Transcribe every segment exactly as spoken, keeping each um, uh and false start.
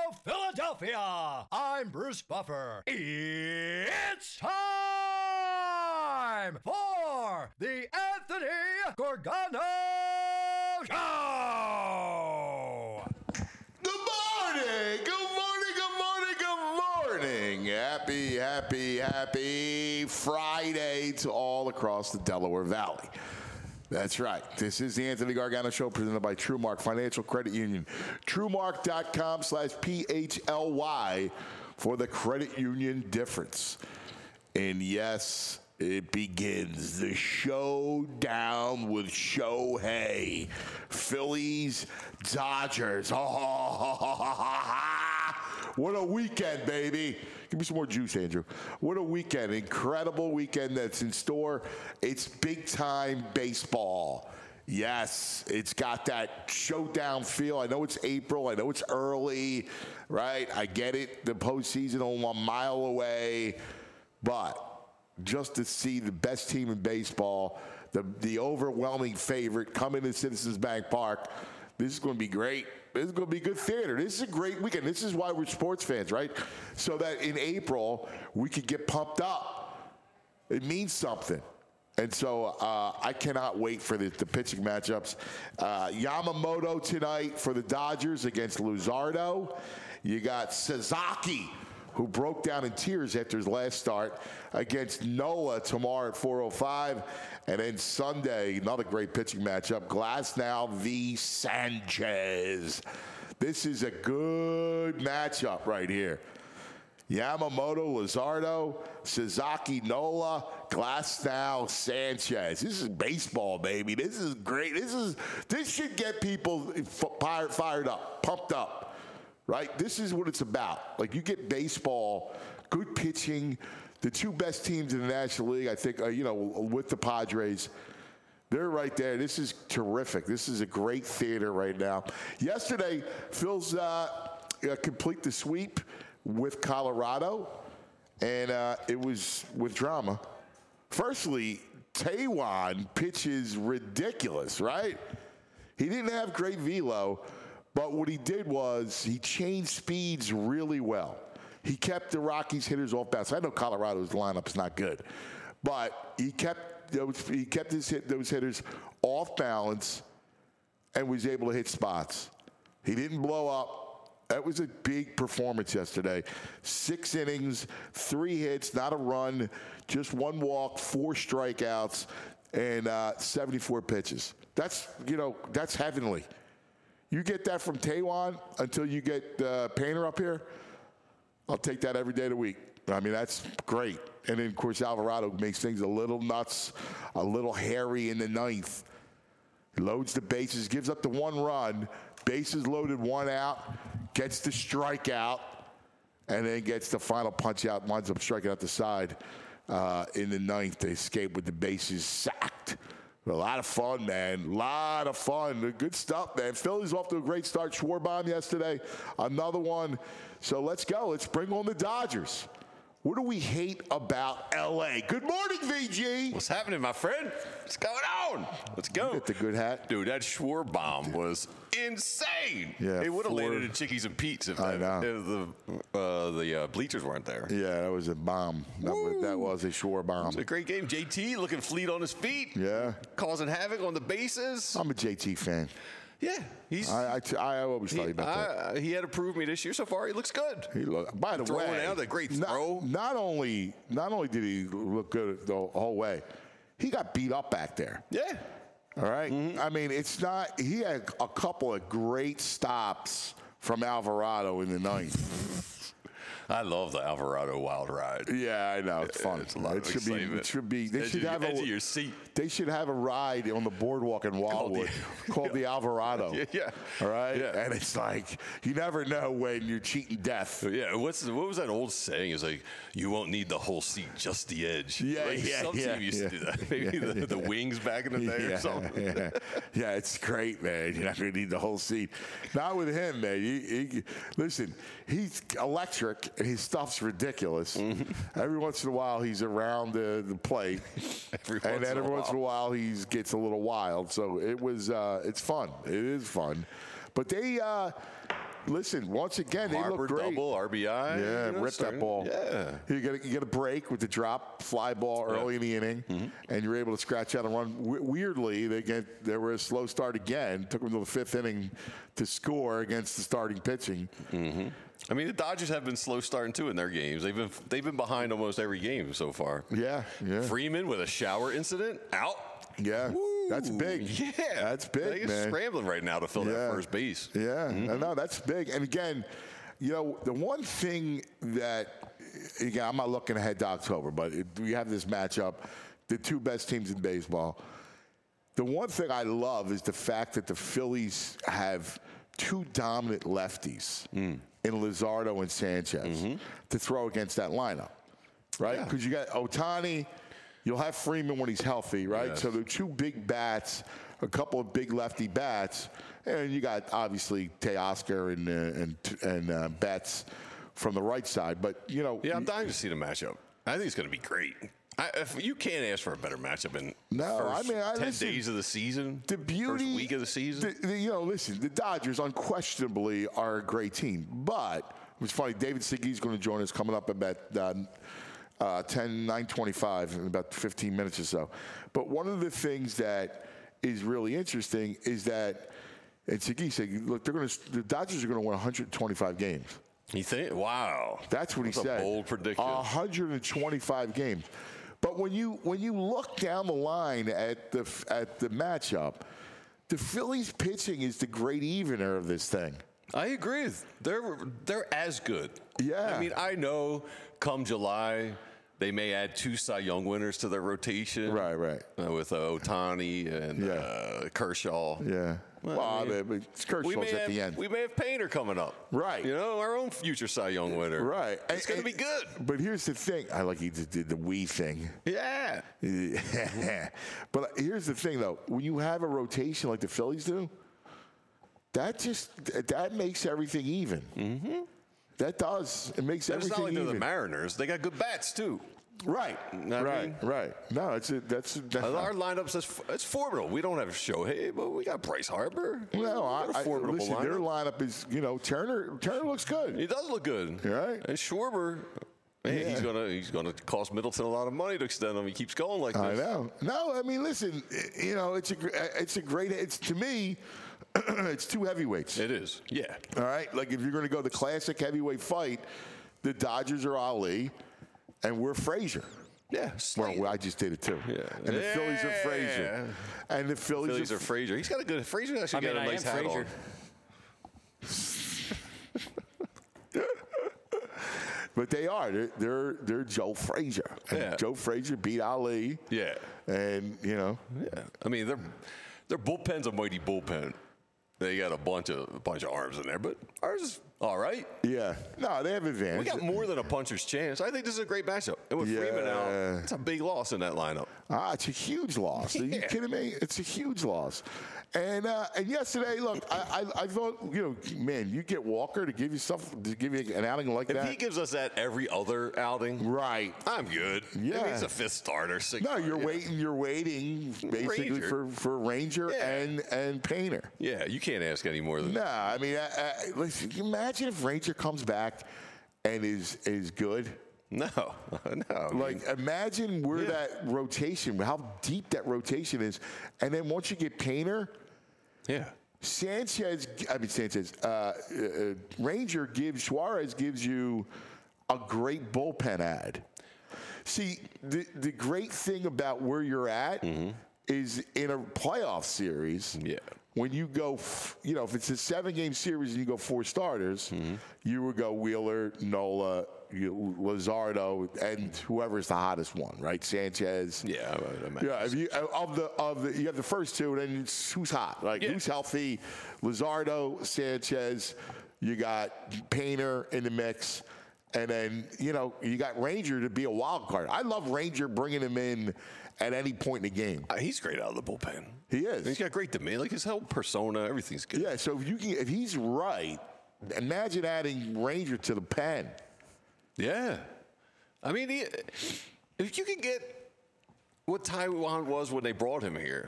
Philadelphia. I'm Bruce Buffer. It's time for the Anthony Gorgano Show. Good morning, good morning, good morning, good morning. Happy, happy, happy Friday to all across the Delaware Valley. That's right. This is the Anthony Gargano Show presented by TrueMark Financial Credit Union. TrueMark.com slash P H L Y for the credit union difference. And yes, it begins. The showdown with Shohei. Phillies, Dodgers. Oh, what a weekend, baby. Give me some more juice, Andrew. What a weekend. Incredible weekend that's in store. It's big-time baseball. Yes, it's got that showdown feel. I know it's April. I know it's early, right? I get it. The postseason only a mile away. But just to see the best team in baseball, the, the overwhelming favorite come into Citizens Bank Park, this is going to be great. This is going to be good theater. This is a great weekend. This is why we're sports fans, right? So that in April, we could get pumped up. It means something. And so uh, I cannot wait for the, the pitching matchups. Uh, Yamamoto tonight for the Dodgers against Luzardo. You got Sasaki, who broke down in tears after his last start, against Nola tomorrow at four oh five. And then Sunday, another great pitching matchup, Glasnow v. Sanchez. This is a good matchup right here. Yamamoto, Luzardo, Sasaki, Nola, Glasnow, Sanchez. This is baseball, baby. This is great. This is this should get people fired, fired up, pumped up. Right? This is what it's about. Like, you get baseball, good pitching, the two best teams in the National League, I think, uh, you know, with the Padres. They're right there. This is terrific. This is a great theater right now. Yesterday, Phil's uh, uh, complete the sweep with Colorado, and uh, it was with drama. Firstly, Taijuan pitches ridiculous, right? He didn't have great velo. But what he did was he changed speeds really well. He kept the Rockies hitters off balance. I know Colorado's lineup's not good, but he kept those, he kept his hit, those hitters off balance and was able to hit spots. He didn't blow up. That was a big performance yesterday. Six innings, three hits, not a run, just one walk, four strikeouts, and uh, seventy-four pitches. That's, you know, that's heavenly. You get that from Taijuan until you get uh, Painter up here, I'll take that every day of the week. I mean, that's great. And then, of course, Alvarado makes things a little nuts, a little hairy in the ninth. He loads the bases, gives up the one run, bases loaded, one out, gets the strikeout, and then gets the final punch out, winds up striking out the side uh, in the ninth. They escape with the bases sacked. A lot of fun, man. A lot of fun. Good stuff, man. Phillies off to a great start. Schwarbaum yesterday. Another one. So let's go. Let's bring on the Dodgers. What do we hate about L A? Good morning, V G. What's happening, my friend? What's going on? Let's go. You get the good hat. Dude, that Schwarbaum was insane. Yeah, it would have four- landed at Chickies and Pete's if, I that, know. if the, uh, the uh, bleachers weren't there. Yeah, that was a bomb. That was, that was a Schwarbaum. It was a great game. J T looking fleet on his feet. Yeah. Causing havoc on the bases. I'm a J T fan. Yeah. He's, I, I, I always he, tell you about that. I, he had to prove me this year so far. He looks good. He look, by the Throwing way, out a great not, throw. Not only, not only did he look good the whole way, he got beat up back there. Yeah. All right? Mm-hmm. I mean, it's not – he had a couple of great stops from Alvarado in the ninth. I love the Alvarado wild ride. Yeah, I know. It's fun. It's a lot it of should excitement. be. It should be. They Edge should of- have edge a. of your seat. They should have a ride on the boardwalk in Wildwood called the Alvarado. Yeah, yeah. All right. Yeah. And it's like you never know when you're cheating death. Yeah, what's the, what was that old saying? It's like you won't need the whole seat, just the edge. Yeah, like, yeah, some yeah, team used yeah. to do that. Maybe Yeah, the, yeah. the wings back in the day Yeah, or something. yeah, yeah, it's great, man. You're not going to need the whole seat. Not with him, man. He, he, listen, he's electric, and his stuff's ridiculous. Mm-hmm. Every once in a while, he's around the, the plate, Every and once then in a every once in a while. while, he gets a little wild. So it was, uh, it's fun. It is fun. But they, uh, listen, once again, they Harper look great. double, R B I. Yeah, you know, rip starting- that ball. Yeah. You get, a, you get a break with the drop fly ball early in the inning, Mm-hmm. and you're able to scratch out and run. W- weirdly, they get they were a slow start again. Took them to the fifth inning to score against the starting pitching. Mm-hmm. I mean, the Dodgers have been slow starting too in their games. They've been they've been behind almost every game so far. Yeah, yeah, Freeman with a shower incident out. yeah. Woo. That's big. Yeah, That's big, They're man. scrambling right now to fill Yeah. that first base. Yeah, no, no, that's big. And again, you know, the one thing that, again, I'm not looking ahead to October, but it, we have this matchup, the two best teams in baseball. The one thing I love is the fact that the Phillies have two dominant lefties in Luzardo and Sanchez to throw against that lineup, right? Yeah. Because you got Ohtani, you'll have Freeman when he's healthy, right? Yes. So they're two big bats, a couple of big lefty bats, and you got obviously Teoscar and uh, and and uh, Betts from the right side. But you know, Yeah, I'm dying to see the matchup. I think it's going to be great. I, if you can't ask for a better matchup in No, first I mean, I- ten listen, days of the season, the beauty, first week of the season. the- the- you know, listen, the Dodgers unquestionably are a great team, but it's funny. David Seguy's going to join us coming up about uh, uh, ten, nine twenty-five in about fifteen minutes or so. But one of the things that is really interesting is that, and Segui said, look, they're going to, the Dodgers are going to win one hundred twenty-five games. You think? Wow. That's what he That's said. a bold prediction. one hundred twenty-five games. But when you when you look down the line at the at the matchup, the Phillies pitching is the great evener of this thing. I agree. They're they're as good. Yeah. I mean, I know come July they may add two Cy Young winners to their rotation. Right, right. Uh, with uh, Ohtani and Yeah. uh, Kershaw. Yeah. Well, Well, I I mean, mean, it's We Kershaw's may, at have, the end. we may have Painter coming up. Right. You know, our own future Cy Young winner. Right. It's going to be good. But here's the thing. I like he just did the we thing. Yeah. But here's the thing, though. When you have a rotation like the Phillies do, that just that makes everything even. Mm-hmm. That does. It makes And it's everything not like they're even. the Mariners. They got good bats, too. Right. I right. mean- right. No, it's a, that's that's Our lineup says it's formidable. We don't have Shohei, but we got Bryce Harper. no. We I, got a I, formidable listen, their lineup. lineup is you know Turner. Turner looks good. He does look good. Right. And Schwarber, hey, Yeah. he's gonna he's gonna cost Middleton a lot of money to extend him. He keeps going like this. I know. No, I mean, listen. You know, it's a gr- it's a great. It's to me, it's two heavyweights. It is. Yeah. All right. Like if you're going to go the classic heavyweight fight, the Dodgers are Ali, and we're Frazier. Yeah. Well, I just did it too. Yeah. And the Phillies are Frazier. And the Phillies, Phillies are Frazier. He's got a good. Frazier actually I mean, got a I nice am hat Frazier. on. But they are. They're they're, they're Joe Frazier. And Yeah. Joe Frazier beat Ali. Yeah. And you know, Yeah. I mean, their their bullpen's a mighty bullpen. They got a bunch of a bunch of arms in there, but ours is all right. yeah. No, they have advantage. We got more than a puncher's chance. I think this is a great matchup. And with Freeman Yeah. out, it's a big loss in that lineup. Ah, it's a huge loss. Are you Yeah. kidding me? It's a huge loss. And uh, and yesterday, look, I, I I thought you know, man, you get Walker to give you stuff to give you an outing like If that. he gives us that every other outing, right. I'm good. Yeah. Maybe he's a fifth starter. Sixth No, you're starter. waiting. You're waiting basically Ranger. for for Ranger Yeah. and and Painter. Yeah, you can't ask any more than No, I mean, uh, uh, listen. Can you imagine if Ranger comes back and is is good? no, no. I mean, Like, imagine where Yeah. that rotation, how deep that rotation is, and then once you get Painter, yeah, Sanchez. I mean Sanchez. Uh, uh, Ranger gives Suarez gives you a great bullpen ad. See, the the great thing about where you're at is in a playoff series. Yeah. When you go, f- you know, if it's a seven-game series and you go four starters, you would go Wheeler, Nola, you, Luzardo, and whoever's the hottest one, right? Sanchez. yeah. I would imagine. Yeah, if you of the of the you have the first two, and then it's who's hot, like Yeah. who's healthy, Luzardo, Sanchez. You got Painter in the mix, and then you know you got Ranger to be a wild card. I love Ranger bringing him in at any point in the game. Uh, he's great out of the bullpen. He is. He's got great demeanor, like his whole persona, everything's good. Yeah, so if you can, if he's right, imagine adding Ranger to the pen. Yeah. I mean, he, if you can get what Taiwan was when they brought him here,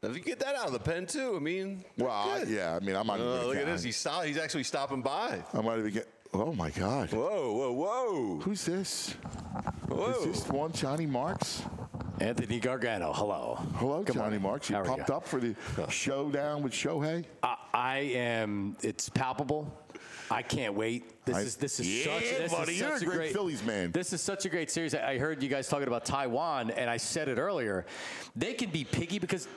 If you get that out of the pen too, I mean, Well, good. yeah, I mean, I'm not even Oh, gonna look at count. this. He's stop, He's actually stopping by. I might even get. Oh my God! Whoa, whoa, whoa! Who's this? Whoa! Is this one Johnny Marks? Anthony Gargano, hello. Hello, Good Johnny morning. Marks. You How are pumped you? up for the showdown with Shohei? I, I am. It's palpable. I can't wait. This I- is this is Yeah, such. This buddy, is you're such a great Phillies man. This is such a great series. I I heard you guys talking about Taiwan, and I said it earlier. They can be picky because.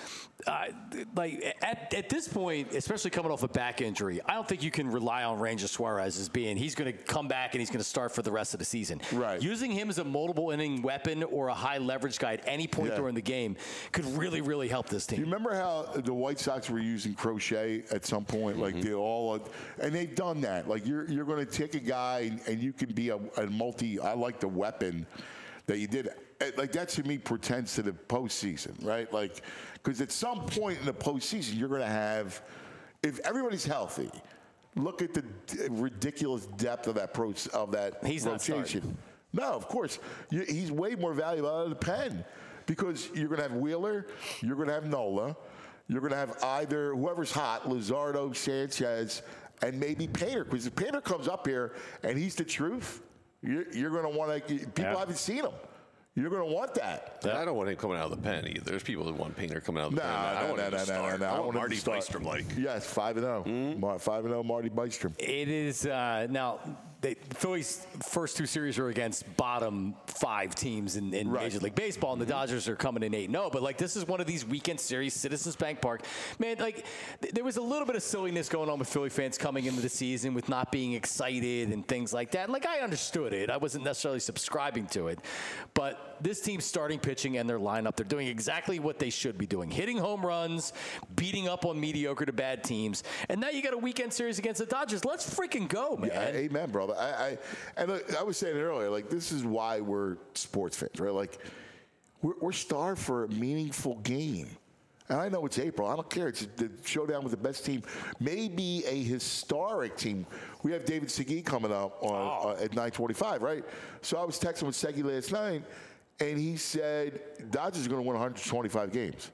Uh, like at, at this point, especially coming off a back injury, I don't think you can rely on Ranger Suarez as being he's going to come back and he's going to start for the rest of the season. Right. Using him as a multiple inning weapon or a high leverage guy at any point Yeah. during the game could really, really help this team. You remember how the White Sox were using Crochet at some point? Like they all, and they've done that. Like you're you're going to take a guy and, and you can be a, a multi. I like the weapon that you did. Like that to me portends to the postseason, right? Like because at some point in the postseason you're going to have, if everybody's healthy, look at the d- ridiculous depth of that pro of that He's not rotation. starting. No, of course. You, he's way more valuable out of the pen because you're going to have Wheeler, you're going to have Nola, you're going to have either whoever's hot, Luzardo, Sanchez, and maybe Painter. Because if Painter comes up here and he's the truth, you're, you're going to want to, people Yeah. haven't seen him. You're going to want that. I don't want him coming out of the pen either. There's people that want Painter coming out of the No, pen. I no, want no, him no, to no, no, start. no. I I want want him to Marty start. Bystrom like. Yes, five and zero. Five and zero, Marty Bystrom. It is uh, now. The Phillies' first two series are against bottom five teams in, in Right. Major League Baseball, and the Dodgers are coming in eight and oh. But like this is one of these weekend series, Citizens Bank Park. Man, like th- there was a little bit of silliness going on with Philly fans coming into the season with not being excited and things like that. Like I understood it. I wasn't necessarily subscribing to it, but this team's starting pitching and their lineup, they're doing exactly what they should be doing: hitting home runs, beating up on mediocre to bad teams, and now you got a weekend series against the Dodgers. Let's freaking go, man. Yeah, amen, brother. I, I and look, I was saying it earlier. Like this is why we're sports fans, right? Like we're, we're starved for a meaningful game. And I know it's April. I don't care. It's the showdown with the best team, maybe a historic team. We have David Segui coming up on Oh. uh, at nine twenty-five, right? So I was texting with Segui last night, and he said Dodgers are going to win one hundred twenty-five games,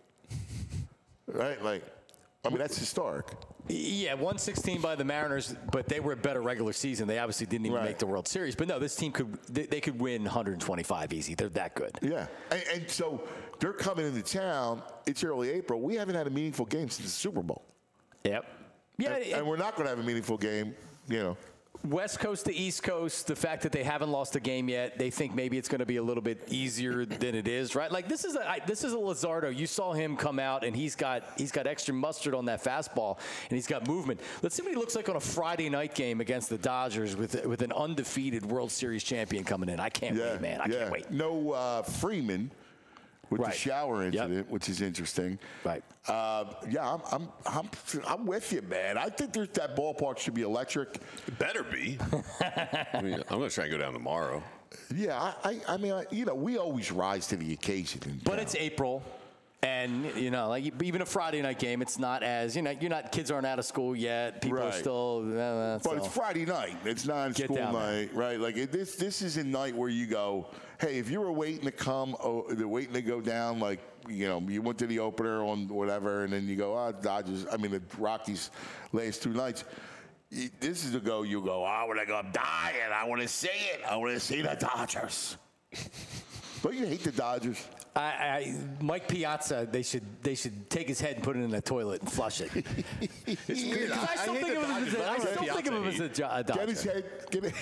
right? Like, I mean that's historic. Yeah, one sixteen by the Mariners, but they were a better regular season. They obviously didn't even Right. make the World Series. But no, this team could they, they could win one hundred twenty-five easy. They're that good. Yeah, and, and so they're coming into town. It's early April. We haven't had a meaningful game since the Super Bowl. Yep. Yeah, and, it- and we're not going to have a meaningful game, you know. West Coast to East Coast, the fact that they haven't lost a game yet, they think maybe it's going to be a little bit easier than it is, right? Like this is a I, this is a Luzardo. You saw him come out, and he's got he's got extra mustard on that fastball, and he's got movement. Let's see what he looks like on a Friday night game against the Dodgers with with an undefeated World Series champion coming in. I can't Yeah, wait, man. I yeah. can't wait. No uh, Freeman with Right. the shower Yep. incident, which is interesting. Right. Uh, yeah, I'm, I'm, I'm, I'm with you, man. I think there's, that ballpark should be electric. It better be. I mean, I'm going to try and go down tomorrow. Yeah, I, I, I mean, I, you know, we always rise to the occasion. in But town. it's April, and you know, like even a Friday night game, it's not as you know, you're not kids aren't out of school yet. People are Right. still. Uh, But so. it's Friday night. It's not Get school down there. night, right? Like it, this, this is a night where you go, hey, if you were waiting to come, oh, they're waiting to go down, like you know, you went to the opener on whatever, and then you go, oh, Dodgers. I mean, the Rockies last two nights. y- This is the go. You go, I want to go. I'm dying. I want to see it. I want to see the Dodgers. Don't you hate the Dodgers? I, I, Mike Piazza, they should they should take his head and put it in the toilet and flush it. It's weird. Because I still hate think the of him as Dodgers, a, but I don't still like think of him as Piazza a, Jo- a Get Dodger. his head. Get it.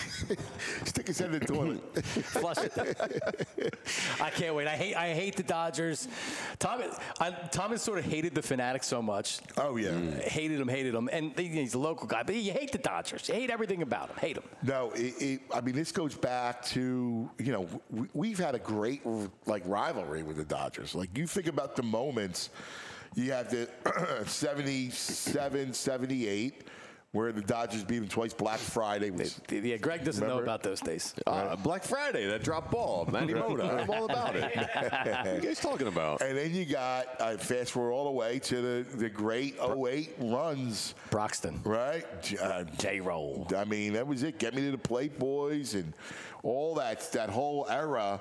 Stick his head in the toilet. Flush it. I can't wait. I hate I hate the Dodgers. Tom, I, Thomas sort of hated the Fanatics so much. Oh yeah. Hated him, hated him, and he's a local guy. But you hate the Dodgers. You hate everything about him. Hate him. No, it, it, I mean this goes back to you know we, we've had a great like rivalry with the Dodgers. Like you think about the moments, you have the seventy-seven, seventy-eight, where the Dodgers beat them twice. Black Friday was Yeah, Greg doesn't Remember? know about those days. Uh, Black Friday, that drop ball, Manny Mota. I'm all about it. What are you guys talking about? and then you got uh, fast forward all the way to the, the great oh eight runs, Broxton, right? J- Uh, J-Roll. I mean, that was it. Get me to the plate, boys, and all that that whole era.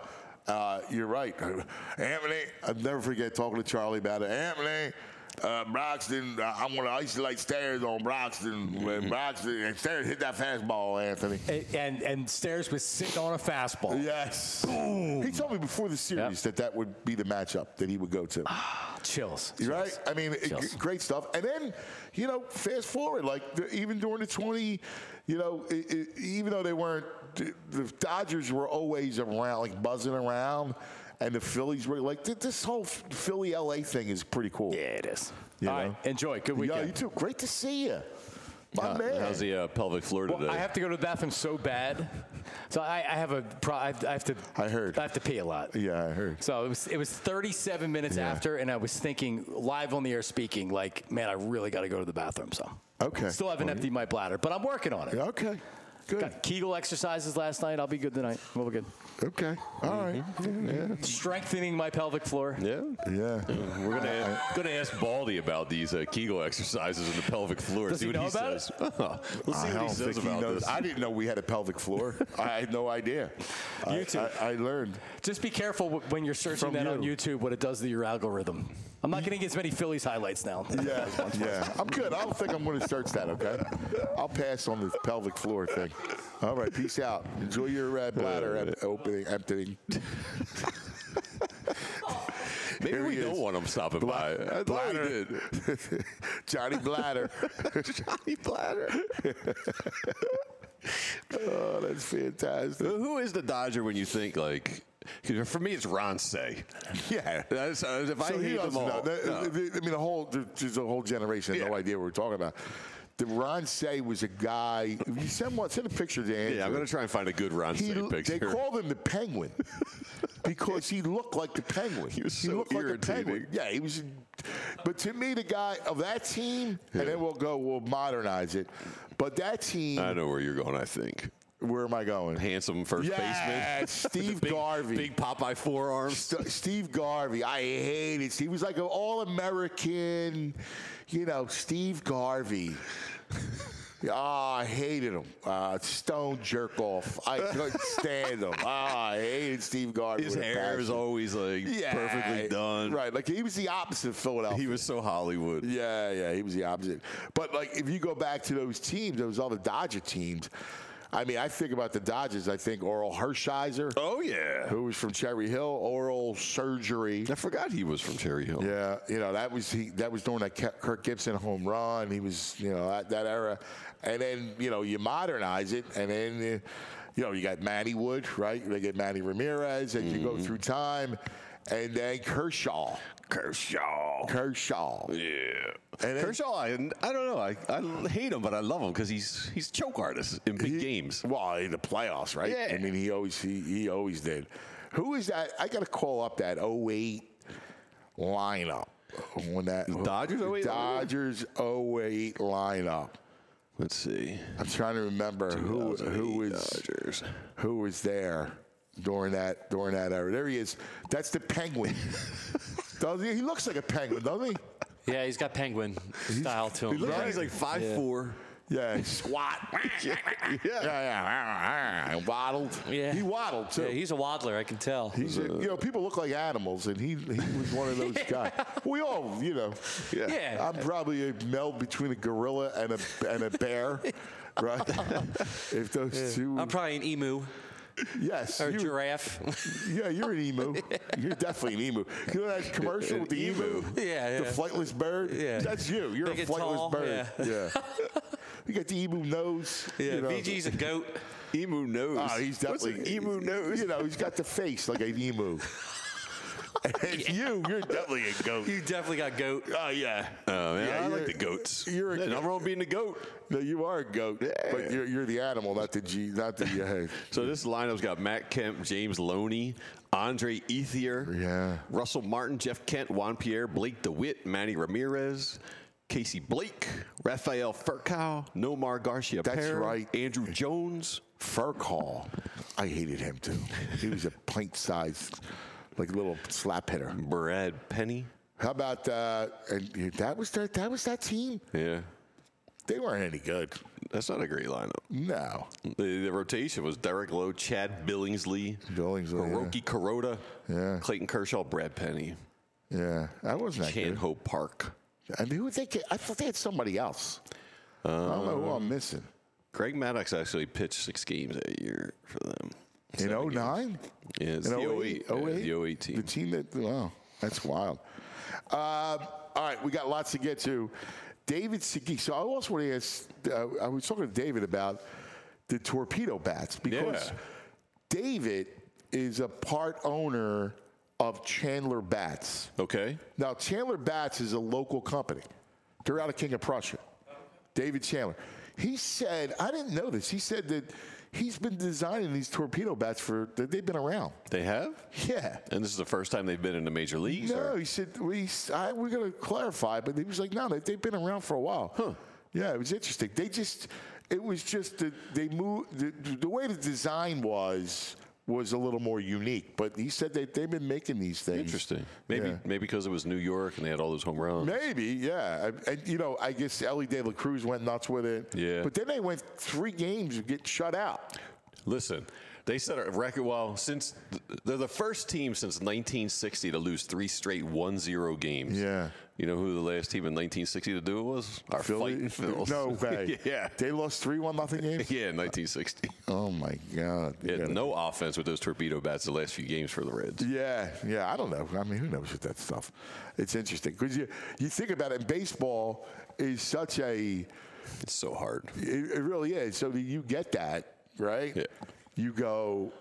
Uh, you're right. Anthony, I'll never forget talking to Charlie about it. Anthony, uh, Broxton, uh, I'm going to isolate Stairs on Broxton. When Broxton and Stairs hit that fastball, Anthony. And, and, and Stairs was sitting on a fastball. Yes. Boom. He told me before the series Yep. that that would be the matchup that he would go to. Chills. You're right? I mean, it, Chills. great stuff. And then, you know, fast forward, like the, even during the twenty, you know, it, it, even though they weren't, the Dodgers were always around, like buzzing around, and the Phillies were like, this whole Philly L A thing is pretty cool. Yeah, it is. You All know? right, enjoy. Good Yeah, weekend. you too. Great to see you. My man. How's the uh, pelvic floor today? Well, I have to go to the bathroom so bad, so I, I have a pro, I have, I have to. I heard. I have to pee a lot. Yeah, I heard. So it was it was thirty-seven minutes Yeah. after, and I was thinking live on the air speaking, like, man, I really got to go to the bathroom. So Okay. still haven't Well, emptied my bladder, but I'm working on it. Yeah, okay. Good. Got Kegel exercises last night. I'll be good tonight. We'll be good. Okay. All right. Yeah. Strengthening my pelvic floor. yeah. Yeah. We're gonna ask, gonna ask Baldy about these uh, Kegel exercises in the pelvic floor. Does see he what know he about it? says. we'll see I what don't he says think he about knows. this. I didn't know we had a pelvic floor. I had no idea. YouTube. I, I, I learned. Just be careful when you're searching From that on you. YouTube what it does to your algorithm. I'm not going to get as many Phillies highlights now. Yeah, yeah. I'm good. I don't think I'm going to search that, okay? I'll pass on the pelvic floor thing. All right, peace out. Enjoy your uh, bladder em- opening, emptying. Maybe Here we he don't is. want him stopping by. I thought we Bladder. did. Johnny Bladder. Johnny Bladder. Oh, that's fantastic. Who is the Dodger when you think like? 'Cause for me, it's Ron Say. Yeah. That's, uh, if I So he hate them doesn't all, know. The- no. the- I mean, the whole there's a whole generation has no Yeah. idea what we're talking about. The Ron Say was a guy. You send one, send a picture to Andrew. yeah, I'm gonna try and find a good Ron He, Say picture. they called him the Penguin because he looked like the Penguin. He was so looked like a irritating. penguin. Yeah, he was. But to me, the guy of that team, and then we'll go, we'll modernize it. But that team, I know where you're going. I think where am I going? handsome first Yeah, baseman, Steve big, Garvey. big Popeye forearms. St- Steve Garvey, I hated. He was like an all-American, you know, Steve Garvey. Oh, I hated him. Uh, stone jerk off. I couldn't stand him. Oh, I hated Steve Garvey. His with a hair is passion. always like Yeah, perfectly done. Right, like he was the opposite of Philadelphia. He was so Hollywood. Yeah, yeah, he was the opposite. But like, if you go back to those teams, those other Dodger teams. I mean, I think about the Dodgers. I think Oral Hershiser, Oh yeah. who was from Cherry Hill, oral surgery. I forgot he was from Cherry Hill. Yeah, you know that was he. That was during that Ke- Kirk Gibson home run. He was, you know, that, that era, and then you know you modernize it, and then uh, you know you got Manny Wood, right? They get Manny Ramirez, and you go through time, and then Kershaw, Kershaw. Kershaw. Yeah. And then- Kershaw, I, I don't know. I, I hate him, but I love him because he's he's choke artist in big He- games. Well, in the playoffs, right? Yeah. I mean, he always he, he always did. Who is that? I got to call up that oh eight lineup when that Dodgers oh eight Dodgers oh eight lineup. Let's see. I'm trying to remember who who was Dodgers. who was there during that during that era. There he is. That's the Penguin. Doesn't he? He looks like a penguin, doesn't he? Yeah, he's got penguin style to him. He looks Right. like he's like five four. Yeah, he squat. yeah, yeah, yeah. Waddled. Yeah. He waddled too. Yeah, he's a waddler, I can tell. He's a, you know, people look like animals, and he he was one of those guys. We all, you know. Yeah. I'm probably a meld between a gorilla and a and a bear, right? If those two. I'm probably an emu yes. or you- giraffe. Yeah, you're an emu. You're definitely an emu. You know that commercial with the emu? Yeah, yeah. The flightless bird? Yeah. That's you. You're Big a and flightless tall, bird. Yeah. You got the emu nose. Yeah, you know. V G's a goat. Emu nose. Oh, he's What's definitely an emu nose. You know, he's got the face like an emu. And you, you're definitely a goat. You definitely got goat. Oh yeah. Oh man, Yeah, I like you're- the goats. you're a Yeah, goat. nothing wrong with being a goat. No, you are a goat, but you're, you're the animal, not the G, not the. Uh, So this lineup's got Matt Kemp, James Loney, Andre Ethier, Yeah. Russell Martin, Jeff Kent, Juan Pierre, Blake DeWitt, Manny Ramirez, Casey Blake, Rafael Furcal, Nomar Garcia That's Perez, right. Andrew Jones. Furcall, I hated him too. He was a pint-sized, like little slap hitter. Brad Penny. How about uh, and that was that? That was that team. Yeah. They weren't any good. That's not a great lineup. No. The, the rotation was Derek Lowe, Chad Billingsley, Billingsley, Hiroki Kuroda, Yeah. Clayton Kershaw, Brad Penny, Yeah, that wasn't that Chan good. Ho Park. I mean, who would they get? I thought they had somebody else. I don't know who I'm missing. Greg Maddox actually pitched six games that year for them. In oh nine? Yeah, it's In the oh oh eight? eight. yeah, oh eight? The oh eight team. The team that, wow, that's wild. Um, all right, we got lots to get to. David Segui. So I also want to ask, uh, I was talking to David about the torpedo bats because Yeah. David is a part owner of Chandler Bats. Okay. Now, Chandler Bats is a local company. They're out of King of Prussia. David Chandler. He said, I didn't know this. He said that he's been designing these torpedo bats for, they've been around. They have? Yeah. And this is the first time they've been in the major leagues? No, or- he said, we, I, we're going to clarify, but he was like, no, they, they've been around for a while. Huh. Yeah, it was interesting. They just, it was just that they moved, the, the way the design was, was a little more unique. But he said that they've been making these things. Interesting. Maybe Yeah. maybe because it was New York and they had all those home runs. Maybe, yeah. And, and, you know, I guess Ellie De La Cruz went nuts with it. Yeah. But then they went three games of getting shut out. Listen, they set a record. Well, since they're the first team since nineteen sixty to lose three straight one zero games. Yeah. You know who the last team in nineteen sixty to do it was? Our Fighting Phils. No way. yeah. They lost three one nothing games? Yeah, in nineteen sixty. Oh, my God. They had Yeah. no offense with those torpedo bats the last few games for the Reds. Yeah, yeah, I don't know. I mean, who knows with that stuff? It's interesting because you you think about it. Baseball is such a It's so hard. it, it really is. So that you get that right. Yeah. You go,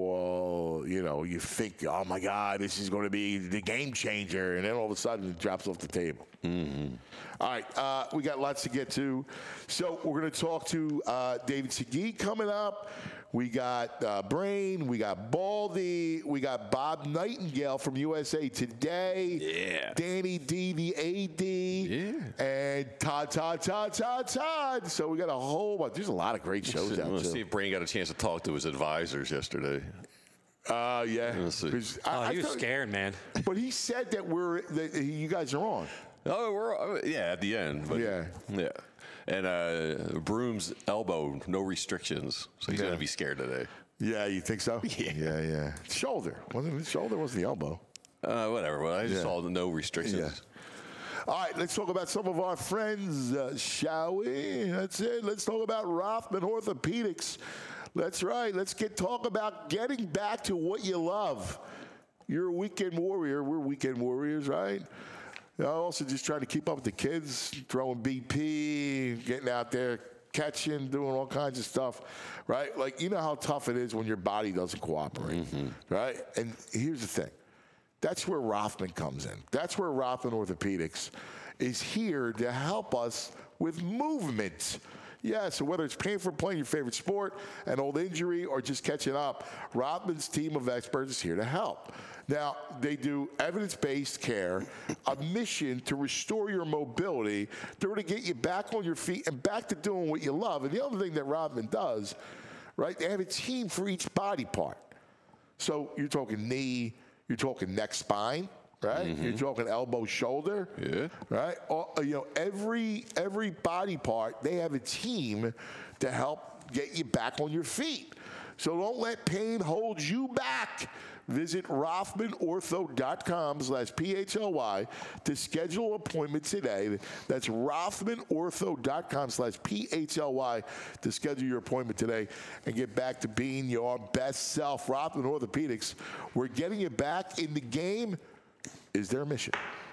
well, you know, you think, oh my God, this is going to be the game changer, and then all of a sudden it drops off the table. Mm-hmm. All right, uh, we got lots to get to. So we're going to talk to uh, David Segui coming up. We got uh, Brain, we got Baldy, we got Bob Nightingale from U S A Today. Yeah. Danny D, the A D. Yeah. And Todd, Todd, Todd, Todd, Todd. So we got a whole bunch. There's a lot of great shows out Let's there. see if Brain got a chance to talk to his advisors yesterday. Uh, yeah. Let's see. 'Cause Oh, I- I he was thought- scared, man. But he said that we're that you guys are on. Oh, we're yeah at the end. But Yeah. yeah. And uh, Broom's elbow, no restrictions, so he's Yeah. gonna be scared today. Yeah, you think so? Yeah. yeah, yeah. Shoulder wasn't it? Shoulder wasn't the elbow. Uh, whatever. Well, I just Yeah. saw the no restrictions. Yeah. All right, let's talk about some of our friends, uh, shall we? That's it. Let's talk about Rothman Orthopedics. That's right. Let's get talk about getting back to what you love. You're a weekend warrior. We're weekend warriors, right? I'm also just trying to keep up with the kids, throwing B P, getting out there, catching, doing all kinds of stuff, right? Like, you know how tough it is when your body doesn't cooperate, right? And here's the thing. That's where Rothman comes in. That's where Rothman Orthopedics is here to help us with movement. Yeah, so whether it's pain from playing your favorite sport, an old injury, or just catching up, Rothman's team of experts is here to help. Now, they do evidence-based care, a mission to restore your mobility, to really get you back on your feet and back to doing what you love. And the other thing that Rothman does, right, they have a team for each body part. So you're talking knee, you're talking neck, spine, right? You're talking elbow, shoulder, Yeah. right? All, you know, every every body part, they have a team to help get you back on your feet. So don't let pain hold you back. Visit Rothman Ortho dot com slash P H L Y to schedule an appointment today. That's Rothman Ortho dot com slash P H L Y to schedule your appointment today and get back to being your best self. Rothman Orthopedics, we're getting you back in the game is their mission.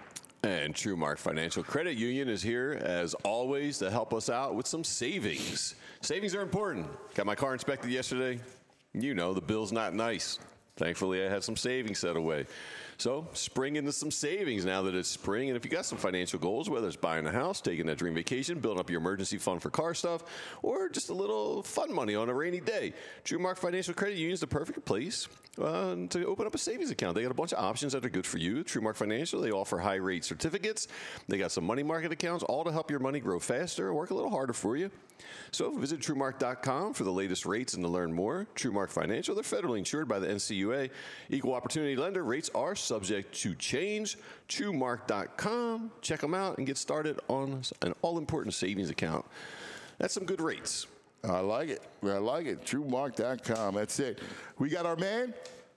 And TrueMark Financial Credit Union is here, as always, to help us out with some savings. Savings are important. Got my car inspected yesterday. You know, the bill's not nice. Thankfully, I had some savings set away. So, spring into some savings now that it's spring. And if you got some financial goals, whether it's buying a house, taking that dream vacation, building up your emergency fund for car stuff, or just a little fun money on a rainy day, TrueMark Financial Credit Union is the perfect place uh, to open up a savings account. They got a bunch of options that are good for you. TrueMark Financial, they offer high-rate certificates. They got some money market accounts, all to help your money grow faster and work a little harder for you. So visit TrueMark dot com for the latest rates and to learn more. TrueMark Financial, they're federally insured by the N C U A. Equal opportunity lender. Rates are subject to change. TrueMark dot com. Check them out and get started on an all-important savings account. That's some good rates. I like it. I like it. True Mark dot com. That's it. We got our man?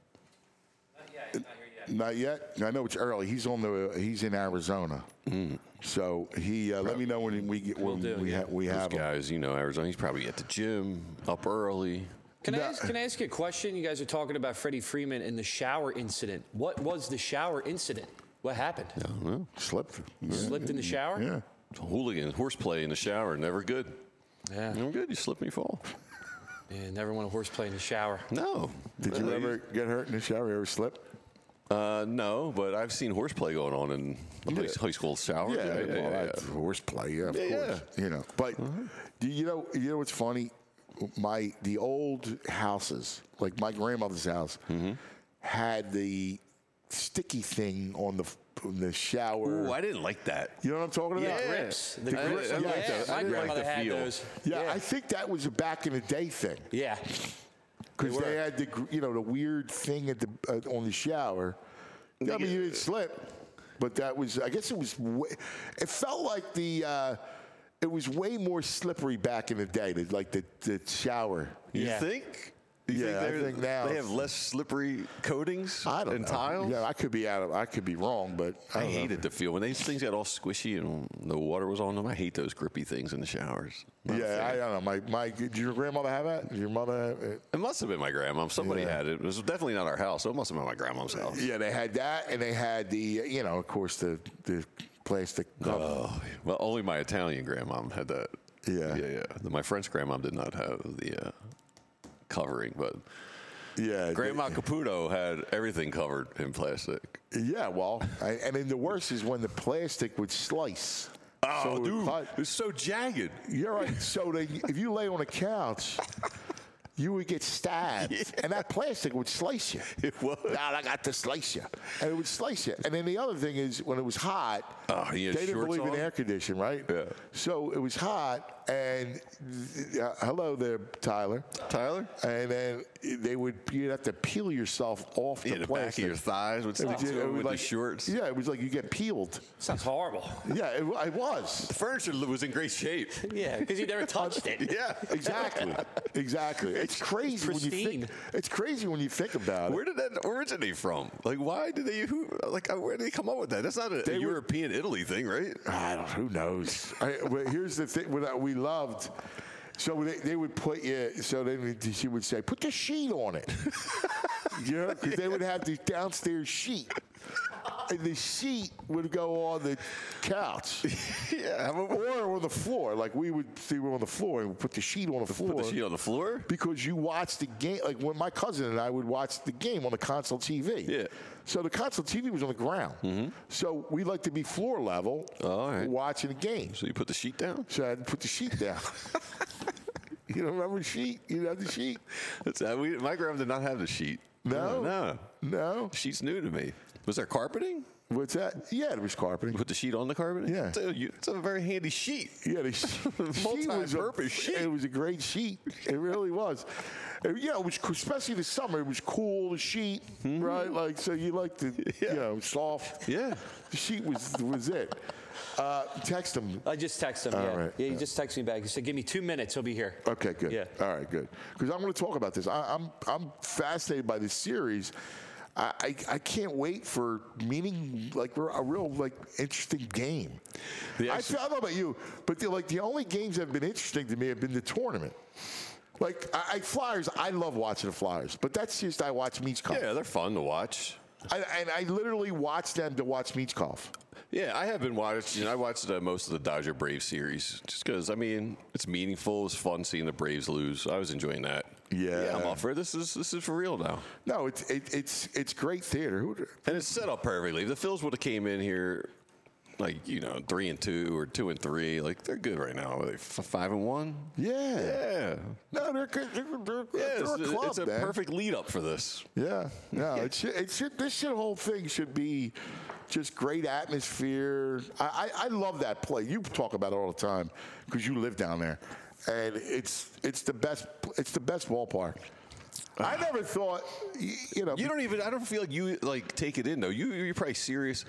Not yet. Not here yet. Not yet. I know it's early. He's on the. He's in Arizona. Mm. So he. Uh, let me know when we get when do, we, yeah. ha- we Those have him. guys, you know, Arizona. He's probably at the gym, up early. Can I, No. ask, can I ask you a question? You guys are talking about Freddie Freeman and the shower incident. What was the shower incident? What happened? I don't know. Slipped. You slipped in the shower? Yeah. Hooligan, horseplay in the shower, never good. Yeah. Never good. You slip and you fall. Man, never want a horseplay in the shower. No. Did you Uh, ever get hurt in the shower? You ever slip? Uh, no, but I've seen horseplay going on in the Yeah. high school showers. Yeah, yeah, well, yeah, that's yeah. horseplay. Yeah, of Yeah, Uh-huh. course. You know, but do you know? You know what's funny? My the old houses, like my grandmother's house, Mm-hmm. had the sticky thing on the on the shower. Ooh, I didn't like that. You know what I'm talking about? Yeah. Grips. The I- grips. I yeah, like that. I my didn't like grandmother the had feel. those. Yeah, I think that was a back in the day thing Yeah. because They they, were. had the gr- you know the weird thing at the uh, on the shower. I mean, you didn't slip, but that was I guess it was. Way, it felt like the. Uh, it was way more slippery back in the day, the, like the, the shower. You Yeah. think? You Yeah, I they're- think now- they have less slippery coatings I don't and know. tiles. Yeah, I could be out of. I could be wrong, but I, I don't know. hated the feel when these things got all squishy and the water was on them. I hate those grippy things in the showers. Not a Yeah, I fan. don't know. My my. Did your grandmother have that? Did your mother have it? It must have been my grandma. Somebody Yeah. had it. It was definitely not our house, so it must have been my grandma's house. Yeah, they had that, and they had the. You know, of course, the the plastic. cover. Oh, well, only my Italian grandmom had that. Yeah. yeah, yeah. My French grandmom did not have the uh, covering, but yeah, Grandma Caputo had everything covered in plastic. Yeah, well, I, and then the worst is when the plastic would slice. Oh, So it would dude, cut. it's so jagged. You're right. So they, if you lay on a couch, you would get stabbed, and that plastic would slice you. It would. Now I got to slice you, and it would slice you. And then the other thing is, when it was hot, Oh, he had they didn't shorts believe on? in air conditioning, right? Yeah. So it was hot, and uh, hello there, Tyler. Tyler? And then they would you'd have to peel yourself off Yeah, the the plastic. back of your thighs would It stick was- to it it was with like- the shorts. Yeah, it was like you get peeled. Sounds horrible. Yeah, it, it was. The furniture was in great shape. Yeah, because you never touched it. Yeah. Exactly. Exactly. It's crazy when you pristine. think. It's crazy when you think about Where it. did that originate from? Like, why did they? Who? Like, where did they come up with that? That's not a, They a were- European Italy thing, right? I don't. Who knows? I, but here's the thing. What we loved. So they, they would put you. So then she would say, "Put the sheet on it." You know, because they would have the downstairs sheet, and the sheet would go on the couch. Yeah. How about Or on the floor, like we would see on the floor, and we'd put the sheet on the floor. put the sheet on the floor? Because you watch the game, like when my cousin and I would watch the game on the console T V. Yeah. So the console T V was on the ground. Mm-hmm. So we like to be floor level All right. watching the game. So you put the sheet down? So I had to put the sheet down. You don't remember the sheet? You didn't have the sheet? That's, uh, we, my grandma did not have the sheet. No? No. No? Sheet's new to me. Was there carpeting? What's that? Yeah, it was carpeting. You put the sheet on the carpeting? Yeah. It's a, you- it's a very handy sheet. Yeah, the sheet, sheet was a, Multi-purpose sheet. It was a great sheet. It really was. And, you know, it was co- especially the summer. It was cool. The sheet, right? Like so, you like the Yeah. you know soft. Yeah. The sheet was was it. Uh, text him. I just texted him. All Yeah, right. yeah. He just texted me back. He said, "Give me two minutes. He'll be here." Okay, good. Yeah. All right, good. Because I'm going to talk about this. I, I'm I'm fascinated by this series. I, I, I can't wait for meaning like a real like interesting game. The I, ex- feel, I don't know about you, but the, like the only games that have been interesting to me have been the tournament. Like I, I Flyers, I love watching the Flyers, but that's just I watch Michkov. Yeah, they're fun to watch. I, and I literally watch them to watch Michkov. Yeah, I have been watching. I watched uh, most of the Dodger Braves series just because, I mean, it's meaningful. It's fun seeing the Braves lose. I was enjoying that. Yeah. I'm all for it. This is this is for real now, No, it's it, it's it's great theater. Who, and it's set up perfectly. If the Phils would have came in here, like you know, three and two or two and three, like they're good right now. Are they f- five and one? yeah. Yeah. No, they're good. They're, they're, Yeah, they're it's, a club, it's a man. perfect lead up for this. Yeah, no, it should, it should, this should, whole thing should be just great atmosphere. I, I, I love that play. You talk about it all the time because you live down there, and it's it's the best it's the best ballpark. I never thought, y- you know. You don't even. I don't feel like you like take it in though. You you're probably serious.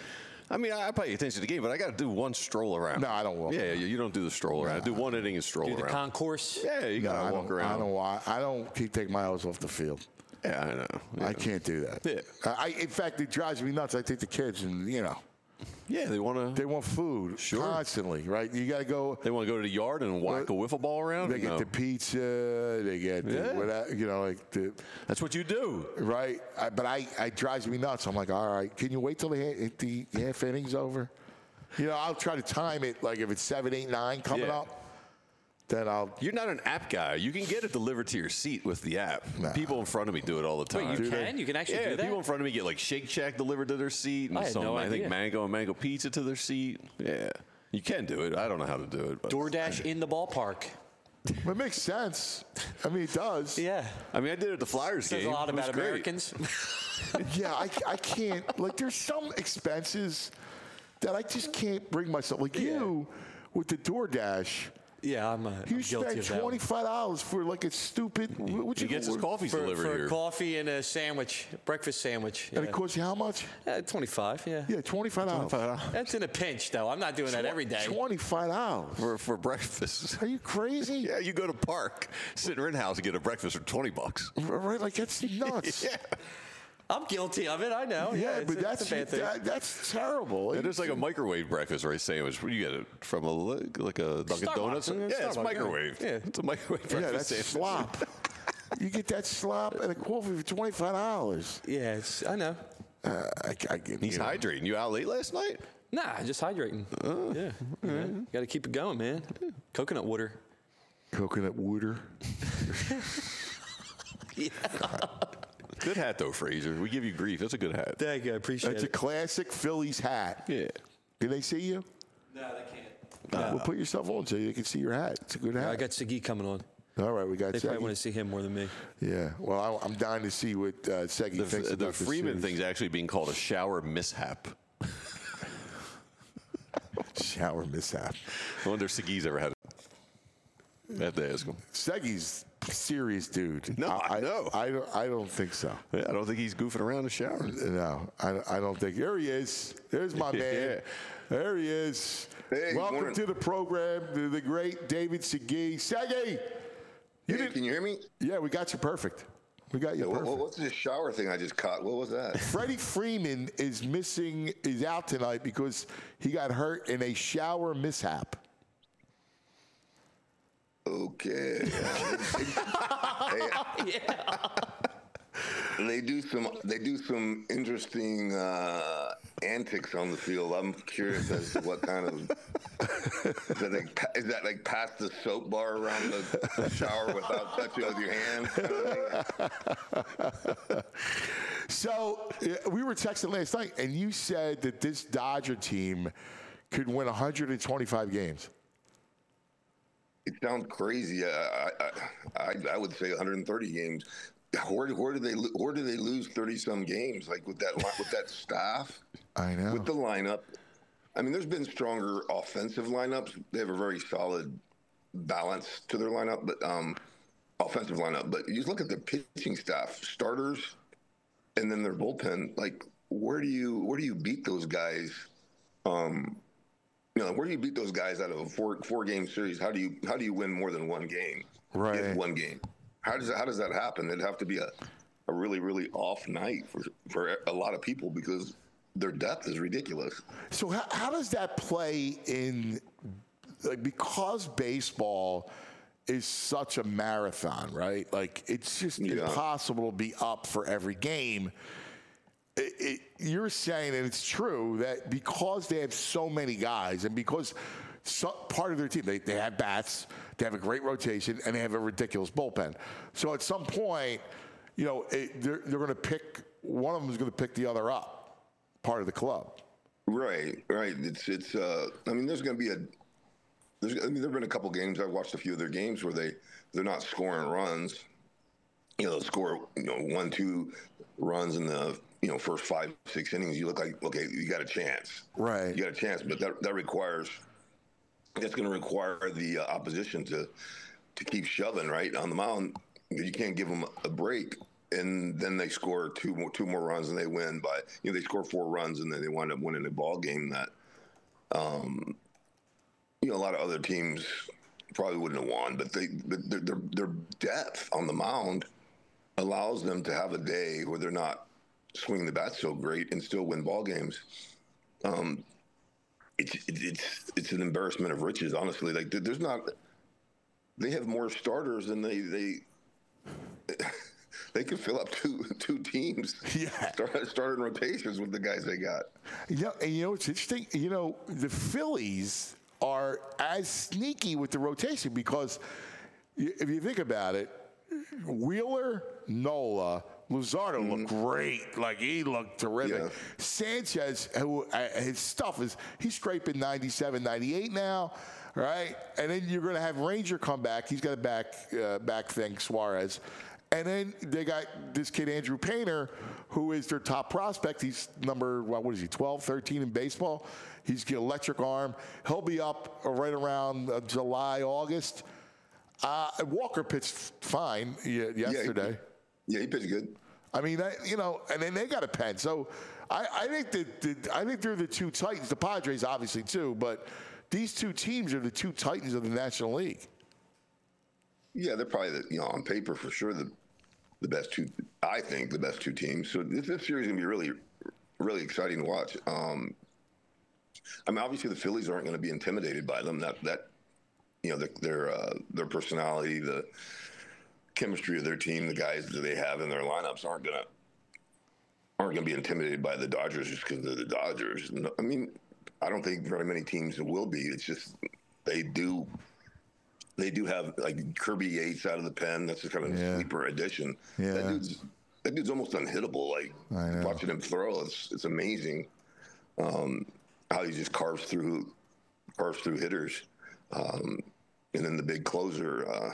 I mean, I, I pay attention to the game, but I got to do one stroll around. No, I don't walk Yeah, around. you, you don't do the stroll around. Do one inning and stroll Do the around. concourse. yeah, you No, got I to walk don't, around. I don't. wa- I don't keep taking my eyes off the field. Yeah, I know. Yeah. I can't do that. Yeah. I, in fact, it drives me nuts. I take the kids, and you know, Yeah, they want to. they want food Sure. constantly, right? You got to go. They want to go to the yard and whack a wiffle ball around. They get No. the pizza. They get the, Yeah. whatever, you know, like the That's what you do. right. I, but I, it drives me nuts. I'm like, all right, can you wait till the ha- the half inning's over? You know, I'll try to time it. Like if it's seven, eight, nine coming Yeah. up, then I'll. You're not an app guy. You can get it delivered to your seat with the app. Nah. People in front of me do it all the time. Wait, you Do they? can? You can actually yeah, do that? people in front of me get like Shake Shack delivered to their seat, and I had some no I think idea. mango and mango pizza to their seat. Yeah, you can do it. I don't know how to do it. But DoorDash in the ballpark. It makes sense. I mean, it does. Yeah. I mean, I did it at the Flyers Says game. a lot It was about great. Americans. Yeah, I, I can't. Like, there's some expenses that I just can't bring myself. Like you with the DoorDash. yeah, I'm, uh, I'm You guilty spend of that. twenty-five dollars for like a stupid. What He you gets his coffees For, delivered for here. a coffee and a sandwich, breakfast sandwich. And Yeah. it costs you how much? Uh, twenty-five, yeah. Yeah, twenty-five dollars. That's in a pinch, though. I'm not doing that every day. Twenty-five dollars. for, for breakfast. Are you crazy? Yeah, you go to Park, sit in Rittenhouse and get a breakfast for twenty bucks. Right? Like that's nuts. Yeah, I'm guilty of it. I know. Yeah, Yeah, it's, but it's that's a bad thing. that, that's terrible. it is like a microwave breakfast or a sandwich. Where do you get it from? A li- like a Dunkin' Starbucks. Donuts? Yeah, Yeah, it's Starbucks, microwave. yeah. It's a microwave yeah, breakfast that's sandwich. slop. You get that slop and a coffee for twenty-five dollars. Yeah, it's, I know. Uh, I, I, get- He's you know. hydrating. You out late last night? Nah, just hydrating. Oh, yeah. yeah. Got to keep it going, man. Coconut water. Coconut water. Good hat though, Fraser. We give you grief. That's a good hat. Thank you. I appreciate That's a it. classic Phillies hat. Yeah. Can they see you? No, they can't. Uh, well, put yourself on so they can see your hat. It's a good hat. I got Segui coming on. All right, we got They probably Segui. want to see him more than me. Yeah. Well, I, I'm dying to see what uh, Segui The, thinks the about this Freeman series. thing's actually being called a shower mishap. Shower mishap. I wonder if Segui's ever had it. I have to ask him. Seggy's a serious dude. No, I know. I don't. I don't think so. Yeah, I don't think he's goofing around in the shower. No, I, I don't think. There he is. There's my man. Yeah. There he is. Hey, Welcome morning. to the program, the, the great David Segui. Segui, you Hey, did. can you hear me? Yeah, we got you perfect. We got you What, perfect. what- what's this shower thing I just caught? What was that? Freddie Freeman is missing. Is out tonight because he got hurt in a shower mishap. Okay. Hey, They do some. They do some interesting uh, antics on the field. I'm curious as to what kind of. Is that like, pa- is that like pass the soap bar around the, the shower without touching it with your hands? Kind of thing? So uh, we were texting last night, and you said that this Dodger team could win one hundred twenty-five games. It sounds crazy. I, I, I, I would say one hundred thirty games. Where, where do they lo- where do they lose thirty some games? Like with that li- with that staff, I know. with the lineup. I mean, there's been stronger offensive lineups. They have a very solid balance to their lineup, but um, offensive lineup. But you just look at their pitching staff, starters, and then their bullpen. Like, where do you where do you beat those guys? Um, you know, where do you beat those guys out of a four four game series? How do you how do you win more than one game? Right. In one game. How does how does that happen? It'd have to be a, a really really off night for for a lot of people because their depth is ridiculous. So how, how does that play in, like, because baseball is such a marathon, right? Like, it's just Yeah. impossible to be up for every game. It, it, you're saying, and it's true, that because they have so many guys and because so, part of their team, they, they have bats, they have a great rotation, and they have a ridiculous bullpen. So at some point, you know, it, they're, they're going to pick, one of them is going to pick the other up, part of the club. Right, right. It's it's. Uh, I mean, there's going to be a. There's. I mean, there've been a couple games. I've watched a few of their games where they they're not scoring runs. You know, they'll score you know one two runs in the you know first five six innings. You look like okay, you got a chance. Right. You got a chance, but that that requires. That's going to require the uh, opposition to to keep shoving right on the mound. You can't give them a break. and then they score two more two more runs and they win by you know they score four runs and then they wind up winning a ball game that um you know a lot of other teams probably wouldn't have won, but they but their their, their depth on the mound allows them to have a day where they're not swinging the bat so great and still win ball games. Um, it's it's it's an embarrassment of riches, honestly. Like there's not, they have more starters than they they they could fill up two two teams. Yeah, start starting rotations with the guys they got. You know, and you know it's interesting. You know, the Phillies are as sneaky with the rotation because if you think about it, Wheeler, Nola, Luzardo mm-hmm. looked great. Like, he looked terrific. Yeah. Sanchez, who uh, his stuff is, he's scraping ninety-seven, ninety-eight now, right? And then you're going to have Ranger come back. He's got a back, uh, back thing, Suarez. And then they got this kid, Andrew Painter, who is their top prospect. He's number, what, what is he, twelve, thirteen in baseball? He's got an electric arm. He'll be up right around uh, July, August. Uh, Walker pitched fine yesterday. Yeah, he, yeah, he pitched good. I mean, I, you know, and then they got a pen. So I, I think that the, I think they're the two titans. The Padres, obviously, too. But these two teams are the two titans of the National League. Yeah, they're probably the, you know on paper for sure the the best two. I think the best two teams. So this, this series is gonna be really really exciting to watch. Um, I mean, obviously the Phillies aren't going to be intimidated by them. That that. You know, the, their uh, their personality, the chemistry of their team, the guys that they have in their lineups aren't gonna aren't gonna be intimidated by the Dodgers just because they're the Dodgers. No, I mean, I don't think very many teams will be. It's just they do they do have like Kirby Yates out of the pen. That's a kind of yeah. sleeper addition. Yeah. That dude's that dude's almost unhittable. Like watching him throw, it's it's amazing um, how he just carves through carves through hitters. Um, and then the big closer, uh,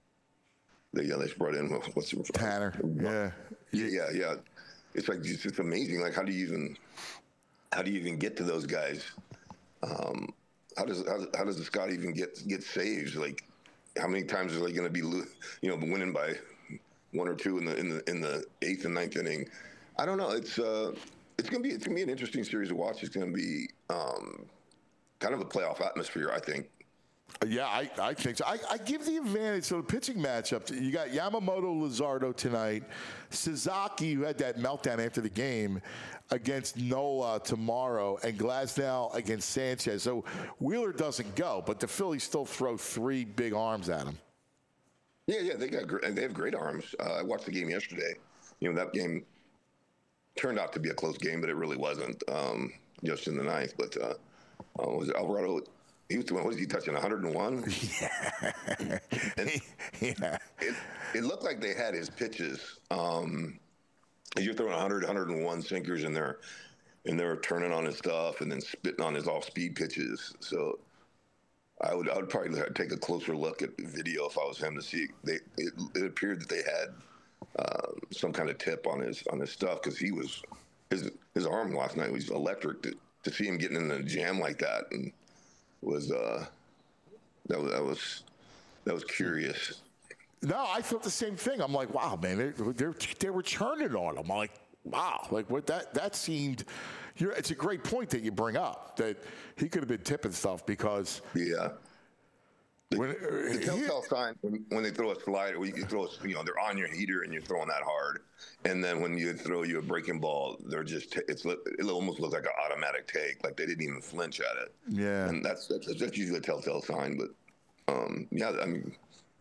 they yeah, they brought in what's it? Tanner. Yeah. yeah, yeah, yeah. It's like it's, it's amazing. Like how do you even how do you even get to those guys? Um, how does how, how does the Scott even get get saves? Like how many times are they going to be you know winning by one or two in the in the in the eighth and ninth inning? I don't know. It's uh, it's gonna be it's gonna be an interesting series to watch. It's gonna be um, kind of a playoff atmosphere, I think. Yeah, I, I think so. I, I give the advantage to the pitching matchup. You got Yamamoto, Luzardo tonight. Sasaki, who had that meltdown after the game, against Nola tomorrow, and Glasnow against Sanchez. So Wheeler doesn't go, but the Phillies still throw three big arms at him. Yeah, yeah, they got great, they have great arms. Uh, I watched the game yesterday. You know, that game turned out to be a close game, but it really wasn't. Um, just in the ninth, but uh, uh, was it Alvarado? He was doing, what was he touching, one oh one? Yeah. And yeah. It, it looked like they had his pitches. Um, you're throwing one hundred, one oh one sinkers in there, and they were turning on his stuff and then spitting on his off-speed pitches. So I would I would probably take a closer look at the video if I was him to see. They it, it appeared that they had uh, some kind of tip on his on his stuff because he was his his arm last night was electric. To, to see him getting in a jam like that and was uh that was that was that was curious. No, I thought the same thing. I'm like, wow, man, they they they were churning on him. I'm like, wow, like what that that seemed. You're, it's a great point that you bring up that he could have been tipping stuff because yeah. The, when, the telltale sign when, when they throw a slider, when you throw, a, you know, they're on your heater and you're throwing that hard, and then when you throw you a breaking ball, they're just t- it's it almost looks like an automatic take, like they didn't even flinch at it. Yeah, and that's that's, that's usually a telltale sign. But um, yeah, I mean,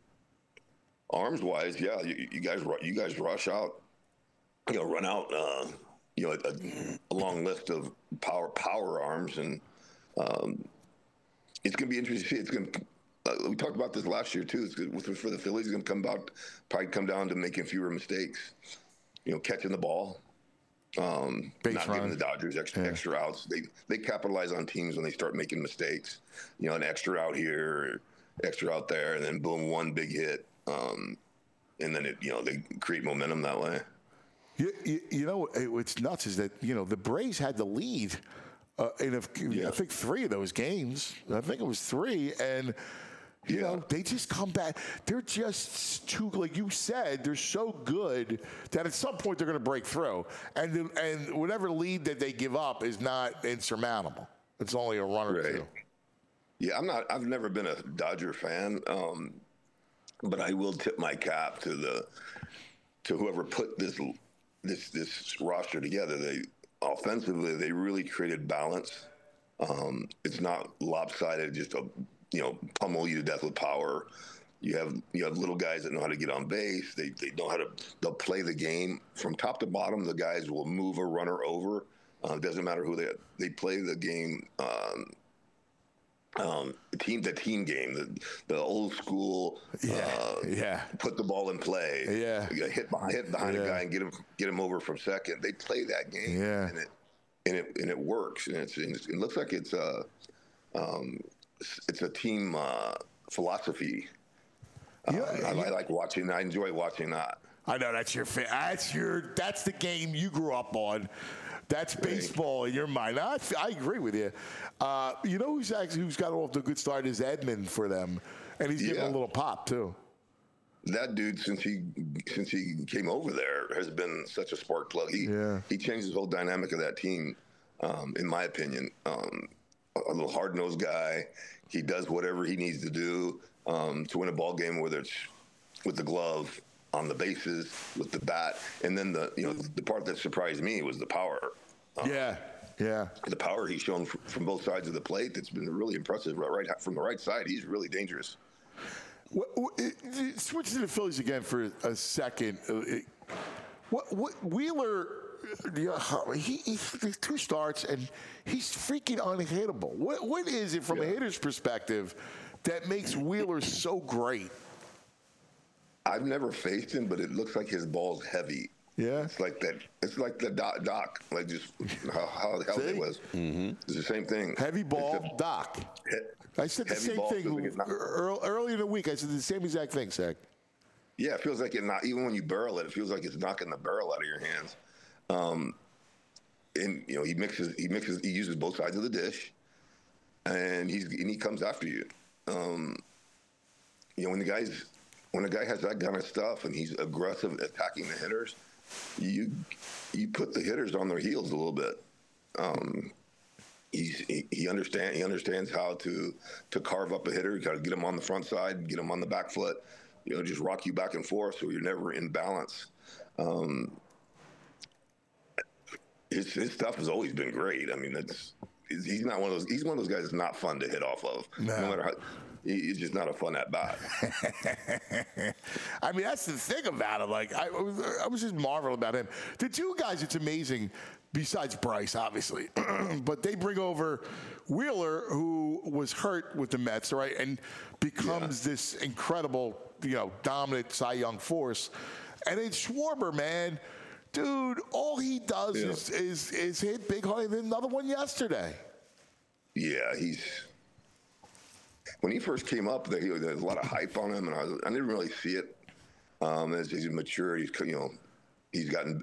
arms wise, yeah, you, you guys you guys rush out, you know, run out, uh, you know, a, a long list of power power arms, and um, it's gonna be interesting to see. It's gonna Uh, we talked about this last year too. It's good for the Phillies. It's going to come about, probably come down to making fewer mistakes. You know, catching the ball, um, not run. giving the Dodgers extra, yeah. extra outs. They they capitalize on teams when they start making mistakes. You know, an extra out here, extra out there, and then boom, one big hit, um, and then it you know they create momentum that way. You, you, you know, what's nuts is that you know the Braves had the lead uh, in a, yeah. I think three of those games. I think it was three, and You Yeah. know, they just come back. They're just too, like you said, they're so good that at some point they're going to break through. And the, and whatever lead that they give up is not insurmountable. It's only a run or Right. two. Yeah, I'm not. I've never been a Dodger fan, um, but I will tip my cap to the to whoever put this this this roster together. They offensively, they really created balance. Um, it's not lopsided, just a you know pummel you to death with power. You have you have little guys that know how to get on base. They they know how to they'll play the game from top to bottom. The guys will move a runner over. Uh, it doesn't matter who they they play the game. Um, um, team the team game, the the old school. Yeah, uh, yeah. Put the ball in play. Yeah. You gotta hit behind, hit behind Yeah. a guy and get him get him over from second. They play that game. Yeah. And it and it and it works. And it's, it's it looks like it's a um, it's a team uh, philosophy. Um, Yeah, I, I like watching. I enjoy watching that. I know that's your fa- that's your that's the game you grew up on. That's baseball in your mind. I, I agree with you. Uh, you know who's actually who's got off to a good start is Edmund for them, and he's getting Yeah. a little pop too. That dude, since he since he came over there, has been such a spark plug. He Yeah. he changed the whole dynamic of that team, um, in my opinion. Um, a little hard nosed guy. He does whatever he needs to do um, to win a ball game, whether it's with the glove, on the bases, with the bat, and then the you know the part that surprised me was the power. Yeah, yeah. The power he's shown fr- from both sides of the plate. That's been really impressive. Right, right from the right side, he's really dangerous. What, what, it- it- switch to the Phillies again for a second. Uh, it- What, what Wheeler? uh, He, he he two starts and he's freaking unhittable. What what is it from a Yeah. hitter's perspective that makes Wheeler so great? I've never faced him, but it looks like his ball's heavy. Yeah. It's like that. It's like the doc, doc like just how, how the hell See? it was. Mm-hmm. It's the same thing. Heavy ball, Except Doc. he- I said the heavy same ball thing feels like it's not- ear- early in the week. I said the same exact thing, Zach. Yeah, it feels like it not even when you barrel it, it feels like it's knocking the barrel out of your hands. Um, and you know he mixes, he mixes, he uses both sides of the dish, and he's and he comes after you. Um, you know when the guys, when a guy has that kind of stuff and he's aggressive attacking the hitters, you you put the hitters on their heels a little bit. Um, he's he, he understand he understands how to to carve up a hitter. You got to get him on the front side, get him on the back foot. You know, just rock you back and forth so you're never in balance. Um, his, his stuff has always been great. I mean, that's he's he's not one of those. He's one of those guys that's not fun to hit off of. No. No matter how, he- he's just not a fun at bat. I mean, that's the thing about him. Like, I was, I was just marveling about him. The two guys, it's amazing, besides Bryce, obviously, but they bring over Wheeler, who was hurt with the Mets, right, and becomes Yeah. this incredible, you know, dominant Cy Young force. And then Schwarber, man, dude, all he does Yeah. is, is is hit big home. And another one yesterday. Yeah, he's. When he first came up, there, there was a lot of hype on him, and I, was, I didn't really see it. Um, as he's matured, he's you know, he's gotten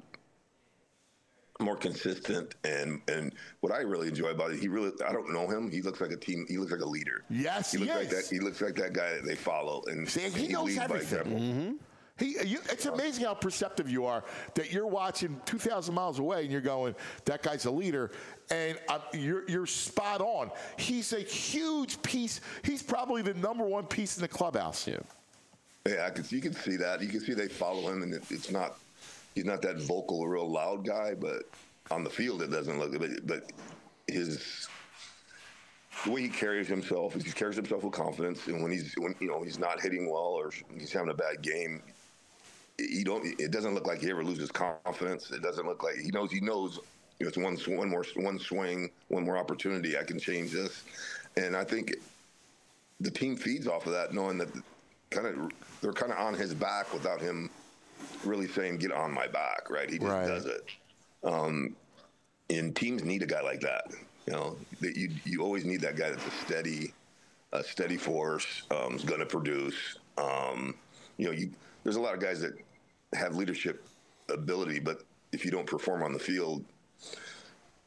more consistent, and and what I really enjoy about it, he really I don't know him. He looks like a team. He looks like a leader. Yes, he looks he like is. that. He looks like that guy that they follow, and, See, and he knows leads by everything. example. He, you, it's amazing how perceptive you are that you're watching two thousand miles away and you're going, that guy's a leader. And uh, you're, you're spot on. He's a huge piece. He's probably the number one piece in the clubhouse. Yeah. Yeah, I can, you can see that. You can see they follow him, and it, it's not. He's not that vocal, real loud guy, but on the field it doesn't look. But, but his the way he carries himself is he carries himself with confidence, and when he's when you know he's not hitting well or he's having a bad game, you don't. It doesn't look like he ever loses confidence. It doesn't look like he knows. He knows. You know, it's one sw- one more one swing, one more opportunity. I can change this, and I think the team feeds off of that, knowing that kind of they're kind of on his back without him really saying, "Get on my back." Right? He just Right. does it. Um, and teams need a guy like that. You know, that you you always need that guy that's a steady, a steady force. Um, is going to produce. Um, you know, you there's a lot of guys that have leadership ability, but if you don't perform on the field,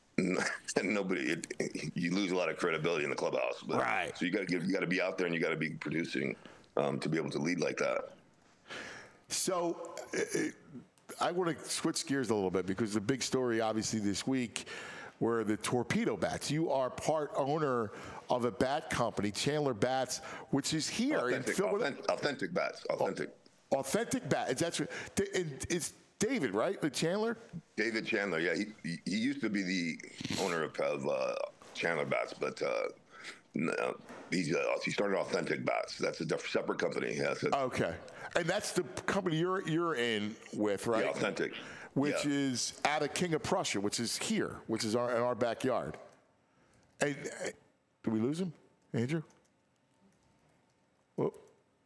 and nobody, it, you lose a lot of credibility in the clubhouse. But, right. So you got to give, you got to be out there and you got to be producing um, to be able to lead like that. So uh, I want to switch gears a little bit because the big story, obviously, this week were the torpedo bats. You are part owner of a bat company, Chandler Bats, which is here Authentic, in Philadelphia. authentic, authentic bats, authentic. Authentic bats. That's what, it's David, right? The Chandler? David Chandler, yeah. He, he, he used to be the owner of, of uh, Chandler Bats, but uh, no, he's, uh, he started Authentic Bats. That's a diff- separate company. Yeah, so, okay. And that's the company you're you're in with, right? yeah, Authentic. Which yeah. is out of King of Prussia, which is here, which is our in our backyard. And uh, did we lose him, Andrew? Well,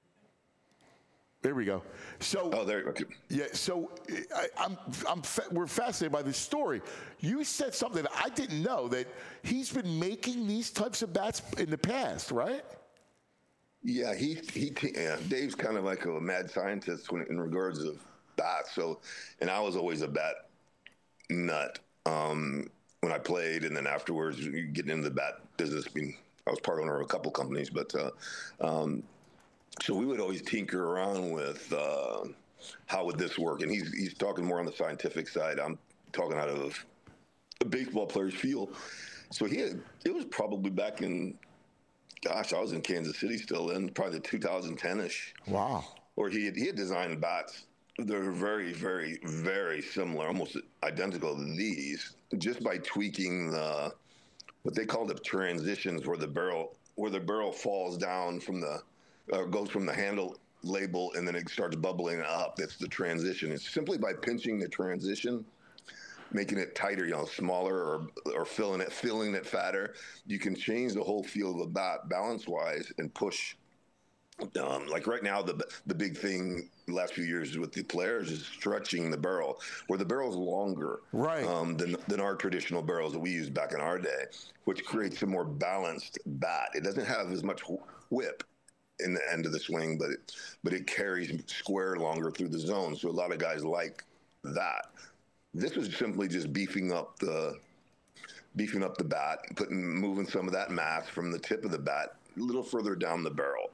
there we go. So, Oh, there. Okay. yeah. So, I, I'm I'm fa- we're fascinated by this story. You said something that I didn't know, that he's been making these types of bats in the past, right? Yeah, he he. Yeah, Dave's kind of like a mad scientist when, in regards of bats. So, and I was always a bat nut um, when I played, and then afterwards, getting into the bat business. I mean, I was part owner of a couple companies, but uh, um, so we would always tinker around with uh, how would this work, and he's he's talking more on the scientific side. I'm talking out of a baseball player's feel. So he had, it was probably back in. Gosh, I was in Kansas City still then, probably the two thousand ten-ish. Wow. Or he had, he had designed bats. They're very, very, very similar, almost identical to these, just by tweaking the what they call the transitions, where the barrel where the barrel falls down from the uh, goes from the handle label and then it starts bubbling up. That's the transition. It's simply by pinching the transition, making it tighter, you know, smaller, or or filling it, filling it fatter. You can change the whole feel of the bat balance-wise and push. Um, like right now, the the big thing the last few years with the players is stretching the barrel, where the barrel's longer, right, um, than than our traditional barrels that we used back in our day, which creates a more balanced bat. It doesn't have as much whip in the end of the swing, but it but it carries square longer through the zone. So a lot of guys like that. This was simply just beefing up the beefing up the bat, putting moving some of that mass from the tip of the bat a little further down the barrel.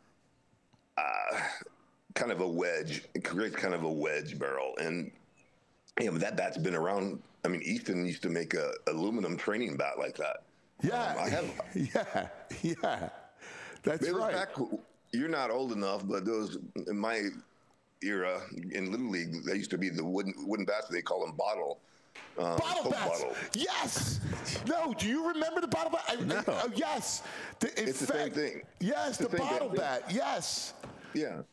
Uh, kind of a wedge. It creates kind of a wedge barrel, and you know that bat's been around. I mean, Easton used to make a aluminum training bat like that. Yeah, um, I have. Yeah, yeah, that's it was right. Back, you're not old enough, but those in my era in Little League, they used to be the wooden wooden bats. They call them bottle. Um, bottle bats. Bottle. Yes. No. Do you remember the bottle bat? I, No. I, oh, yes. The, in It's the fact, same thing. Yes, It's the, the same bottle thing. bat. Yes. Yeah.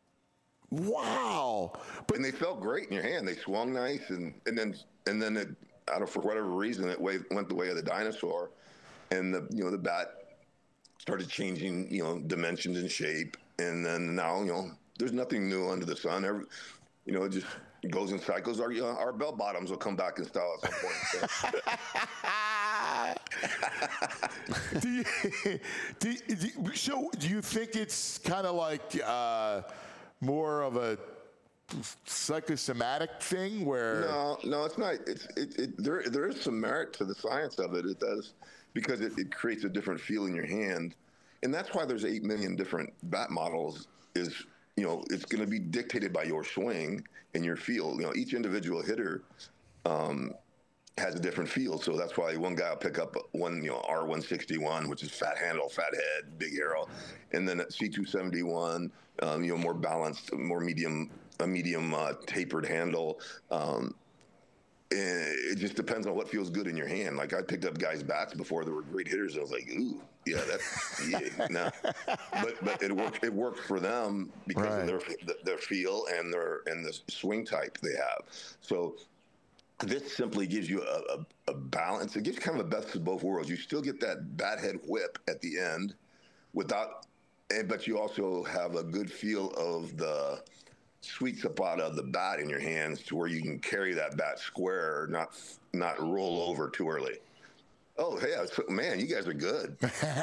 Wow. But And they felt great in your hand. They swung nice, and, and then and then it, I don't know, for whatever reason, it way, went the way of the dinosaur, and the you know the bat started changing, you know, dimensions and shape, and then now you know there's nothing new under the sun. Every, you know, it just goes in cycles. Our you know, our bell bottoms will come back in style at some point. So. do you, do you, do you, so do you think it's kind of like uh, more of a psychosomatic thing where? No, no, it's not. It's it, it there. There is some merit to the science of it. It does because it, it creates a different feel in your hand, and that's why there's eight million different bat models. Is you know it's going to be dictated by your swing and your feel. You know, each individual hitter um, has a different feel. So that's why one guy will pick up one, you know, R one sixty-one, which is fat handle, fat head, big arrow, and then at C two seventy-one, um, you know, more balanced, more medium, a medium uh, tapered handle. Um, it just depends on what feels good in your hand. Like I picked up guys' bats before that were great hitters. And I was like, ooh, yeah, that's yeah, no. But but it worked. It worked for them because Right. of their their feel and their and the swing type they have. So this simply gives you a, a, a balance. It gives kind of a best of both worlds. You still get that bat head whip at the end, without, and but you also have a good feel of the sweet spot of the bat in your hands to where you can carry that bat square, not not roll over too early. Oh, hey, so, man, you guys are good.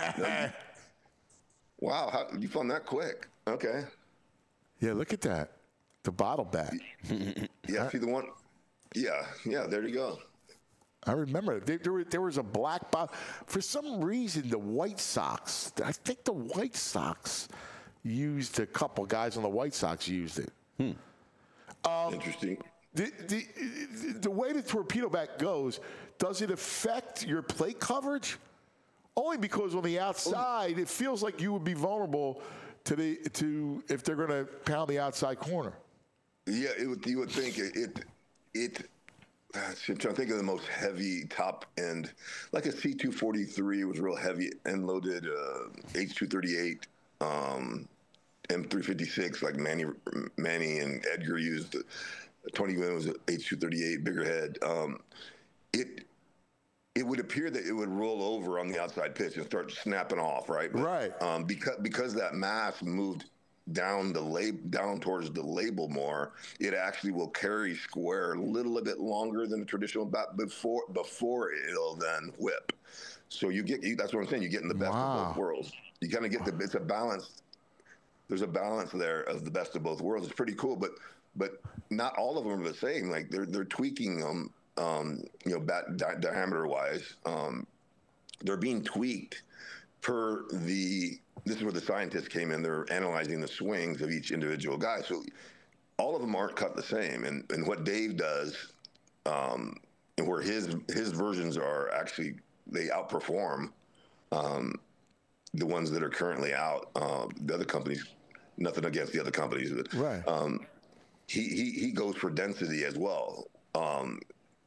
Wow, how, you found that quick. Okay. Yeah, look at that. The bottle bat. Yeah, see the one. Yeah, yeah, there you go. I remember there, there, were, there was a black box. For some reason, the White Sox, I think the White Sox used a couple guys on the White Sox used it. Hmm. Um, Interesting. The, the, the way the torpedo bat goes, does it affect your plate coverage? Only because on the outside, it feels like you would be vulnerable to the to if they're going to pound the outside corner. Yeah, it would, you would think it. it, it I'm trying to think of the most heavy top end, like a C two forty-three was real heavy end loaded, uh, H two thirty-eight, um, M three fifty-six, like Manny, Manny and Edgar used. twenty was an H two thirty-eight, bigger head. Um, it it would appear that it would roll over on the outside pitch and start snapping off, right? But, right. Um, because because that mass moved down the lab, down towards the label more, it actually will carry square a little bit longer than the traditional bat before before it'll then whip. So you get you, that's what I'm saying. You're getting the best Wow. of both worlds. You kind of get the it's a balance. There's a balance there of the best of both worlds. It's pretty cool, but but not all of them are the same. Like they're they're tweaking them, um, you know, bat di- diameter wise. Um, they're being tweaked per the. This is where the scientists came in. They're analyzing the swings of each individual guy. So all of them aren't cut the same. And and what Dave does, um, and where his his versions are actually they outperform um, the ones that are currently out. Um, the other companies, nothing against the other companies, but Right. um, he, he he goes for density as well. Um,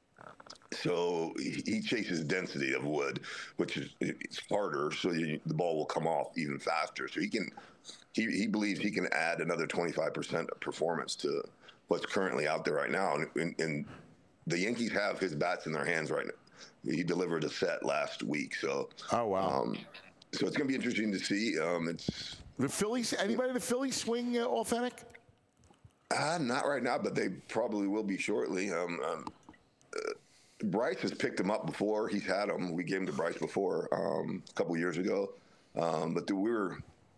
So he chases density of wood, which is it's harder, so you, the ball will come off even faster. So he can, he, he believes he can add another twenty-five percent of performance to what's currently out there right now. And, and, and the Yankees have his bats in their hands right now. He delivered a set last week, so Oh wow. um, so it's going to be interesting to see. Um, it's the Phillies. Anybody in the Phillies swing uh, authentic? uh, not right now, but they probably will be shortly. Um, um, uh, Bryce has picked him up before. He's had him. We gave him to Bryce before um, a couple years ago. Um, but the, we were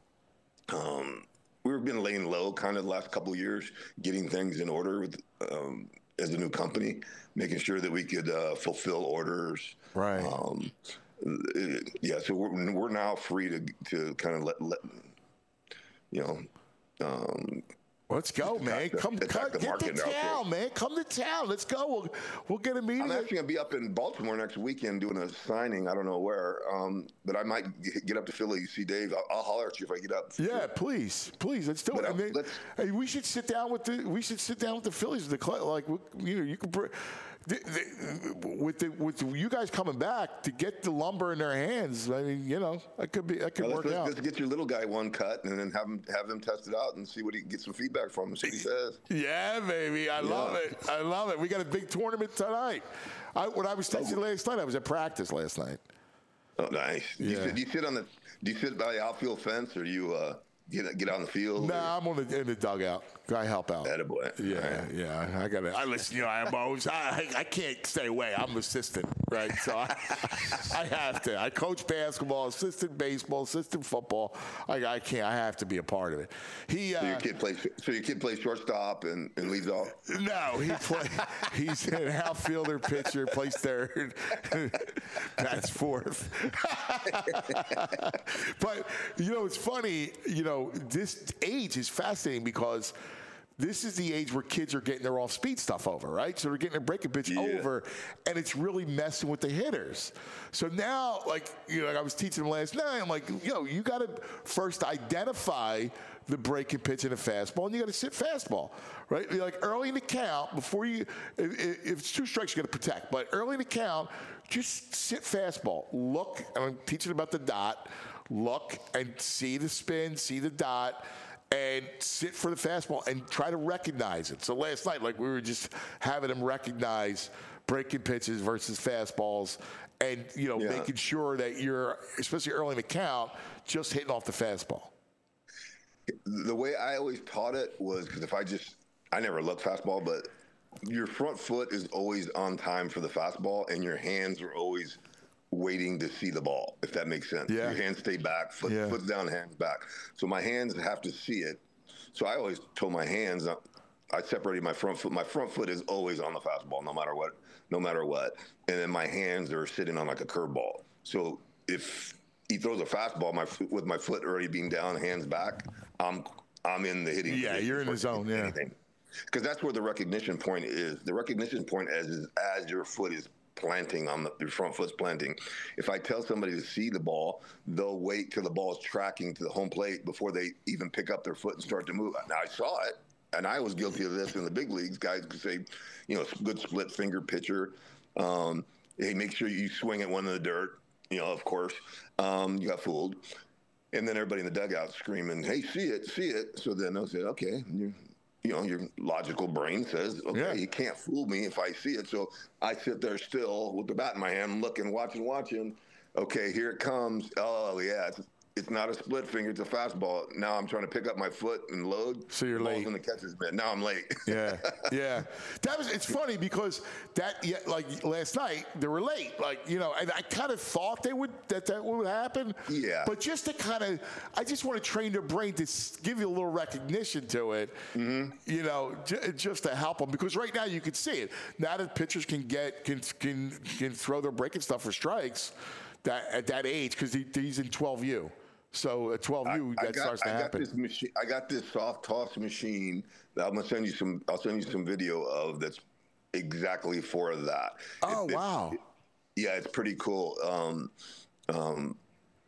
um, we were been laying low kind of the last couple of years, getting things in order with, um, as a new company, making sure that we could uh, fulfill orders. Right. Um, it, yeah. So we're we're now free to to kind of let let you know. Um, Let's go, man. attack the- Come, attack come the get to market now, town, too. man. Come to town. Let's go. We'll, we'll get a meeting. I'm actually going to be up in Baltimore next weekend doing a signing. I don't know where, um, but I might g- get up to Philly, see Dave. I'll, I'll holler at you if I get up. Yeah, please, please, let's do But, it. uh, I mean, let's- hey, we should sit down with the we should sit down with the Phillies. The cl- like you know you could br- the, the, with the with you guys coming back to get the lumber in their hands. I mean, you know, that could be that could Now, work let's, out. let's get your little guy one cut and then have him have him test it out and see what he get some feedback from him. See what he says. Yeah, baby, I love Yeah. it. I love it. We got a big tournament tonight. I, when I was texting last night, I was at practice last night. Oh, nice. Do, you Yeah. sit, do you sit on the Do you sit by the outfield fence or do you uh, get get on the field? Nah, I'm on the in the dugout. I help out. Attaboy. Yeah, All right. yeah. I got to. I listen. You know, I'm always. I, I can't stay away. I'm assistant, right? So I, I have to. I coach basketball, assistant baseball, assistant football. I, I can't. I have to be a part of it. He. So your Uh, kid plays. So your kid plays shortstop and, and leads off. no, he play. He's an outfielder, pitcher, plays third. That's fourth. But you know, it's funny. You know, this age is fascinating because this is the age where kids are getting their off-speed stuff over, right? So they're getting their breaking pitch Yeah. over, and it's really messing with the hitters. So now, like, you know, like I was teaching them last night, I'm like, you know, you got to first identify the breaking pitch in a fastball, and you got to sit fastball, right? Like early in the count, before you, if, if it's two strikes, you got to protect. But early in the count, just sit fastball. Look, and I'm teaching about the dot. Look and see the spin, see the dot, and sit for the fastball and try to recognize it. So last night, like we were just having them recognize breaking pitches versus fastballs, and you know, Yeah. making sure that you're, especially early in the count, just hitting off the fastball. The way I always taught it was because if I just, I never look fastball, but your front foot is always on time for the fastball, and your hands are always waiting to see the ball, if that makes sense. Yeah. Your hands stay back, foot, Yeah. foot down, hands back. So my hands have to see it. So I always told my hands, uh, I separated my front foot. My front foot is always on the fastball, no matter what, no matter what. And then my hands are sitting on like a curveball. So if he throws a fastball, my with my foot already being down, hands back, I'm I'm in the hitting. Yeah, you're in the zone. Yeah, because that's where the recognition point is. The recognition point as is as your foot is planting on the your front foot's planting. If I tell somebody to see the ball, they'll wait till the ball is tracking to the home plate before they even pick up their foot and start to move. Now I saw it. And I was guilty of this in the big leagues. Guys could say, you know, good split finger pitcher. Um, hey, make sure you swing at one in the dirt. You know, of course, um, you got fooled. And then everybody in the dugout screaming, "Hey, see it, see it!" So then they'll say, "Okay," and you, you know, your logical brain says, "Okay, yeah. you can't fool me if I see it." So I sit there still with the bat in my hand, looking, watching, watching. Okay, here it comes. Oh yeah, it's, it's not a split finger; it's a fastball. Now I'm trying to pick up my foot and load. So you're Ball's late in the catcher's mitt. Now I'm late. yeah, yeah. That was. It's funny because that, yeah, like last night, they were late. Like you know, and I kind of thought they would that that would happen. Yeah. But just to kind of, I just want to train their brain to give you a little recognition to it. Mm-hmm. You know, j- just to help them because right now you can see it. Now that pitchers can get can can can throw their breaking stuff for strikes, that at that age because he, he's in twelve U. So at twelve U, that got, starts to I happen. Got this machine, I got this soft toss machine that I'm gonna send you some. I'll send you some video of that's exactly for that. Oh it, it, wow! It, yeah, it's pretty cool. Um, um,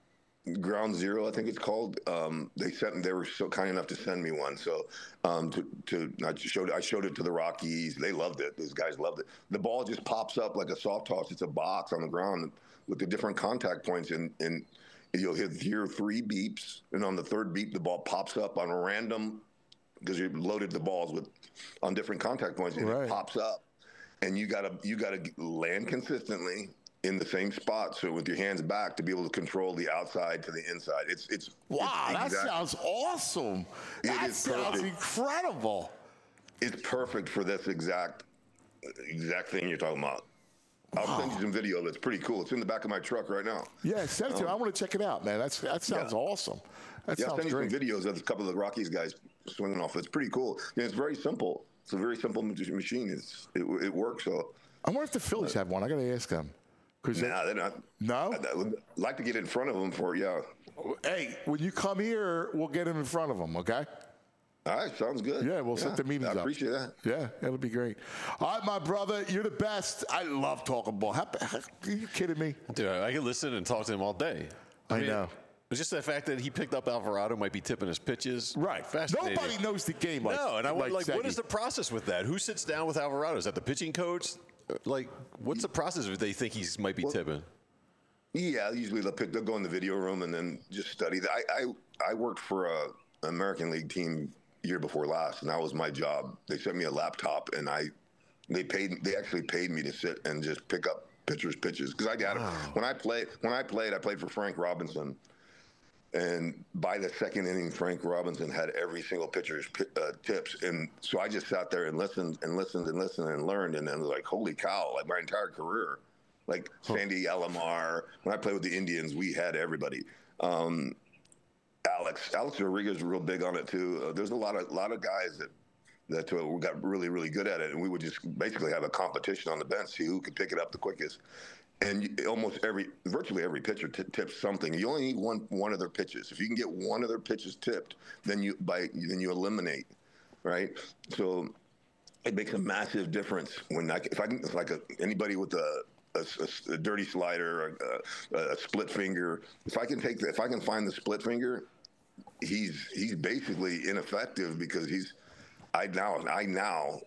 Ground Zero, I think it's called. Um, they sent. They were so kind enough to send me one. So um, to, to I showed I showed it to the Rockies. They loved it. Those guys loved it. The ball just pops up like a soft toss. It's a box on the ground with the different contact points and and. You'll hit your three beeps, and on the third beep, the ball pops up on a random because you loaded the balls with on different contact points, and right. It pops up, and you gotta you gotta land consistently in the same spot. So with your hands back to be able to control the outside to the inside. It's it's wow. It's that exact, sounds awesome. It that is sounds perfect. incredible. It's perfect for this exact exact thing you're talking about. I'll wow. send you some video of it. It's pretty cool. It's in the back of my truck right now. Yeah, send it to me. I want to check it out, man. That's That sounds yeah. awesome. That yeah, sounds I'll send great. you some videos of a couple of the Rockies guys swinging off. It's pretty cool. Yeah, it's very simple. It's a very simple machine. It's It, it works. So I wonder if the Phillies have one. I got to ask them. Nah, they're not. No? I, I would like to get in front of them for, yeah. Hey, when you come here, we'll get them in front of them, okay? All right, sounds good. Yeah, we'll yeah, set the meetings I up. I appreciate that. Yeah, it'll be great. All right, my brother, you're the best. I love talking ball. How, how, are you kidding me? Dude, I can listen and talk to him all day. I, I mean, know. It's just the fact that he picked up Alvarado, might be tipping his pitches. Right. Fascinating. Nobody knows the game like No, and I like, like, like what is the process with that? Who sits down with Alvarado? Is that the pitching coach? Like, what's the process if they think he might be well, tipping? Yeah, usually they'll, pick, they'll go in the video room and then just study. I I, I worked for a, an American League team year before last, and that was my job. They sent me a laptop, and I they paid they actually paid me to sit and just pick up pitchers' pitches because I got wow. it. When I played, when I played, I played for Frank Robinson, and by the second inning, Frank Robinson had every single pitcher's uh, tips, and so I just sat there and listened and listened and listened and learned, and then like, holy cow! Like my entire career, like huh. Sandy Alomar. When I played with the Indians, we had everybody. Um, Alex, Alex Rodriguez is real big on it too. Uh, there's a lot of lot of guys that that uh, got really really good at it, and we would just basically have a competition on the bench, see who could pick it up the quickest. And you, almost every, virtually every pitcher t- tips something. You only need one one of their pitches. If you can get one of their pitches tipped, then you by then you eliminate, right? So it makes a massive difference when I, if I can like a, anybody with a A, a, a dirty slider, a, a, a split finger. If I can take, the, if I can find the split finger, he's he's basically ineffective because he's. I now I now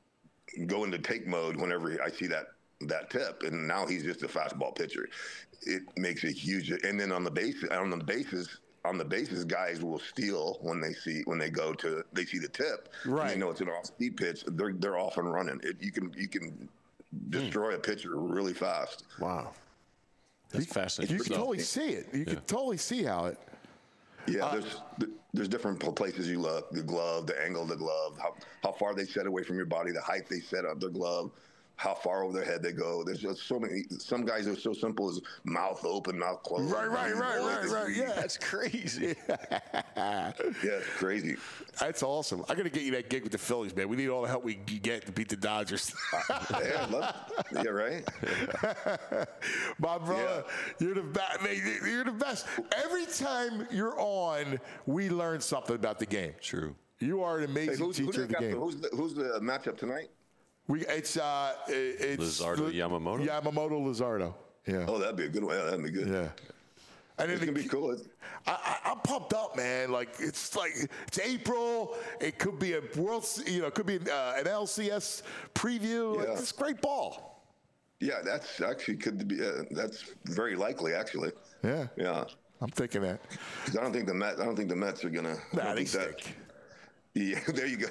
go into take mode whenever I see that that tip, and now he's just a fastball pitcher. It makes a huge. And then on the base on the bases on the bases, guys will steal when they see when they go to they see the tip. Right. And they know it's an off speed pitch. They're they're off and running. It, you can you can. destroy a pitcher really fast. Wow. That's you, fascinating. You can totally see it. You yeah. can totally see how it. Yeah, uh, there's there's different places you look. The glove, the angle of the glove, how, how far they set away from your body, the height they set up their glove, how far over their head they go. There's just so many. Some guys are so simple as mouth open, mouth closed. Right, right, right, right, right. Yeah, That's crazy. Yeah, it's crazy. that's awesome. I got to get you that gig with the Phillies, man. We need all the help we can get to beat the Dodgers. Yeah, I love, yeah, right. My brother, you're the best. You're the best. Every time you're on, we learn something about the game. True. You are an Hey, amazing who's, who teacher they of the got game. the- who's, the, who's the matchup tonight? We, it's uh, it's Luzardo, Yamamoto? Yamamoto Luzardo. Yeah. Oh, that'd be a good one. Yeah, that'd be good. Yeah. And It's then gonna the- be cool. It's, I, I, I'm pumped up, man. Like it's like it's April. It could be a world, you know, it could be uh, an L C S preview. Like, Yeah. it's great ball. yeah, that's actually could be. Uh, that's very likely, actually. Yeah. Yeah. I'm thinking that. 'Cause I don't think the Mets. I don't think the Mets are gonna. I Nah, don't they think that- stink. Yeah, there you go.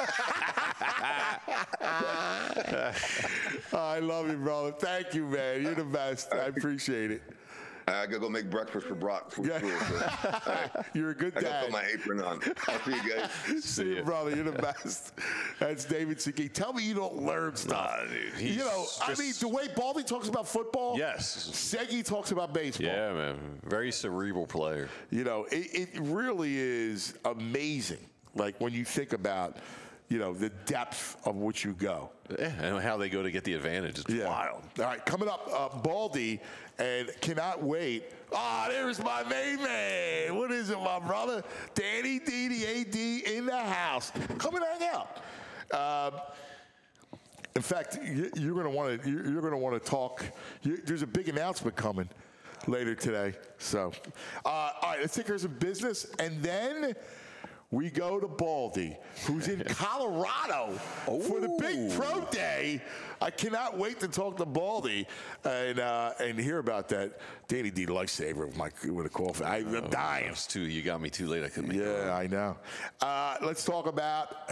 I love you, brother. Thank you, man. You're the best. I appreciate it. I gotta go make breakfast for Brock for Yeah. school. So, all right. You're a good I gotta dad. put my apron on. I'll see you guys. See you, brother. You're the best. That's David Segui. Tell me you don't learn stuff. Nah, dude, he's you know, I just- mean, the way Baldy talks about football, Yes. Segui talks about baseball. Yeah, man. Very cerebral player. You know, it, it really is amazing. Like when you think about, you know, the depth of which you go. Yeah, and how they go to get the advantage. It's wild. All right, coming up, uh, Baldy, and cannot wait. Ah, there's my main man. What is it, my brother? Danny D, the A D in the house. Come and hang out. Um, in fact, you, you're going to want to. You're, you're going to want to talk. You, there's a big announcement coming later today. So, uh, all right, let's take care of some business, and then we go to Baldy, who's in Colorado for the big pro day. I cannot wait to talk to Baldy and uh, and hear about that. Danny D lifesaver with my with a coffee. I'm Oh, dying. It's too, you got me too late. I couldn't make it. Yeah, I know. Uh, let's talk about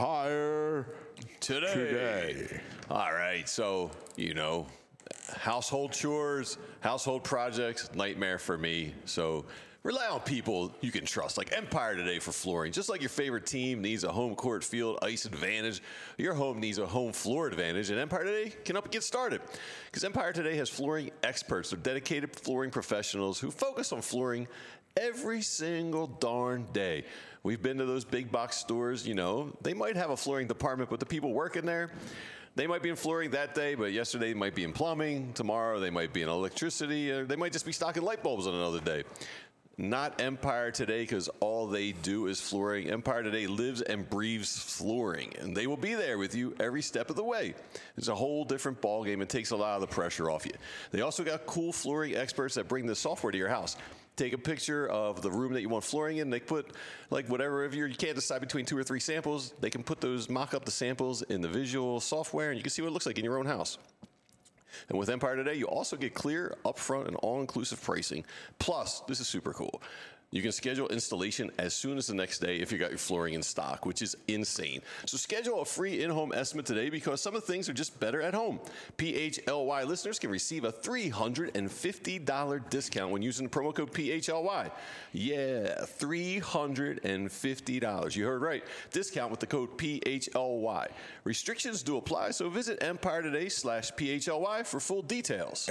Empire Today. today. All right. So, you know, household chores, household projects, nightmare for me. So rely on people you can trust, like Empire Today for flooring. Just like your favorite team needs a home court field ice advantage, your home needs a home floor advantage, and Empire Today can help you get started. Because Empire Today has flooring experts. They're dedicated flooring professionals who focus on flooring every single darn day. We've been to those big box stores, you know, they might have a flooring department, but the people working there, they might be in flooring that day, but yesterday they might be in plumbing. Tomorrow they might be in electricity. Or they might just be stocking light bulbs on another day. Not Empire Today, because all they do is flooring. Empire Today lives and breathes flooring, and they will be there with you every step of the way. It's a whole different ballgame. It takes a lot of the pressure off you. They also got cool flooring experts that bring the software to your house. Take a picture of the room that you want flooring in. They put, like, whatever, if you're, you can't decide between two or three samples, they can put those, mock up the samples in the visual software, and you can see what it looks like in your own house. And with Empire Today, you also get clear, upfront, and all-inclusive pricing. Plus, this is super cool. You can schedule installation as soon as the next day if you got your flooring in stock, which is insane. So schedule a free in-home estimate today because some of the things are just better at home. P H L Y listeners can receive a three hundred fifty dollars discount when using the promo code P H L Y. Yeah, three hundred fifty dollars. You heard right. Discount with the code P H L Y. Restrictions do apply, so visit Empire Today slash P H L Y for full details.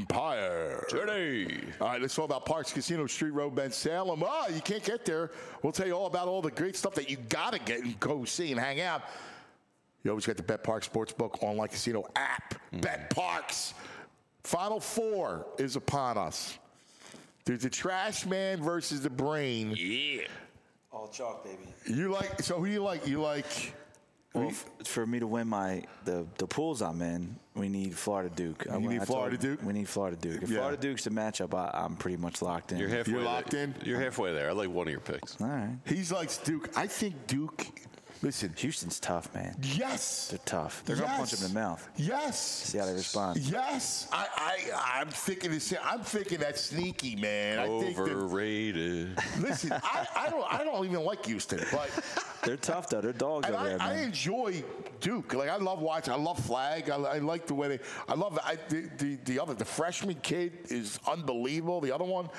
Empire Today. All right, let's talk about Parks Casino, Street Road, Ben Salem. Ah, you can't get there. We'll tell you all about all the great stuff that you got to get and go see and hang out. You always got the Bet Parks Sportsbook online casino app. Mm. Bet Parks. Final Four is upon us. There's the Trash Man versus the Brain. Yeah. All chalk, baby. You like, so who do you like? You like... Well, f- for me to win my the the pools I'm in, we need Florida Duke. You need I Florida told- Duke? We need Florida Duke. If Yeah. Florida Duke's the matchup, I, I'm pretty much locked in. You're halfway You're locked there. in? You're halfway there. I like one of your picks. All right. He's like Duke. I think Duke... Listen. Houston's tough, man. Yes. They're tough. They're gonna punch him in the mouth. Yes. See how they respond. Yes. I, I, I'm thinking the same. I'm thinking that's sneaky, man. I think that, Overrated. listen, I, I don't, I don't even like Houston, but They're tough though. They're dogs and over I, there, I man. enjoy Duke. Like I love watching. I love Flag. I, I like the way they. I love I, the, the the other the freshman kid is unbelievable. The other one.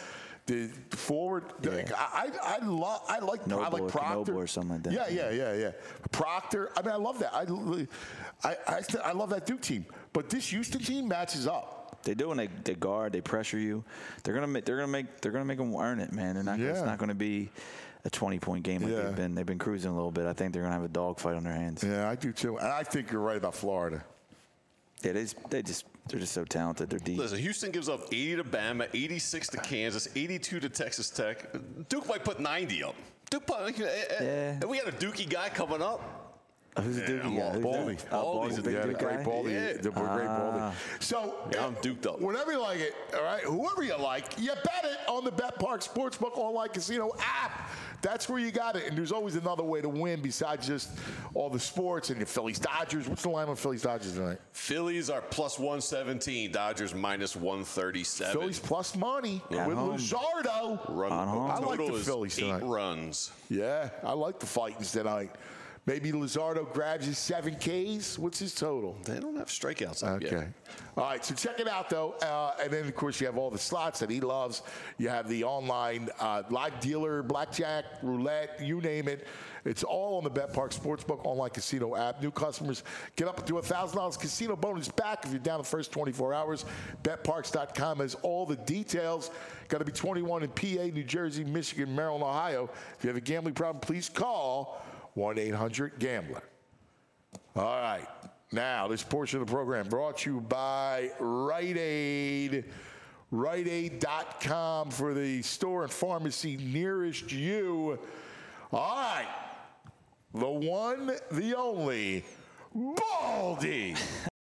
the forward. Yeah. I I, I love I like I Noble like or Proctor Knoble or something like that. Yeah, yeah, yeah, yeah. Proctor. I mean, I love that. I I I, st- I love that Duke team. But this Houston team matches up. They do when they, they guard, they pressure you. They're gonna make they're gonna make they're gonna make them earn it, man. They're not. Yeah. It's not gonna be a twenty point game like Yeah. they've been. They've been cruising a little bit. I think they're gonna have a dogfight on their hands. Yeah, I do too. And I think you're right about Florida. Yeah, they just, they just they're just so talented. They're deep. Listen, Houston gives up eighty to Bama, eighty-six to Kansas, eighty-two to Texas Tech. Duke might put ninety up. Duke, put, Yeah. and we got a Dookie guy coming up. Uh, who's the Duke I'm guy? all Who's Baldy. that? Oh, Baldy's Baldy's a a- big Yeah, the Duke great guy. Baldy. Yeah. The great Baldy. So, Yeah, I'm duked up. Whenever you like it, all right, whoever you like, you bet it on the Bet Park Sportsbook Online Casino app. That's where you got it. And there's always another way to win besides just all the sports and your Phillies Dodgers. What's the line on Phillies Dodgers tonight? Phillies are plus one seventeen, Dodgers minus one thirty-seven. Phillies plus money At with home. Luzardo. Run, On home. I like total the is Phillies eight tonight. runs. Yeah, I like the Fightins tonight. Maybe Luzardo grabs his seven Ks. What's his total? They don't have strikeouts up Okay. yet. All right, so check it out, though. Uh, and then, of course, you have all the slots that he loves. You have the online uh, live dealer, blackjack, roulette, you name it. It's all on the Bet Park Sportsbook Online Casino app. New customers get up to one thousand dollars casino bonus back if you're down the first twenty-four hours. bet parks dot com has all the details. Got to be twenty-one in P A, New Jersey, Michigan, Maryland, Ohio. If you have a gambling problem, please call one eight hundred gambler. All right. Now, this portion of the program brought to you by Rite Aid. Rite Aid dot com for the store and pharmacy nearest you. All right. The one, the only, Baldy.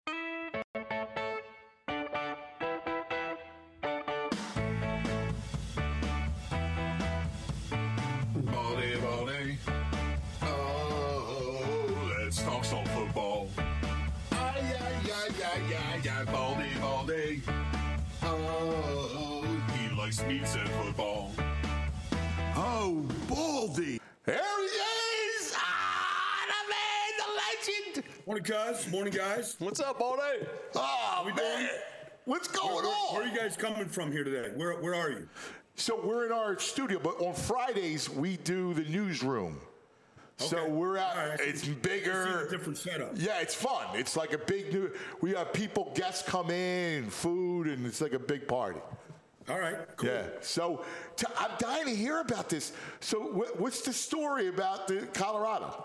Baldy, Baldy. Oh, let's talk some football. Ay, ay, ay, ay, ay, ay, Baldy, Baldy. Oh, he likes meats and football. Oh, Baldy. There he is. Ah, the man, the legend. Morning, guys. Morning, guys. What's up, Baldy? Oh, we man. doing? What's going Where, where, on? where are you guys coming from here today? Where Where are you? So we're in our studio, but on Fridays we do the newsroom. So Okay. we're out. All right, I see- It's I see bigger. a different setup. Yeah, it's fun. It's like a big new. We have people, guests come in, food, and it's like a big party. All right, cool. Yeah. So t- I'm dying to hear about this. So wh- what's the story about the Colorado?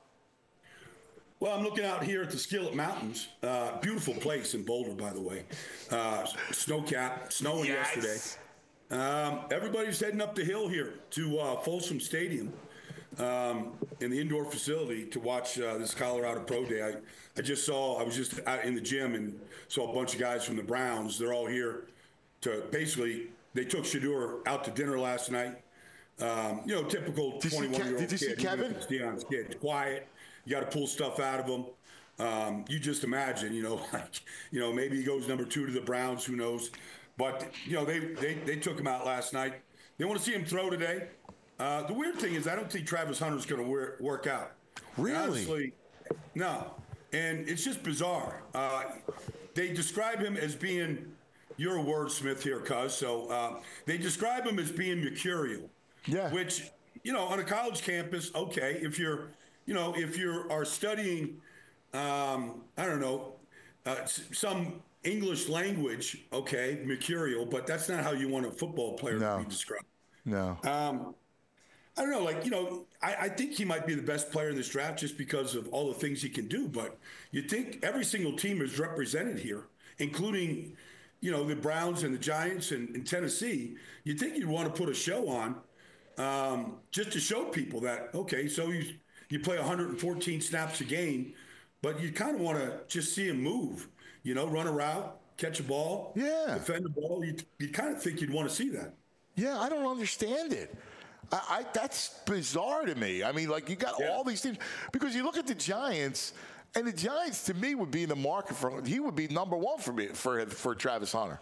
Well, I'm looking out here at the Skillet Mountains. Uh, beautiful place in Boulder, by the way. Uh, snow cap, snowing Yes. yesterday. Um, everybody's heading up the hill here to uh, Folsom Stadium um, in the indoor facility to watch uh, this Colorado Pro Day. I, I just saw, I was just out in the gym and saw a bunch of guys from the Browns. They're all here to basically, they took Shador out to dinner last night. Um, you know, typical Did you see Ke- twenty-one-year-old did you see kid. Kevin? It's Deion's kid. Quiet. You got to pull stuff out of him. Um, you just imagine, you know, like, you know, maybe he goes number two to the Browns. Who knows? But, you know, they, they, they took him out last night. They want to see him throw today. Uh, the weird thing is I don't think Travis Hunter's going to work out. Really? Honestly, no. And it's just bizarre. Uh, they describe him as being, you're a wordsmith here, cuz, so uh, they describe him as being mercurial. Yeah. Which, you know, on a college campus, okay, if you're, you know, if you are studying, um, I don't know, uh, s- some English language, okay, mercurial, but that's not how you want a football player No. to be described. No. Um, I don't know, like, you know, I, I think he might be the best player in this draft just because of all the things he can do. But you think every single team is represented here, including, you know, the Browns and the Giants and, and Tennessee. You'd think you'd want to put a show on um, just to show people that, okay, so you, you play one hundred fourteen snaps a game, but you kind of want to just see him move, you know, run a route, catch a ball, Yeah. defend the ball. You, you kind of think you'd want to see that. Yeah, I don't understand it. I, I that's bizarre to me. I mean, like you got Yeah. all these things because you look at the Giants, and the Giants to me would be in the market for. He would be number one for me for for Travis Hunter.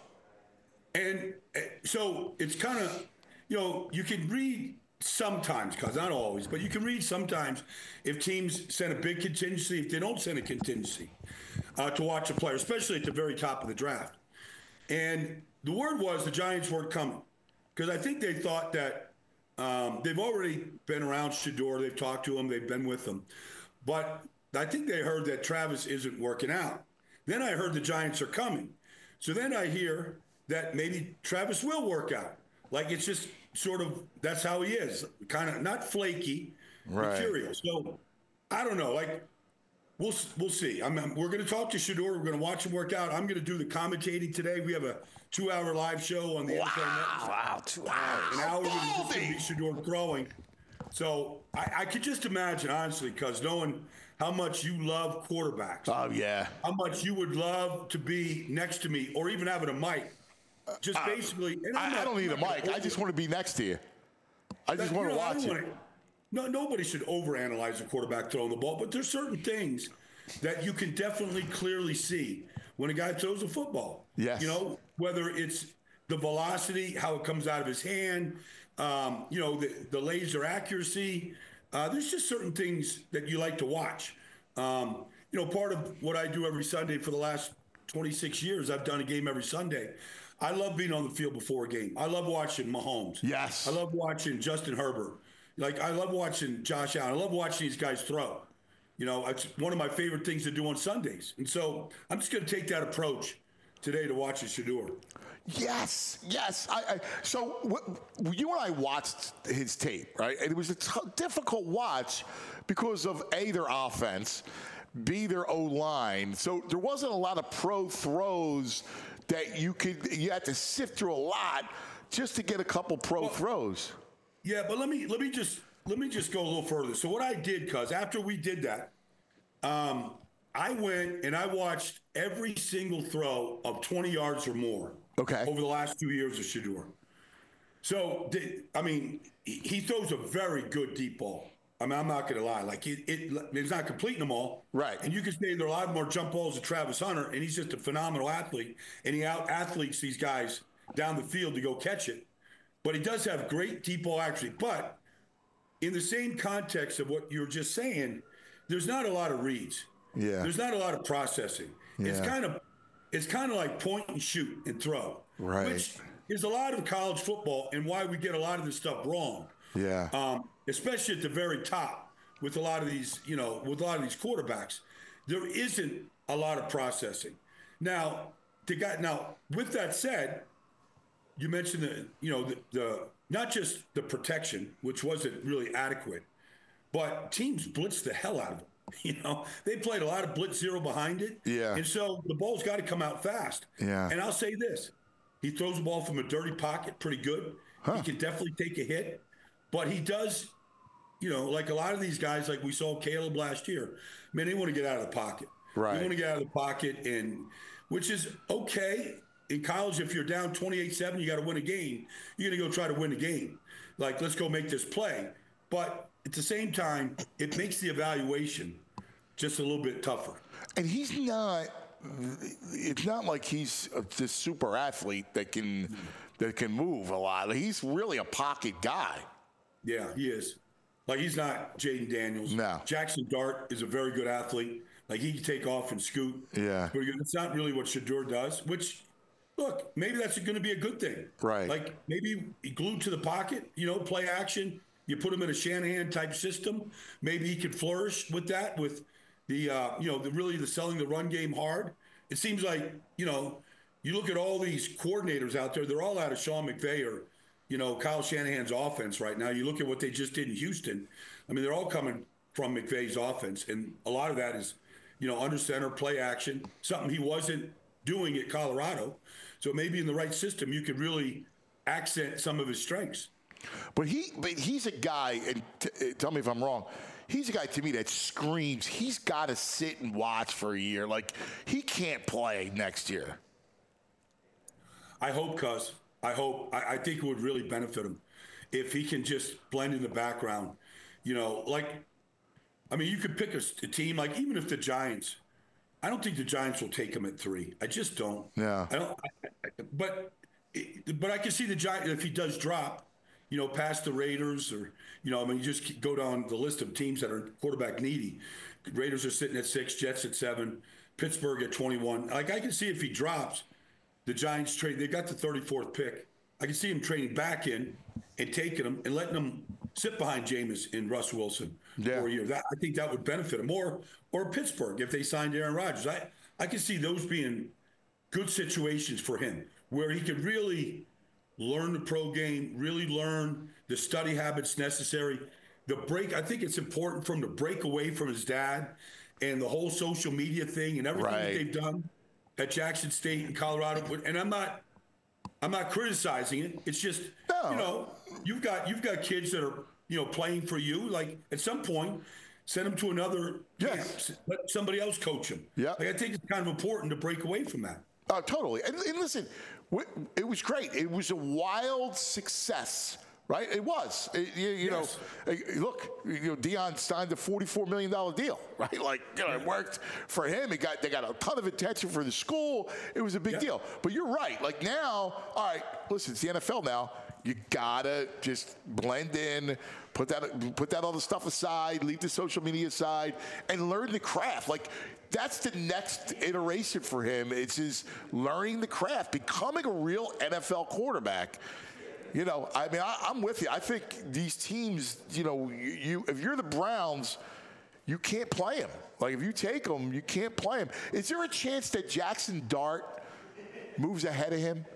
And uh, so it's kind of, you know, you can read sometimes, because not always, but you can read sometimes if teams send a big contingency, if they don't send a contingency uh, to watch a player, especially at the very top of the draft. And the word was the Giants weren't coming. because I think they thought that um, they've already been around Shedeur. They've talked to him. They've been with him. But I think they heard that Travis isn't working out. Then I heard the Giants are coming. So then I hear that maybe Travis will work out. Like, it's just sort of, that's how he is. Kind of not flaky, right. but curious. So I don't know. Like, we'll we'll see. I'm, I'm, we're going to talk to Shedeur. We're going to watch him work out. I'm going to do the commentating today. We have a two-hour live show on the wow. N F L Network. Wow, two hours. An hour going to be Shedeur throwing. So I, I could just imagine, honestly, because knowing how much you love quarterbacks. Oh, yeah. How much you would love to be next to me or even having a mic. Just uh, basically. And I, not, I don't need a mic. I just want to be next to you. I just that, want you to know, watch it. Wanna, no, nobody should overanalyze a quarterback throwing the ball, but there's certain things that you can definitely clearly see when a guy throws a football. Yes. You know, whether it's the velocity, how it comes out of his hand, um, you know, the, the laser accuracy. Uh, there's just certain things that you like to watch. Um, you know, part of what I do every Sunday for the last twenty-six years, I've done a game every Sunday. I love being on the field before a game. I love watching Mahomes. Yes. I love watching Justin Herbert. Like, I love watching Josh Allen. I love watching these guys throw. You know, it's one of my favorite things to do on Sundays. And so I'm just going to take that approach today to watch Shedeur. Yes, yes. I, I, so w- you and I watched his tape, right? And it was a t- difficult watch because of A, their offense, B, their O-line. So there wasn't a lot of pro throws that you could, you had to sift through a lot just to get a couple pro well, throws. Yeah, but let me let me just let me just go a little further. So what I did, cuz after we did that, um, I went and I watched every single throw of twenty yards or more. Okay. Over the last two years of Shedeur. So, I mean, he throws a very good deep ball. I mean, I'm not going to lie. Like, it, it, he's not completing them all. Right. And you can say there are a lot more jump balls than Travis Hunter, and he's just a phenomenal athlete. And he out-athletes these guys down the field to go catch it. But he does have great deep ball accuracy. But in the same context of what you were just saying, there's not a lot of reads. Yeah. There's not a lot of processing. Yeah. It's kind of it's kind of like point and shoot and throw. Right. Which is a lot of college football and why we get a lot of this stuff wrong. Yeah. Um, especially at the very top with a lot of these, you know, with a lot of these quarterbacks. There isn't a lot of processing. Now, the guy, now with that said, you mentioned the, you know, the, the not just the protection, which wasn't really adequate, but teams blitzed the hell out of him. You know, they played a lot of blitz zero behind it. Yeah. And so the ball's got to come out fast. Yeah. And I'll say this. He throws the ball from a dirty pocket pretty good. Huh. He can definitely take a hit. But he does, you know, like a lot of these guys, like we saw Caleb last year, man, they want to get out of the pocket. Right. They want to get out of the pocket, and which is okay. In college, if you're down twenty-eight seven, you got to win a game. You're going to go try to win the game. Like, let's go make this play. But at the same time, it makes the evaluation just a little bit tougher. And he's not, it's not like he's this super athlete that can that can move a lot. He's really a pocket guy. Yeah, he is. Like, he's not Jaden Daniels. No. Jackson Dart is a very good athlete. Like, he can take off and scoot. Yeah. But it's not really what Shedeur does, which, look, maybe that's going to be a good thing. Right. Like, maybe he glued to the pocket, you know, play action. You put him in a Shanahan-type system. Maybe he could flourish with that, with the, uh, you know, the really the selling the run game hard. It seems like, you know, you look at all these coordinators out there, they're all out of Sean McVay or, you know, Kyle Shanahan's offense right now. You look at what they just did in Houston. I mean, they're all coming from McVay's offense. And a lot of that is, you know, under center, play action, something he wasn't doing at Colorado. So maybe in the right system, you could really accent some of his strengths. But he, but he's a guy, and t- tell me if I'm wrong, he's a guy to me that screams he's got to sit and watch for a year. Like, he can't play next year. I hope, cuz. I hope. I, I think it would really benefit him if he can just blend in the background. You know, like, I mean, you could pick a, a team, like, even if the Giants, I don't think the Giants will take him at three. I just don't. Yeah. I don't. I, I, but, but I can see the Giants, if he does drop, you know, past the Raiders or, you know, I mean, you just go down the list of teams that are quarterback needy. Raiders are sitting at six, Jets at seven, Pittsburgh at twenty-one. Like, I can see if he drops, the Giants trade, they got the thirty-fourth pick I can see him trading back in and taking him and letting him sit behind Jameis and Russ Wilson Yeah. for a year. That, I think that would benefit him. Or, or Pittsburgh, if they signed Aaron Rodgers. I, I can see those being good situations for him where he could really learn the pro game, really learn the study habits necessary. The break, I think it's important for him to break away from his dad and the whole social media thing and everything Right. that they've done at Jackson State and Colorado. And I'm not, I'm not criticizing it. It's just, No. you know, you've got you've got kids that are, you know, playing for you. Like at some point, send them to another Yes. camp. Let somebody else coach them. Yeah. Like, I think it's kind of important to break away from that. Oh, totally. And, and listen, w- it was great. It was a wild success, right? It was. It- you you Yes. know, eh, look, you know, Deion signed a forty-four million dollars deal, right? Like, you know, it worked for him. It got they got a ton of attention for the school. It was a big Yeah. deal. But you're right. Like now, all right, listen, it's the N F L now. You gotta just blend in, put that put that other stuff aside, leave the social media aside, and learn the craft. Like that's the next iteration for him. It's his learning the craft, becoming a real N F L quarterback. You know, I mean, I, I'm with you. I think these teams, you know, you, you if you're the Browns, you can't play them. Like if you take them, you can't play them. Is there a chance that Jackson Dart moves ahead of him?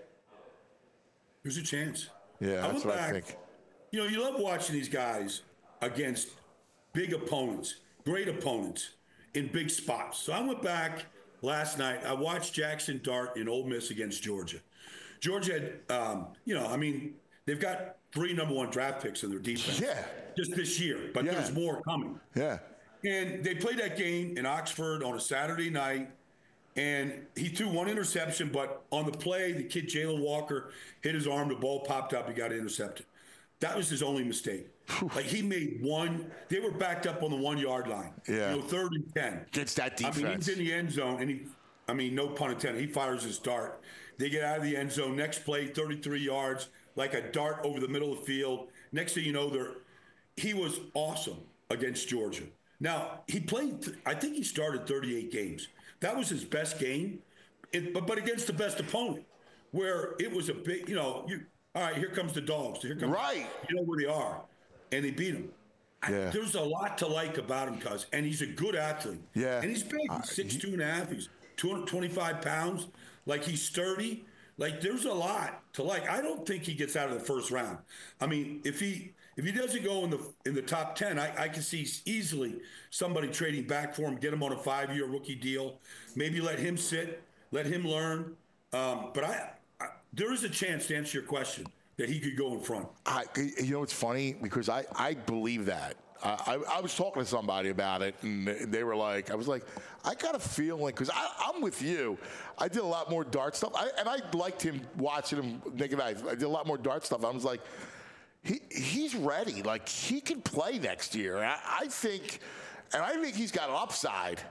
There's a chance. Yeah, I that's went what I back, think. You know, you love watching these guys against big opponents, great opponents in big spots. So I went back last night. I watched Jackson Dart in Ole Miss against Georgia. Georgia had, um, you know, I mean, they've got three number one draft picks in their defense. Yeah. Just this year, but Yeah. there's more coming. Yeah. And they played that game in Oxford on a Saturday night, and he threw one interception, but on the play, the kid Jalen Walker hit his arm, the ball popped up, he got intercepted. That was his only mistake. Like he made one, they were backed up on the one yard line. Yeah. You know, third and ten. Against that I mean, defense. he's in the end zone, and he, I mean, no pun intended, he fires his dart. They get out of the end zone. Next play, thirty-three yards, like a dart over the middle of the field. Next thing you know, they're, he was awesome against Georgia. Now, he played, I think he started thirty-eight games. That was his best game, it, but, but against the best opponent, where it was a big, you know, you, all right, here comes the dogs. Here comes, Right. You know where they are. And they beat him. I- Yeah. there's a lot to like about him, cuz, and he's a good athlete. Yeah. And he's big. He's Uh, six he- two and a half. He's two hundred twenty-five pounds. Like, he's sturdy. Like, there's a lot to like. I don't think he gets out of the first round. I mean, if he if he doesn't go in the in the top ten, I, I can see easily somebody trading back for him, get him on a five-year rookie deal, maybe let him sit, let him learn. Um, but I, I there is a chance, to answer your question, that he could go in front. I, you know, it's funny because I, I believe that. I, I, I was talking to somebody about it, and they were like, I was like, I got a feeling, because I'm with you. I did a lot more dart stuff, I, and I liked him watching him naked eye. I did a lot more dart stuff. I was like, he he's ready. Like, he can play next year. I, I think, and I think he's got an upside.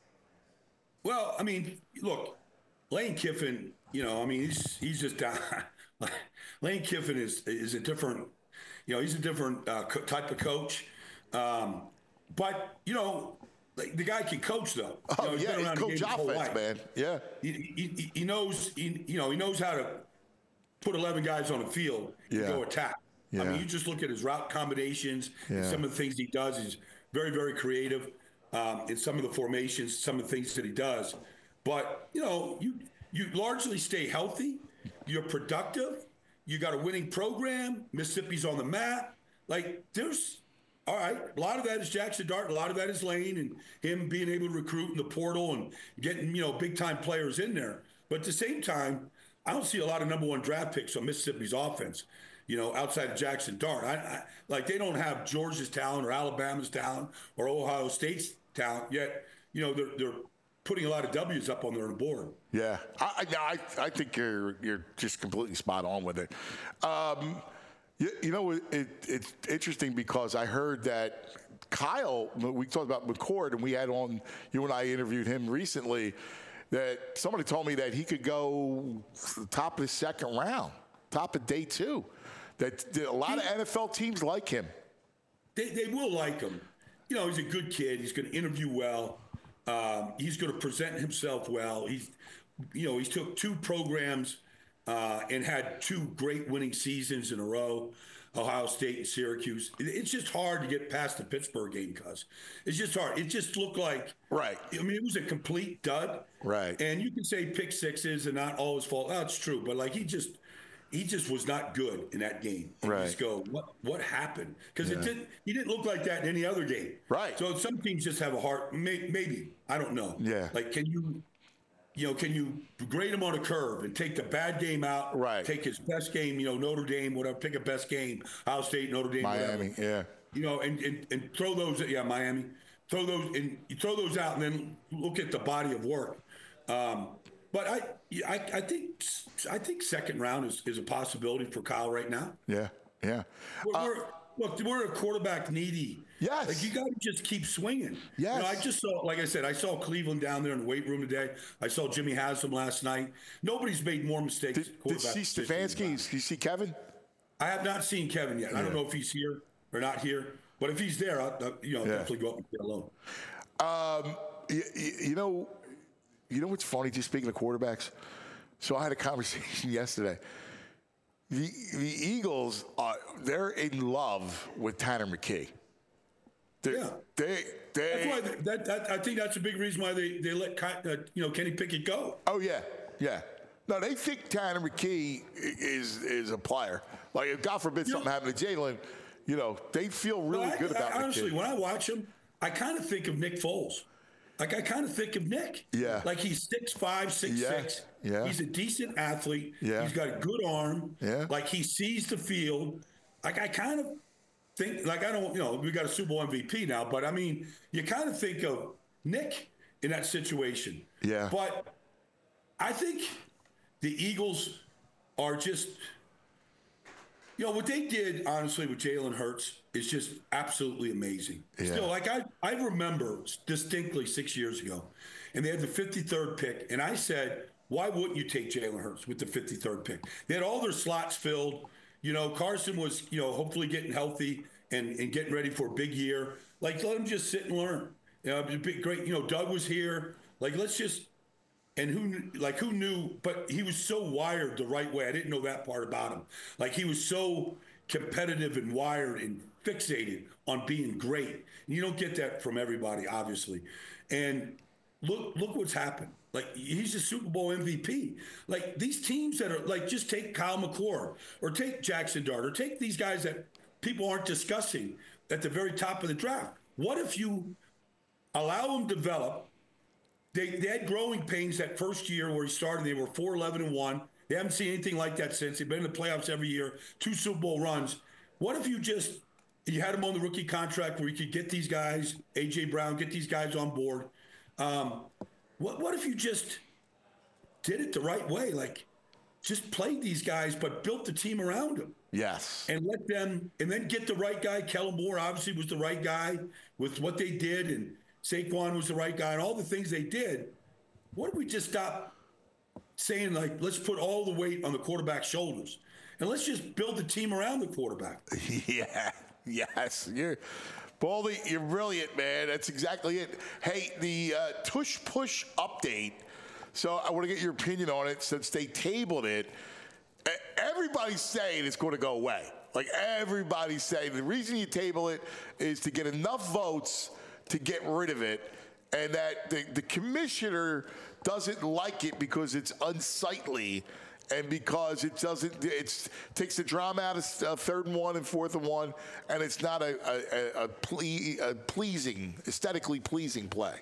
Well, I mean, look, Lane Kiffin, you know, I mean, he's he's just down. Lane Kiffin is is a different, you know, he's a different uh, co- type of coach. Um, but you know, like, the guy can coach though. You Oh know, he's yeah, been he around the coach game his whole offense, life. man. Yeah, He, he, he knows, he, you know, he knows how to put eleven guys on the field and Yeah. go attack. I Yeah. mean, you just look at his route combinations, and Yeah. some of the things he does. He's very, very creative um, in some of the formations, some of the things that he does. But, you know, you you largely stay healthy. You're productive. You got a winning program. Mississippi's on the map. Like, there's, all right, a lot of that is Jackson Dart. A lot of that is Lane and him being able to recruit in the portal and getting, you know, big-time players in there. But at the same time, I don't see a lot of number one draft picks on Mississippi's offense, you know, outside of Jackson Dart. I, I, like, they don't have Georgia's talent or Alabama's talent or Ohio State's talent, yet, you know, they're, they're putting a lot of W's up on their board. yeah. I, I, I I think you're you're just completely spot on with it. Um, you, you know, it, it's interesting because I heard that Kyle, we talked about McCord, and we had on, you and I interviewed him recently, that somebody told me that he could go top of the second round, top of day two. That a lot of N F L teams like him. They, they will like him. You know, he's a good kid. He's going to interview well. Um, he's going to present himself well. He's, you know, he's took two programs uh, and had two great winning seasons in a row, Ohio State and Syracuse. It's just hard to get past the Pittsburgh game, cuz it's just hard. It just looked like, right. I mean, it was a complete dud. Right. And you can say pick sixes and not all his fault. Oh, it's true. But like he just, he just was not good in that game. And right. You just go, what what happened? Because yeah. it didn't. He didn't look like that in any other game. Right. So some teams just have a heart. May, maybe I don't know. Yeah. Like, can you, you know, can you grade him on a curve and take the bad game out? Right. Take his best game. You know, Notre Dame, whatever. Pick a best game. Ohio State, Notre Dame, Miami. whatever. Yeah. You know, and, and and throw those. Yeah, Miami. Throw those and you throw those out, and then look at the body of work. Um, But I, I, I think, I think second round is, is a possibility for Kyle right now. Yeah, yeah. We're, Uh, we're, look, we're a quarterback needy. Yes. Like you got to just keep swinging. Yes. You know, I just saw, like I said, I saw Cleveland down there in the weight room today. I saw Jimmy Haslam last night. Nobody's made more mistakes. Did, did you see Stefanski? Did you see Kevin? I have not seen Kevin yet. Yeah. I don't know if he's here or not here. But if he's there, I'll, I'll you know, Yeah. definitely go up and say hello. Um, you, you know, you know what's funny? Just speaking of quarterbacks. So I had a conversation yesterday. The the Eagles are they're in love with Tanner McKee. They're, Yeah. They they That's why they, that, that I think that's a big reason why they they let uh, you know Kenny Pickett go. Oh yeah, yeah. No, they think Tanner McKee is is a player. Like if God forbid something happened to Jalen, you know, they feel really I, good about I, honestly, McKee. when I watch him, I kind of think of Nick Foles. Like I kind of think of Nick. Yeah. Like he's six five, six Yeah. six. Yeah. He's a decent athlete. Yeah. He's got a good arm. Yeah. Like he sees the field. Like I kind of think, like I don't, you know, we got a Super Bowl M V P now, but I mean, you kind of think of Nick in that situation. Yeah. But I think the Eagles are just, you know, what they did, honestly, with Jalen Hurts is just absolutely amazing. Yeah. Still, like I, I remember distinctly six years ago, and they had the fifty-third pick, and I said, why wouldn't you take Jalen Hurts with the fifty-third pick? They had all their slots filled. You know, Carson was, you know, hopefully getting healthy and, and getting ready for a big year. Like, let him just sit and learn. You know, it'd be big, great. You know, Doug was here. Like, let's just – and who, like, who knew? But he was so wired the right way. I didn't know that part about him. Like, he was so competitive and wired and fixated on being great. And you don't get that from everybody, obviously. And look, look what's happened. Like, he's a Super Bowl M V P. Like, these teams that are, like, just take Kyle McCord or take Jackson Dart or take these guys that people aren't discussing at the very top of the draft. What if you allow them to develop? They, they had growing pains that first year where he started. They were four eleven and one. They haven't seen anything like that since. They've been in the playoffs every year, two Super Bowl runs. What if you just you had him on the rookie contract where you could get these guys, A J Brown, get these guys on board? Um, what what if you just did it the right way? Like, just played these guys, but built the team around them. Yes. And let them, and then get the right guy. Kellen Moore obviously was the right guy with what they did, and Saquon was the right guy, and all the things they did. What if we just stop saying, like, let's put all the weight on the quarterback's shoulders, and let's just build the team around the quarterback? Yeah. Yes. You're, Baldy, you're brilliant, man. That's exactly it. Hey, the uh, tush push update. So I want to get your opinion on it since they tabled it. Everybody's saying it's going to go away. Like, everybody's saying the reason you table it is to get enough votes to get rid of it, and that the, the commissioner doesn't like it because it's unsightly and because it doesn't it's takes the drama out of uh, third and one and fourth and one, and it's not a, a, a, ple- a pleasing, aesthetically pleasing play.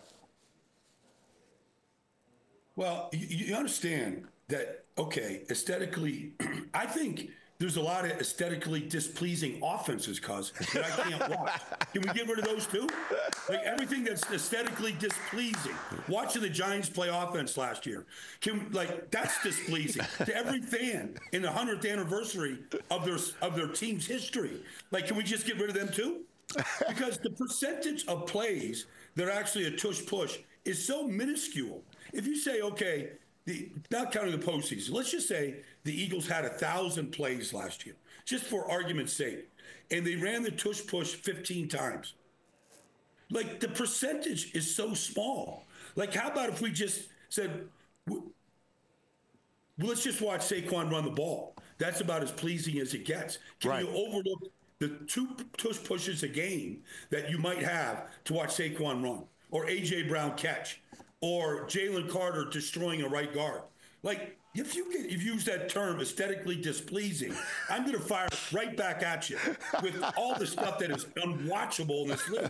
Well, you, you understand that, okay, aesthetically, I think there's a lot of aesthetically displeasing offenses, cuz, that I can't watch. Can we get rid of those too? Like, everything that's aesthetically displeasing. Watching the Giants play offense last year, can like that's displeasing to every fan in the hundredth anniversary of their of their team's history. Like, can we just get rid of them too? Because the percentage of plays that are actually a tush push is so minuscule. If you say, okay, the, not counting the postseason, let's just say the Eagles had a thousand plays last year, just for argument's sake, and they ran the tush push fifteen times. Like, the percentage is so small. Like, how about if we just said, well, let's just watch Saquon run the ball. That's about as pleasing as it gets. Can Right. you overlook the two tush pushes a game that you might have to watch Saquon run, or A J Brown catch, or Jalen Carter destroying a right guard? Like, if you get, if you use that term aesthetically displeasing, I'm going to fire right back at you with all the stuff that is unwatchable in this league.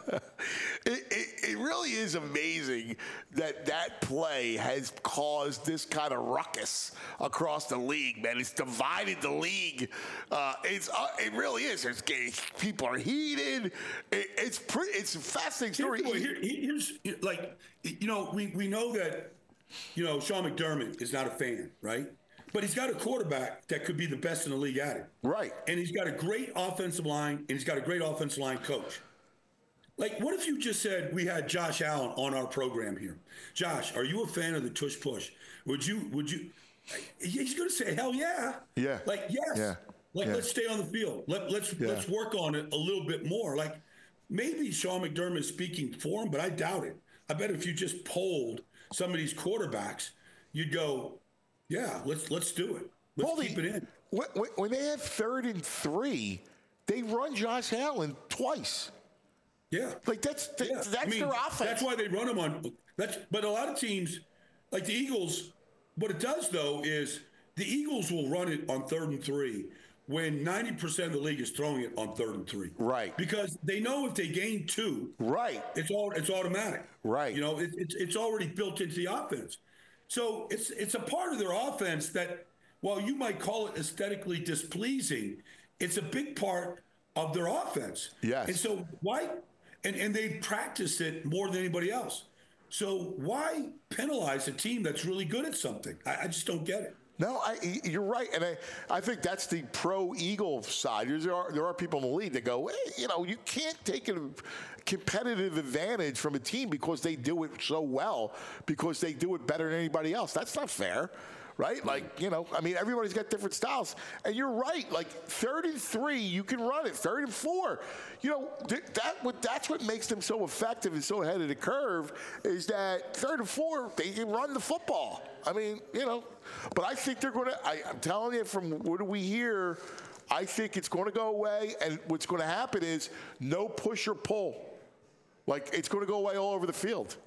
It, it, it really is amazing that that play has caused this kind of ruckus across the league, man. It's divided the league. Uh, it's uh, it really is. There's, people are heated. It, it's pretty. It's a fascinating story. Here, here, here's like, you know, we we know that. You know, Sean McDermott is not a fan, right? But he's got a quarterback that could be the best in the league at it. Right. And he's got a great offensive line, and he's got a great offensive line coach. Like, what if you just said we had Josh Allen on our program here? Josh, are you a fan of the tush push? Would you, would you, he's going to say, hell yeah. Yeah. Like, yes. Yeah. Like, yeah. let's stay on the field. Let, let's, yeah. let's work on it a little bit more. Like, maybe Sean McDermott is speaking for him, but I doubt it. I bet if you just polled some of these quarterbacks, you'd go, yeah, let's let's do it. Let's Baldy, keep it in. When, when they have third and three, they run Josh Allen twice. Yeah, like that's th- yeah. that's I mean, their offense. That's why they run them on. That's but a lot of teams, like the Eagles, what it does though is the Eagles will run it on third and three when ninety percent of the league is throwing it on third and three. Right. Because they know if they gain two, right, it's all it's automatic. Right. You know, it, it's it's already built into the offense. So it's it's a part of their offense that, while you might call it aesthetically displeasing, it's a big part of their offense. Yes. And so why and, and they practice it more than anybody else. So why penalize a team that's really good at something? I, I just don't get it. No, I, you're right, and I, I think that's the pro-Eagle side. There are there are people in the league that go, hey, you know, you can't take a competitive advantage from a team because they do it so well, because they do it better than anybody else. That's not fair, right? Like, you know, I mean, everybody's got different styles, and you're right. Like third and three, you can run it. Third and four, you know, th- that what that's what makes them so effective and so ahead of the curve is that third and four, they can run the football. I mean, you know, but I think they're going to, I'm telling you from what do we hear, I think it's going to go away. And what's going to happen is no push or pull. Like, it's going to go away all over the field.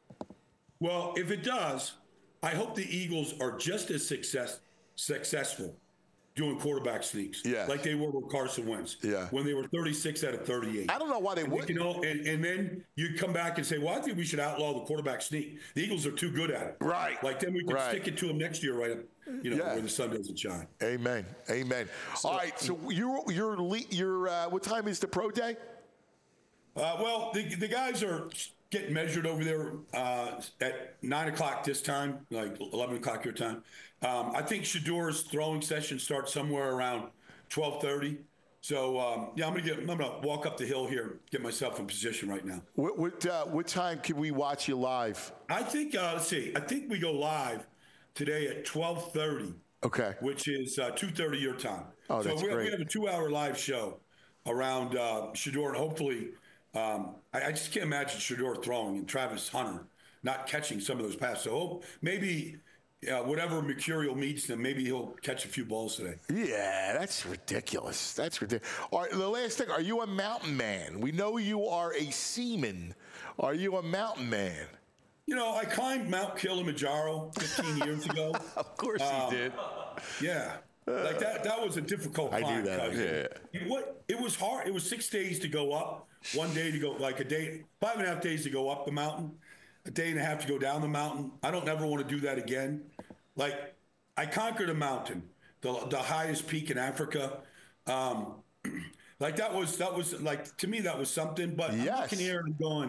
Well, if it does, I hope the Eagles are just as success, successful doing quarterback sneaks. Yeah. Like they were with Carson Wentz. Yeah. When they were thirty-six out of thirty-eight. I don't know why they and wouldn't. You know, and, and then you come back and say, well, I think we should outlaw the quarterback sneak. The Eagles are too good at it. Right. Like then we can Right. stick it to them next year, right? You know, Yeah. where the sun doesn't shine. Amen. Amen. So- all right. So you're, you're, le- you're uh, what time is the pro day? Uh, well, the, the guys are getting measured over there uh, at nine o'clock this time, like eleven o'clock your time. Um, I think Shador's throwing session starts somewhere around twelve thirty. So um, yeah, I'm gonna get. I'm gonna walk up the hill here, get myself in position right now. What what, uh, what time can we watch you live? I think. Uh, let's see. I think we go live today at twelve thirty. Okay. Which is uh, two thirty your time. Oh, so that's we, great. we have a two-hour live show around uh, Shador, and hopefully, um, I, I just can't imagine Shador throwing and Travis Hunter not catching some of those passes. So hope maybe uh, whatever Mercurial meets them, maybe he'll catch a few balls today. Yeah, that's ridiculous. That's ridiculous. All right, the last thing, are you a mountain man? We know you are a seaman. Are you a mountain man? You know, I climbed Mount Kilimanjaro fifteen years ago. Of course Um, he did. Yeah. Like that that was a difficult I climb. knew that. cuz Yeah. It, what, it was hard. It was six days to go up, one day to go, like a day, five and a half days to go up the mountain, a day and a half to go down the mountain. I don't ever want to do that again. Like, I conquered a mountain, the, the highest peak in Africa. Um, like, that was, that was, like, to me, that was something. But Yes. I'm looking here and going,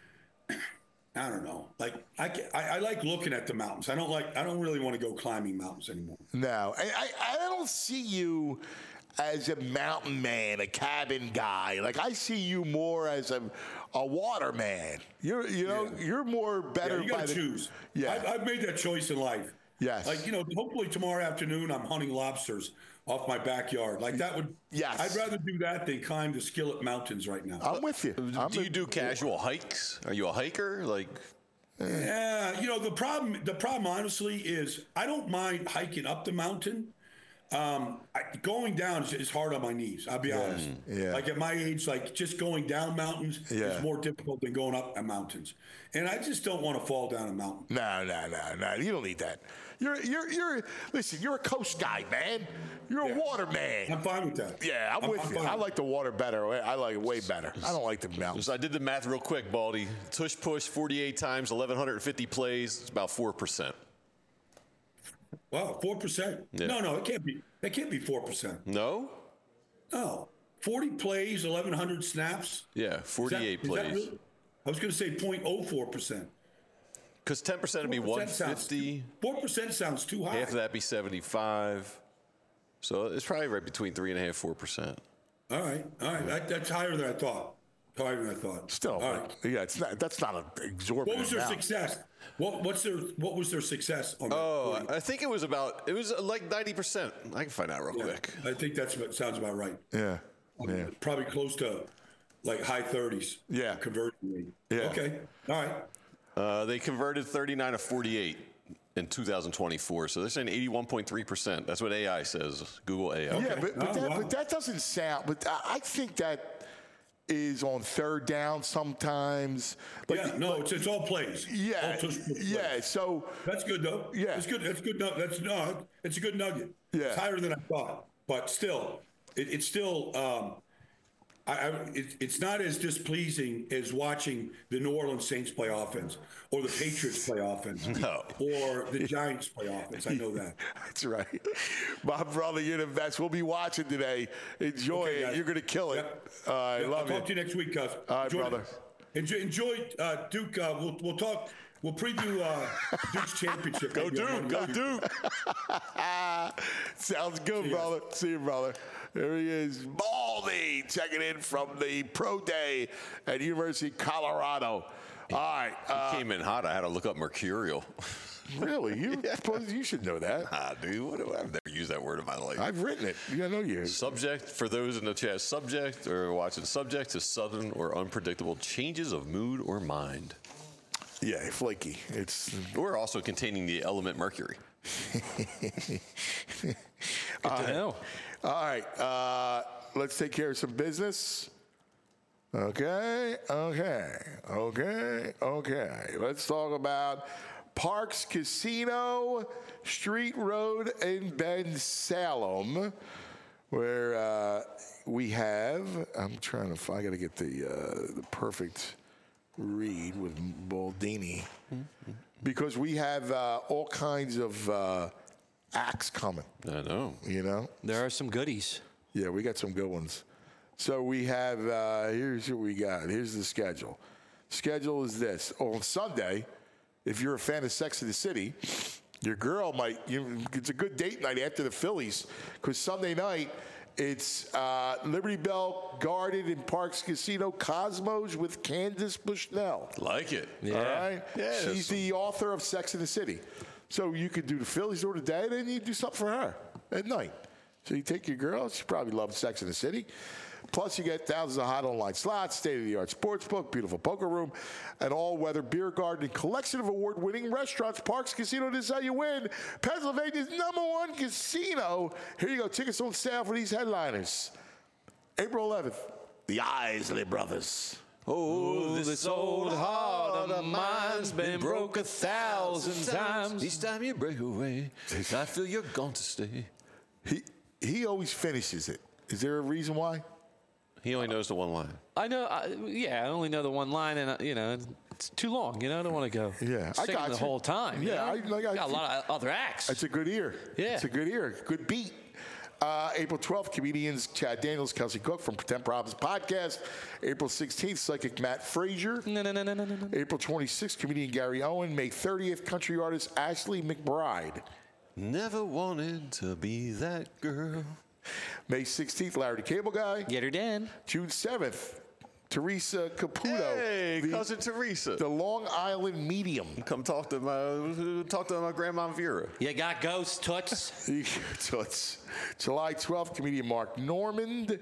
I don't know. Like I, I, I like looking at the mountains. I don't like. I don't really want to go climbing mountains anymore. No, I, I, I don't see you as a mountain man, a cabin guy. Like I see you more as a a water man. You're you know Yeah. you're more better Yeah, you by got to the choose. Yeah. I've, I've made that choice in life. Yes. Like you know, hopefully tomorrow afternoon I'm hunting lobsters off my backyard. Like that would. Yes. I'd rather do that than climb the Skillet Mountains right now. I'm with you. I'm do you a- do casual hikes? Are you a hiker? Like, Yeah, you know the problem. The problem, honestly, is I don't mind hiking up the mountain. Um, I, going down is, is hard on my knees. I'll be Yeah, honest. yeah. Like at my age, like just going down mountains Yeah. is more difficult than going up mountains. And I just don't want to fall down a mountain. No, no, no, no. You don't need that. You're, you're, you're. Listen, you're a coast guy, man. You're a Yeah. water man. I'm fine with that. Yeah, I'm, I'm- with I'm you. fine. I like the water better. I like it way better. I don't like the mountains. So I did the math real quick, Baldy. Tush push forty-eight times, eleven fifty plays. It's about four percent. Wow, four percent. Yeah. No, no, it can't be. It can't be four percent. No? No, forty plays, eleven hundred snaps. Yeah, Is that- forty-eight is that plays. really- I was going to say zero point zero four percent. Because ten percent would be one fifty. Four percent sounds too high. Half of that be seventy-five. So it's probably right between three and a half, four percent. All right, all right. That, that's higher than I thought. Higher than I thought. Still, all right. yeah, it's not. That's not an exorbitant. What was their amount. success? What what's their what was their success on that? Oh, forty? I think it was about, it was like ninety percent. I can find out real Yeah, quick. I think that's what sounds about right. Yeah, yeah. Probably close to like high thirties. Yeah. Conversion rate. Yeah. Okay. All right. Uh, they converted thirty-nine of forty-eight in two thousand twenty-four. So they're saying eighty-one point three percent. That's what A I says. Google A I. Yeah, but, but, Oh, that, wow. but that doesn't sound. But I I think that is on third down sometimes. Like, yeah. No, it's it's all plays. Yeah, All tush push plays. yeah. So That's good though. Yeah. It's good. That's good. No, that's no. It's a good nugget. Yeah. It's higher than I thought, but still, it, it's still. Um, I, I, it, it's not as displeasing as watching the New Orleans Saints play offense, or the Patriots play offense, No. or the Giants play offense. I know that. that's right, my brother. You're the best. We'll be watching today. Enjoy Okay, it. guys. You're gonna kill it. Yep. Uh, I Yep, love I'll it. talk to you next week, Cuz. All right, Enjoy brother. it. Enjoy, enjoy uh, Duke. Uh, we'll we'll talk. We'll preview uh, Duke's championship. Go maybe on Duke, Monday. go Duke. Sounds good, See ya. brother. See you, brother. There he is, Baldy, checking in from the Pro Day at University of Colorado. All right. Uh, Came in hot. I had to look up mercurial. really? You suppose you should know that. Ah, dude, what do I, I've never used that word in my life. I've written it. Yeah, I know you. Subject, for those in the chat, subject or watching, subject to sudden or unpredictable changes of mood or mind. Yeah, flaky. It's Or also containing the element mercury. Good to know. all right. Uh, let's take care of some business. Okay, okay, okay, okay. Let's talk about Parks Casino, Street Road in Ben Salem, where uh, we have. I'm trying to. I got to get the uh, the perfect read with Baldini, because we have uh, all kinds of uh, acts coming. I know. You know. There are some goodies. Yeah, we got some good ones. So we have, uh, here's what we got. Here's the schedule. Schedule is this. On Sunday, if you're a fan of Sex and the City, your girl might, you, it's a good date night after the Phillies, because Sunday night, it's uh, Liberty Bell Garden and Parks Casino Cosmos with Candace Bushnell. Like it. All right? Yeah, She's that's- the author of Sex and the City. So you could do the Phillies during the day, and then you do something for her at night. So you take your girl. She probably loves Sex and the City. Plus, you get thousands of hot online slots, state-of-the-art sports book, beautiful poker room, an all-weather beer garden, and collection of award-winning restaurants. Parks Casino, this is how you win. Pennsylvania's number one casino. Here you go. Tickets on sale for these headliners. April eleventh, the Isley Brothers. Oh, this old heart of mine's been broke a thousand times. Each time you break away, I feel you're gone to stay. He he always finishes it. Is there a reason why? He only knows the one line. I know. I, yeah, I only know the one line, and uh, you know, it's too long. You know, I don't want to go. Yeah, I singing got the you. whole time. you Yeah, know? I- like, I got a think- lot of other acts. It's a good ear. Yeah. It's a good ear. Good beat. Uh, April twelfth, comedians Chad Daniels, Kelsey Cook from Pretend Problems Podcast. April sixteenth, psychic Matt Frazier. no, no, no, no, no, no, no. April twenty-sixth, comedian Gary Owen. May thirtieth, country artist Ashley McBride. Never wanted to be that girl. May sixteenth, Larry the Cable Guy. Get her done. June seventh, Teresa Caputo. Hey, the, cousin Teresa. the Long Island Medium. Come talk to my talk to my grandma Vera. You got ghost toots. So it's July twelfth, comedian Mark Normand.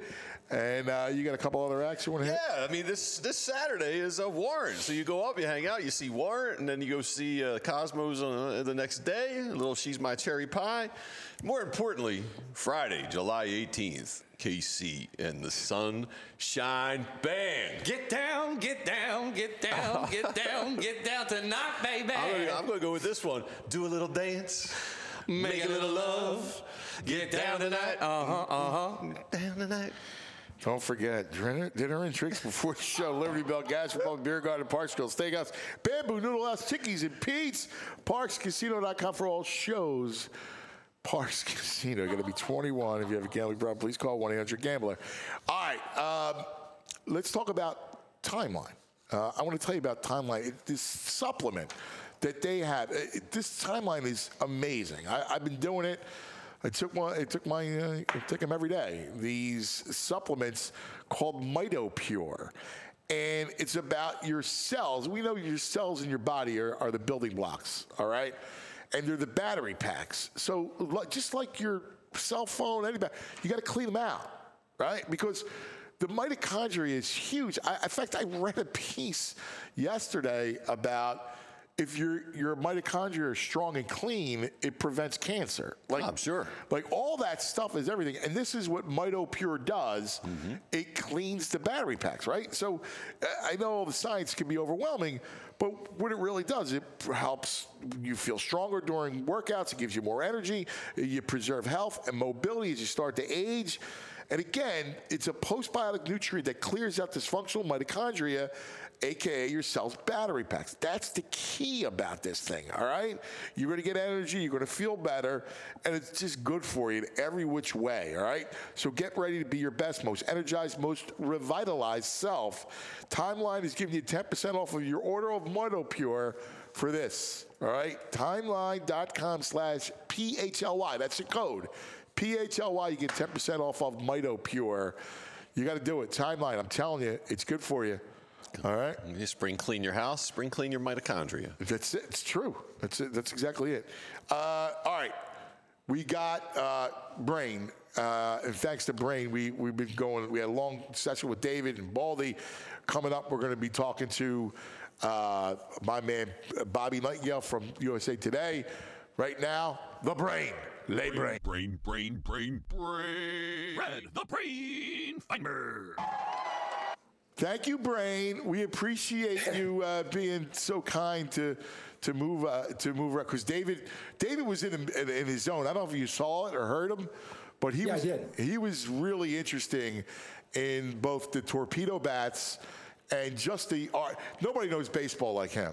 And uh, you got a couple other acts you want to hit? Yeah, I mean, this this Saturday is a Warren. So you go up, you hang out, you see Warren, and then you go see uh, Cosmos on, uh, the next day. A little She's My Cherry Pie. More importantly, Friday, July eighteenth, K C and the Sunshine Band. Get down, get down, get down, get down, get down tonight, baby. I'm going to go with this one. Do a little dance. Make a little love. Get down tonight. Uh-huh, uh-huh. Down tonight. Don't forget, dinner, dinner and drinks before the show. Liberty Bell Gas Republic Beer Garden, Parks Grill Steakhouse, Bamboo Noodle House, Chickies and Pete's, Parks Casino dot com for all shows. Parks Casino, going to be twenty-one. If you have a gambling problem, please call one eight hundred gambler. All right, um, let's talk about Timeline. Uh, I want to tell you about Timeline. It, this supplement that they have, it, this Timeline is amazing. I, I've been doing it. I took one. I took my. Uh, I take them every day. These supplements called MitoPure, and it's about your cells. We know your cells in your body are, are the building blocks. All right, and they're the battery packs. So just like your cell phone, anybody, you got to clean them out, right? Because the mitochondria is huge. I, in fact, I read a piece yesterday about if your your mitochondria are strong and clean, it prevents cancer. Like, I'm sure. Like all that stuff is everything. And this is what MitoPure does. Mm-hmm. It cleans the battery packs, right? So uh, I know the science can be overwhelming, but what it really does, it helps you feel stronger during workouts. It gives you more energy. You preserve health and mobility as you start to age. And again, it's a postbiotic nutrient that clears out dysfunctional mitochondria, a k a your cell's battery packs. That's the key about this thing, all right? You're going to get energy, you're going to feel better, and it's just good for you in every which way, all right? So get ready to be your best, most energized, most revitalized self. Timeline is giving you ten percent off of your order of MitoPure for this, all right? Timeline.com slash P H L Y. That's the code. P H L Y, you get ten percent off of MitoPure. You got to do it. Timeline, I'm telling you, it's good for you. All right. You spring clean your house, spring clean your mitochondria. That's it. It's true. That's it. That's exactly it. Uh, all right. We got uh, Brain. Uh, and thanks to Brain, we, we've been going. We had a long session with David and Baldy. Coming up, we're going to be talking to uh, my man, Bobby Nightingale from U S A Today. Right now, the Brain. Lay Brain. Brain, brain, brain, brain. Red, the Brain Finder. Thank you, Brain. We appreciate you uh, being so kind to to move uh, to move around. Because David, David was in, in in his zone. I don't know if you saw it or heard him, but he yeah, was I did. he was really interesting in both the torpedo bats and just the art. Nobody knows baseball like him.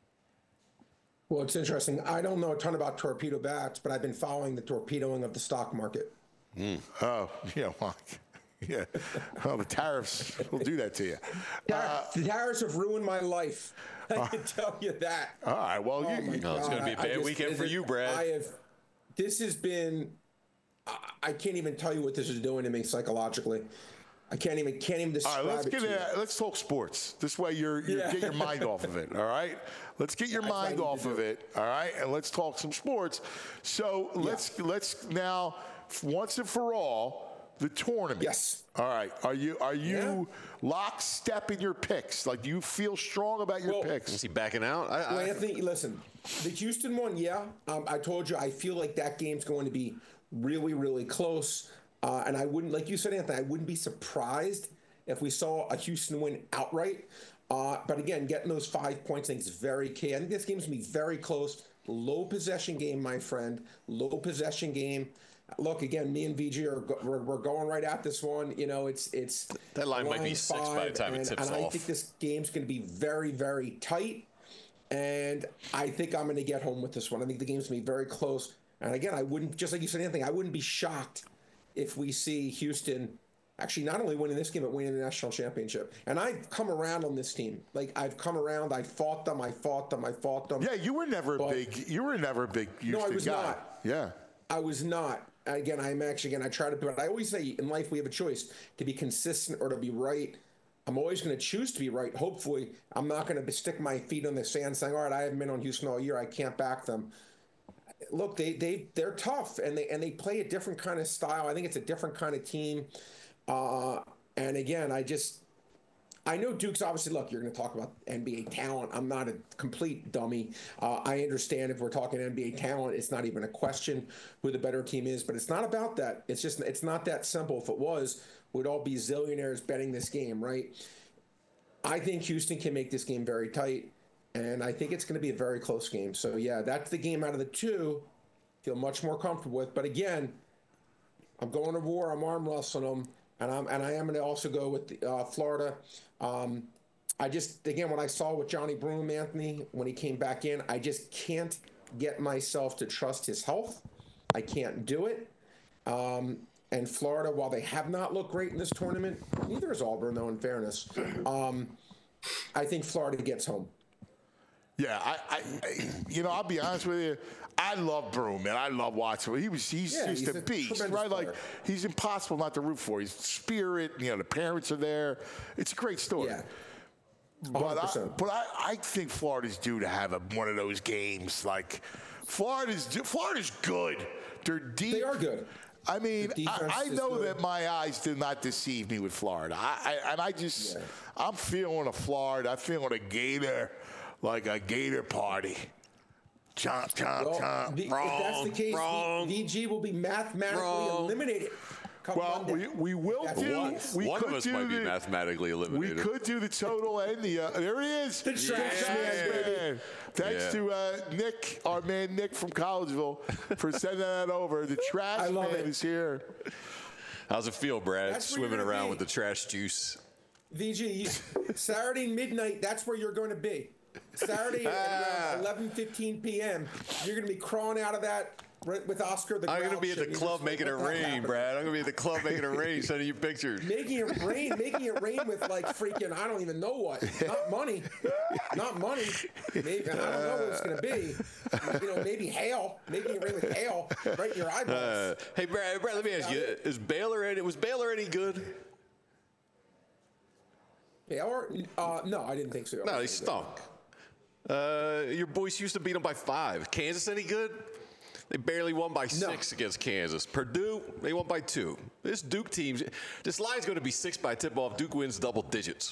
Well, it's interesting. I don't know a ton about torpedo bats, but I've been following the torpedoing of the stock market. Mm. Oh, yeah, well, yeah. Well, the tariffs will do that to you. Uh, the tariffs have ruined my life. I can tell you that. All right. Well, oh you, no, it's going to be a bad just, weekend for you, Brad. I have. This has been. I, I can't even tell you what this is doing to me psychologically. I can't even can't even describe all right, let's it get to in, you. Let's talk sports. This way, you're, you're Yeah. get your mind off of it. All right. Let's get your That's mind what I need off to of do. it. All right, and let's talk some sports. So let's let's now once and for all the tournament. Yes. All right. Are you are you Yeah. lockstep in your picks? Like, do you feel strong about your Well, picks? Is he backing out? I, Well, I, Anthony, listen, the Houston one, yeah. Um, I told you, I feel like that game's going to be really, really close. Uh, and I wouldn't, like you said, Anthony, I wouldn't be surprised if we saw a Houston win outright. Uh, but again, getting those five points I think is very key. I think this game's going to be very close. Low possession game, my friend. Low possession game. Look, again, me and V G are go- we're, we're going right at this one. You know, it's it's That line might be six by the time it and, tips and I off. think this game's going to be very, very tight. And I think I'm going to get home with this one. I think the game's going to be very close. And again, I wouldn't, just like you said, Anthony, I wouldn't be shocked if we see Houston actually not only winning this game, but winning the national championship. And I've come around on this team. Like, I've come around. I fought them. I fought them. I fought them. Yeah, you were never a But- big. You were never a big Houston No, I was guy. not. Yeah. I was not. Again, I'm actually, again, I try to, but I always say in life we have a choice to be consistent or to be right. I'm always going to choose to be right. Hopefully, I'm not going to stick my feet on the sand saying, all right, I haven't been on Houston all year. I can't back them. Look, they, they, they're tough and they, and they play a different kind of style. I think it's a different kind of team. Uh, And again, I just, I know Duke's obviously, look, you're going to talk about N B A talent. I'm not a complete dummy. Uh, I understand if we're talking N B A talent, it's not even a question who the better team is, but it's not about that. It's just, it's not that simple. If it was, we'd all be zillionaires betting this game, right? I think Houston can make this game very tight, and I think it's going to be a very close game. So, yeah, that's the game out of the two I feel much more comfortable with. But again, I'm going to war. I'm arm wrestling them, and I'm and I am going to also go with the, uh, Florida. Um, I just again, when I saw with Johnny Broom, Anthony, when he came back in, I just can't get myself to trust his health. I can't do it. Um, And Florida, while they have not looked great in this tournament, neither is Auburn, though, in fairness. Um, I think Florida gets home. Yeah, I, I, I, you know, I'll be honest with you. I love Broom, man. I love watching him. He was, he's Yeah, just he's a a beast, tremendous right? player. Like, he's impossible not to root for. He's spirit. You know, the parents are there. It's a great story. Yeah. But I, but I, I think Florida's due to have a, one of those games. Like, Florida's Florida's good. They're deep. They are good. I mean, defense I, I is know good. that my eyes did not deceive me with Florida. I, I and I just, Yeah. I'm feeling a Florida. I'm feeling a Gator, like a Gator party. Chomp, chomp, Well, chomp. the, if Wrong, that's the case, wrong. V G will be mathematically Wrong. eliminated. come Well, Monday. we, we will That's do. what it is. We One could of us do might be the, mathematically We eliminated. could do the total and the. Uh, there it is. The trash man, baby. Thanks Yeah. to uh, Nick, our man Nick from Collegeville, for sending that over. The trash I love man it. is here. How's it feel, Brad? That's where Swimming you're gonna around be. with the trash juice. V G, you, Saturday midnight, that's where you're going to be. Saturday at around eleven fifteen p.m., you're going to be crawling out of that right with Oscar the I'm Grouch. going to be at the and you club just making it let that rain, happen. Brad. I'm going to be at the club making it rain, sending you pictures. Making it rain, making it rain with like freaking, I don't even know what. Not money. Not money. Maybe, I don't know what it's going to be. You know, maybe hail. Making it rain with hail right in your eyeballs. Uh, hey, Brad, Brad, let me ask you: Is Baylor any? Was Baylor any good? Baylor? Uh, no, I didn't think so. No, they stunk. Uh, your boys used to beat them by five. Kansas any good? They barely won by six against Kansas. Purdue, they won by two. This Duke team, this line's going to be six by tip-off. Duke wins double digits.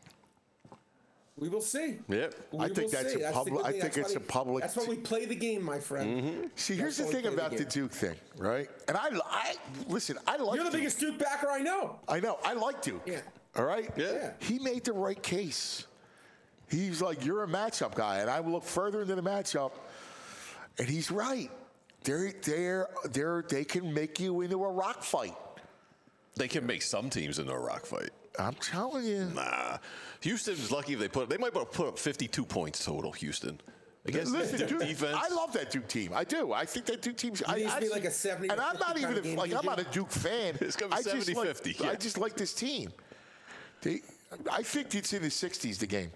We will see. Yep. We I think will that's see. a the public- good I thing. think That's it's why a public That's why we play the game, my friend. See, here's the That's why we thing play about the game. Duke thing, right? And I, I listen. I like. You're the Duke. biggest Duke backer I know. I know. I like Duke. Yeah. All right. Yeah. He made the right case. He's like, you're a matchup guy, and I look further into the matchup, and he's right. They're they're they're they can make you into a rock fight. They can make some teams into a rock fight. I'm telling you. Nah. Houston's lucky if they put. They might put up fifty-two points total. Houston against Listen, the Duke Duke, defense. I love that Duke team. I do. I think that Duke team's. I, needs to be I- like a seventy And to I'm not fifty even kind of a, game, like I'm D J. not a Duke fan. It's gonna be I just seventy like- fifty, yeah. I just like this team. They, I think it's in the sixties. The game.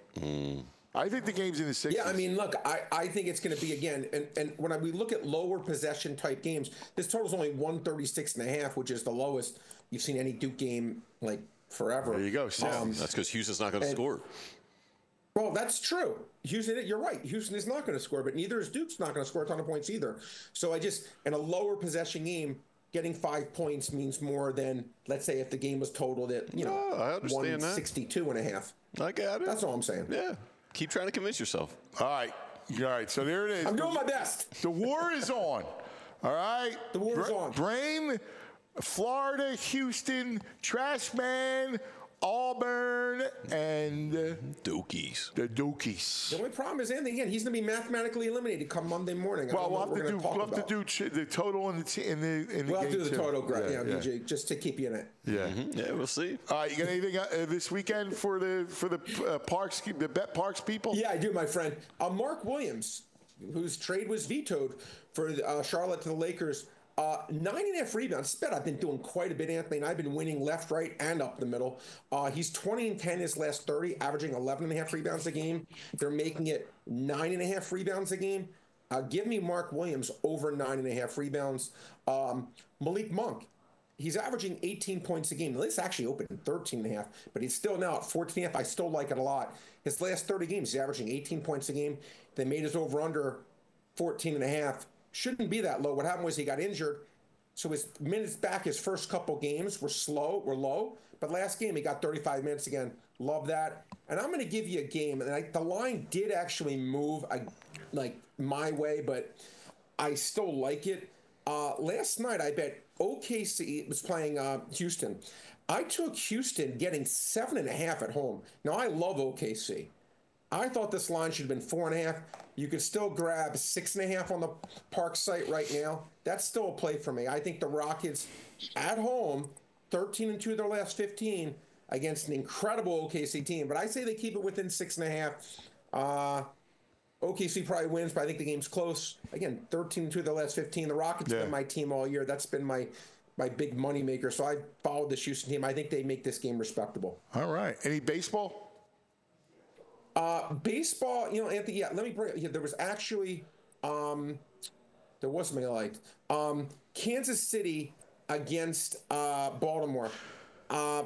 I think the game's in the sixties. Yeah, I mean, look, I, I think it's going to be, again, and, and when I, we look at lower possession type games, this total's only one thirty-six and a half, which is the lowest you've seen any Duke game, like, forever. There you go. Um, That's because Houston's not going to and- score. Well, that's true. Houston, you're right. Houston is not going to score, but neither is Duke's not going to score a ton of points either. So I just, in a lower possession game, getting five points means more than, let's say, if the game was totaled at, you know, Oh, I understand that. one sixty-two and a half. I got it. That's all I'm saying. Yeah. Keep trying to convince yourself. All right. All right. So there it is. I'm doing my best. The war is on. All right. The war is Bra- on. Brain, Florida, Houston, Trash Man, Auburn, and uh, Dukies. the Dukies. The only problem is, Anthony, again, he's going to be mathematically eliminated come Monday morning. I Well, don't know we'll have what to we're do. gonna talk We'll have about. to do ch- the total in the t- in the in the We'll have game to do the too. total, great, yeah, yeah. V J, just to keep you in it. Yeah. Yeah, we'll see. All right. You got anything uh, this weekend for the for the uh, Parks the Bet Parks people? Yeah, I do, my friend. Uh, Mark Williams, whose trade was vetoed for uh, Charlotte to the Lakers, uh, nine and a half rebounds. This bet I've been doing quite a bit, Anthony, and I've been winning left, right, and up the middle. Uh, he's twenty and ten his last thirty, averaging eleven and a half rebounds a game. They're making it nine and a half rebounds a game. Uh, give me Mark Williams over nine and a half rebounds. Um, Malik Monk. He's averaging eighteen points a game. Now, this actually opened at thirteen and a half, but he's still now at fourteen and a half. I still like it a lot. His last thirty games, he's averaging eighteen points a game. They made his over-under fourteen and a half. Shouldn't be that low. What happened was he got injured, So his minutes back, his first couple games were slow, were low. But last game, he got thirty-five minutes again. Love that. And I'm going to give you a game. And I, the line did actually move I, like my way, but I still like it. Uh, last night, I bet O K C was playing uh, Houston. I took Houston getting seven and a half at home. Now, I love O K C. I thought this line should have been four and a half. You could still grab six and a half on the Park site right now. That's still a play for me. I think the Rockets at home, thirteen and two of their last fifteen against an incredible O K C team. But I say they keep it within six and a half. Uh, O K C probably wins, but I think the game's close. Again, thirteen and two of their last fifteen. The Rockets have Yeah. been my team all year. That's been my my big money maker. So I followed this Houston team. I think they make this game respectable. All right. Any baseball? Uh, baseball, you know, Anthony, yeah, let me bring yeah, there was actually, um, there was something I liked. Um, Kansas City against uh, Baltimore. Uh,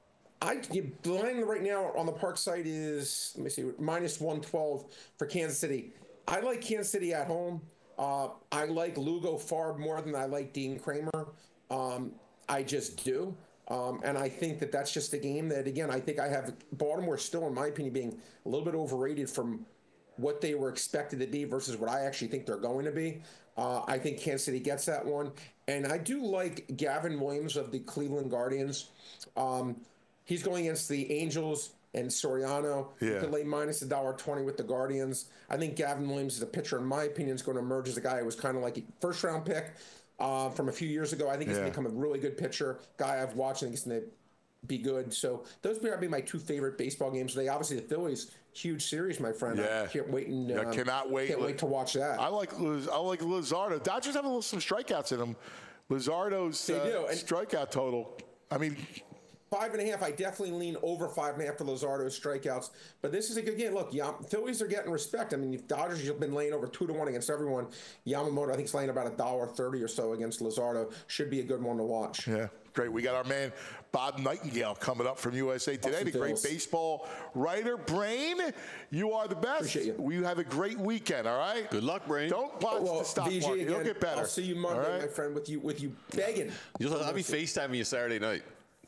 I you, the line right now on the Park site is, let me see, minus one twelve for Kansas City. I like Kansas City at home. Uh, I like Lugo far more than I like Dean Kramer. Um, I just do. Um, and I think that that's just a game that, again, I think I have Baltimore still, in my opinion, being a little bit overrated from what they were expected to be versus what I actually think they're going to be. Uh, I think Kansas City gets that one. And I do like Gavin Williams of the Cleveland Guardians. Um, he's going against the Angels and Soriano. Yeah. You can lay minus one dollar twenty with the Guardians. I think Gavin Williams is a pitcher, in my opinion, is going to emerge as a guy who was kind of like a first-round pick. Uh, from a few years ago. I think he's Yeah. going to become a really good pitcher. Guy I've watched, I think he's going to be good. So those would probably be my two favorite baseball games today. Obviously, the Phillies, huge series, my friend. Yeah. I can't wait, and, I um, cannot wait. Can't wait to watch that. I like Liz, I like Luzardo. Dodgers have a little, some strikeouts in them. Luzardo's They uh, do, and- strikeout total. I mean, Five and a half, I definitely lean over five and a half for Luzardo's strikeouts. But this is a good game. Look, Yam- Phillies are getting respect. I mean, if Dodgers have been laying over two to one against everyone. Yamamoto, I think, is laying about a dollar thirty or so against Luzardo. Should be a good one to watch. yeah, great. We got our man Bob Nightingale coming up from U S A Today. The great Bills. baseball writer, Brain. You are the best. Appreciate you. We have a great weekend. All right. Good luck, Brain. Don't watch Well, the stock V J, market. It'll again, get better. I'll see you Monday, All right? my friend, with you with you begging. You'll, I'll be FaceTiming you Saturday night.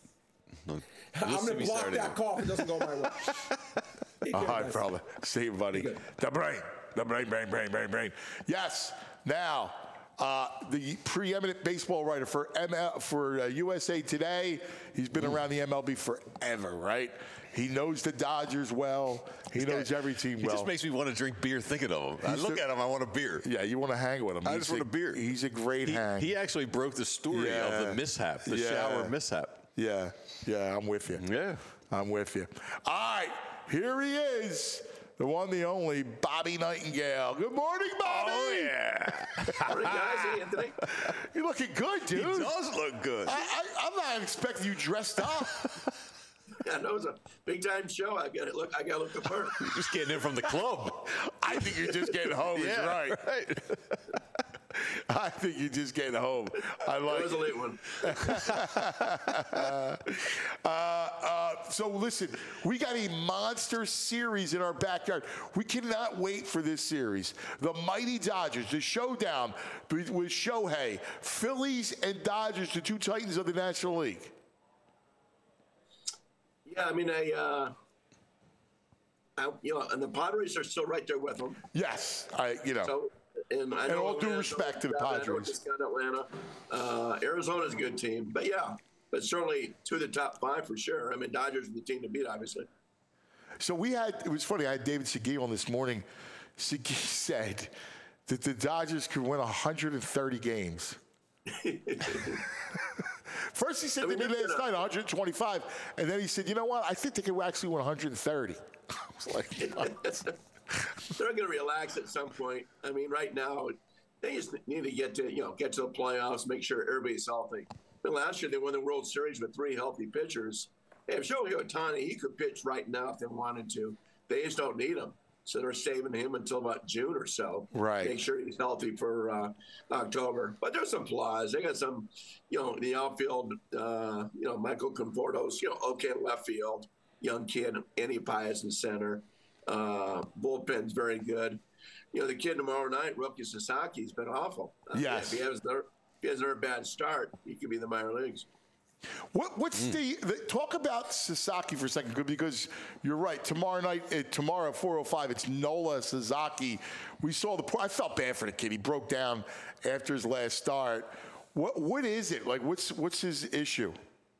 No, I'm you'll see going to me block Saturday that night. call if it doesn't go my way. Take All care, right, guys. brother. See you, buddy. good. The brain. The brain, brain, brain, brain, brain. Yes. Now, uh, the preeminent baseball writer for M L, for uh, U S A Today. He's been around the M L B forever, right? He knows the Dodgers well. He This knows guy- every team He well. just makes me want to drink beer thinking of him. I He's look the- at him, I want a beer. yeah, you want to hang with him. I He's just want a beer. He's a great He, hang. he actually broke the story Yeah. of the mishap, the Yeah. shower mishap. Yeah, yeah, I'm with you. Yeah. I'm with you. All right, here he is, the one, the only, Bobby Nightingale. Good morning, Bobby. Oh, yeah. Morning, guys. Hey, Anthony. You're looking good, dude. He does look good. I, I, I'm not expecting you dressed up. Yeah, no, it's a big time show. I got to look. I got to look the part. You're just getting in from the club. I think you're just getting home. Is yeah, right. right. I think you're just getting home. I like. It was a late one. uh, uh, so listen, we got a monster series in our backyard. We cannot wait for this series. The mighty Dodgers, the showdown with with Shohei, Phillies and Dodgers, the two titans of the National League. Yeah, I mean, I, uh, I, you know, and the Padres are still right there with them. Yes, I, you know. So, and I And know all due Atlanta- respect to the I know Padres. just got Atlanta. Uh, Arizona's a good team, but yeah, but certainly two of the top five for sure. I mean, Dodgers are the team to beat, obviously. So we had, it was funny, I had David Segui on this morning. Segui said that the Dodgers could win one hundred thirty games. First he said I mean, they did they're last gonna- night, one hundred twenty-five. And then he said, you know what, I think they could actually win one hundred thirty. I was like, They're going to relax at some point. I mean, right now, they just need to get to, you know, get to the playoffs, make sure everybody's healthy. But last year, they won the World Series with three healthy pitchers. Hey, if Shohei Ohtani, he could pitch right now if they wanted to. They just don't need him. So they're saving him until about June or so. Right. Make sure he's healthy for uh, October. But there's some flaws. They got some, you know, the outfield, uh, you know, Michael Conforto's, you know, okay in left field. Young kid, Andy Pius in center. Uh, bullpen's very good. You know, the kid tomorrow night, Roki Sasaki's been awful. Uh, Yes. If he has their, he has another bad start, he could be in the minor leagues. What, what's mm. the, the talk about Sasaki for a second, because you're right. Tomorrow night, uh, tomorrow at four oh five, it's Nola Sasaki. We saw the. I felt bad for the kid. He broke down after his last start. What what is it like? What's what's his issue?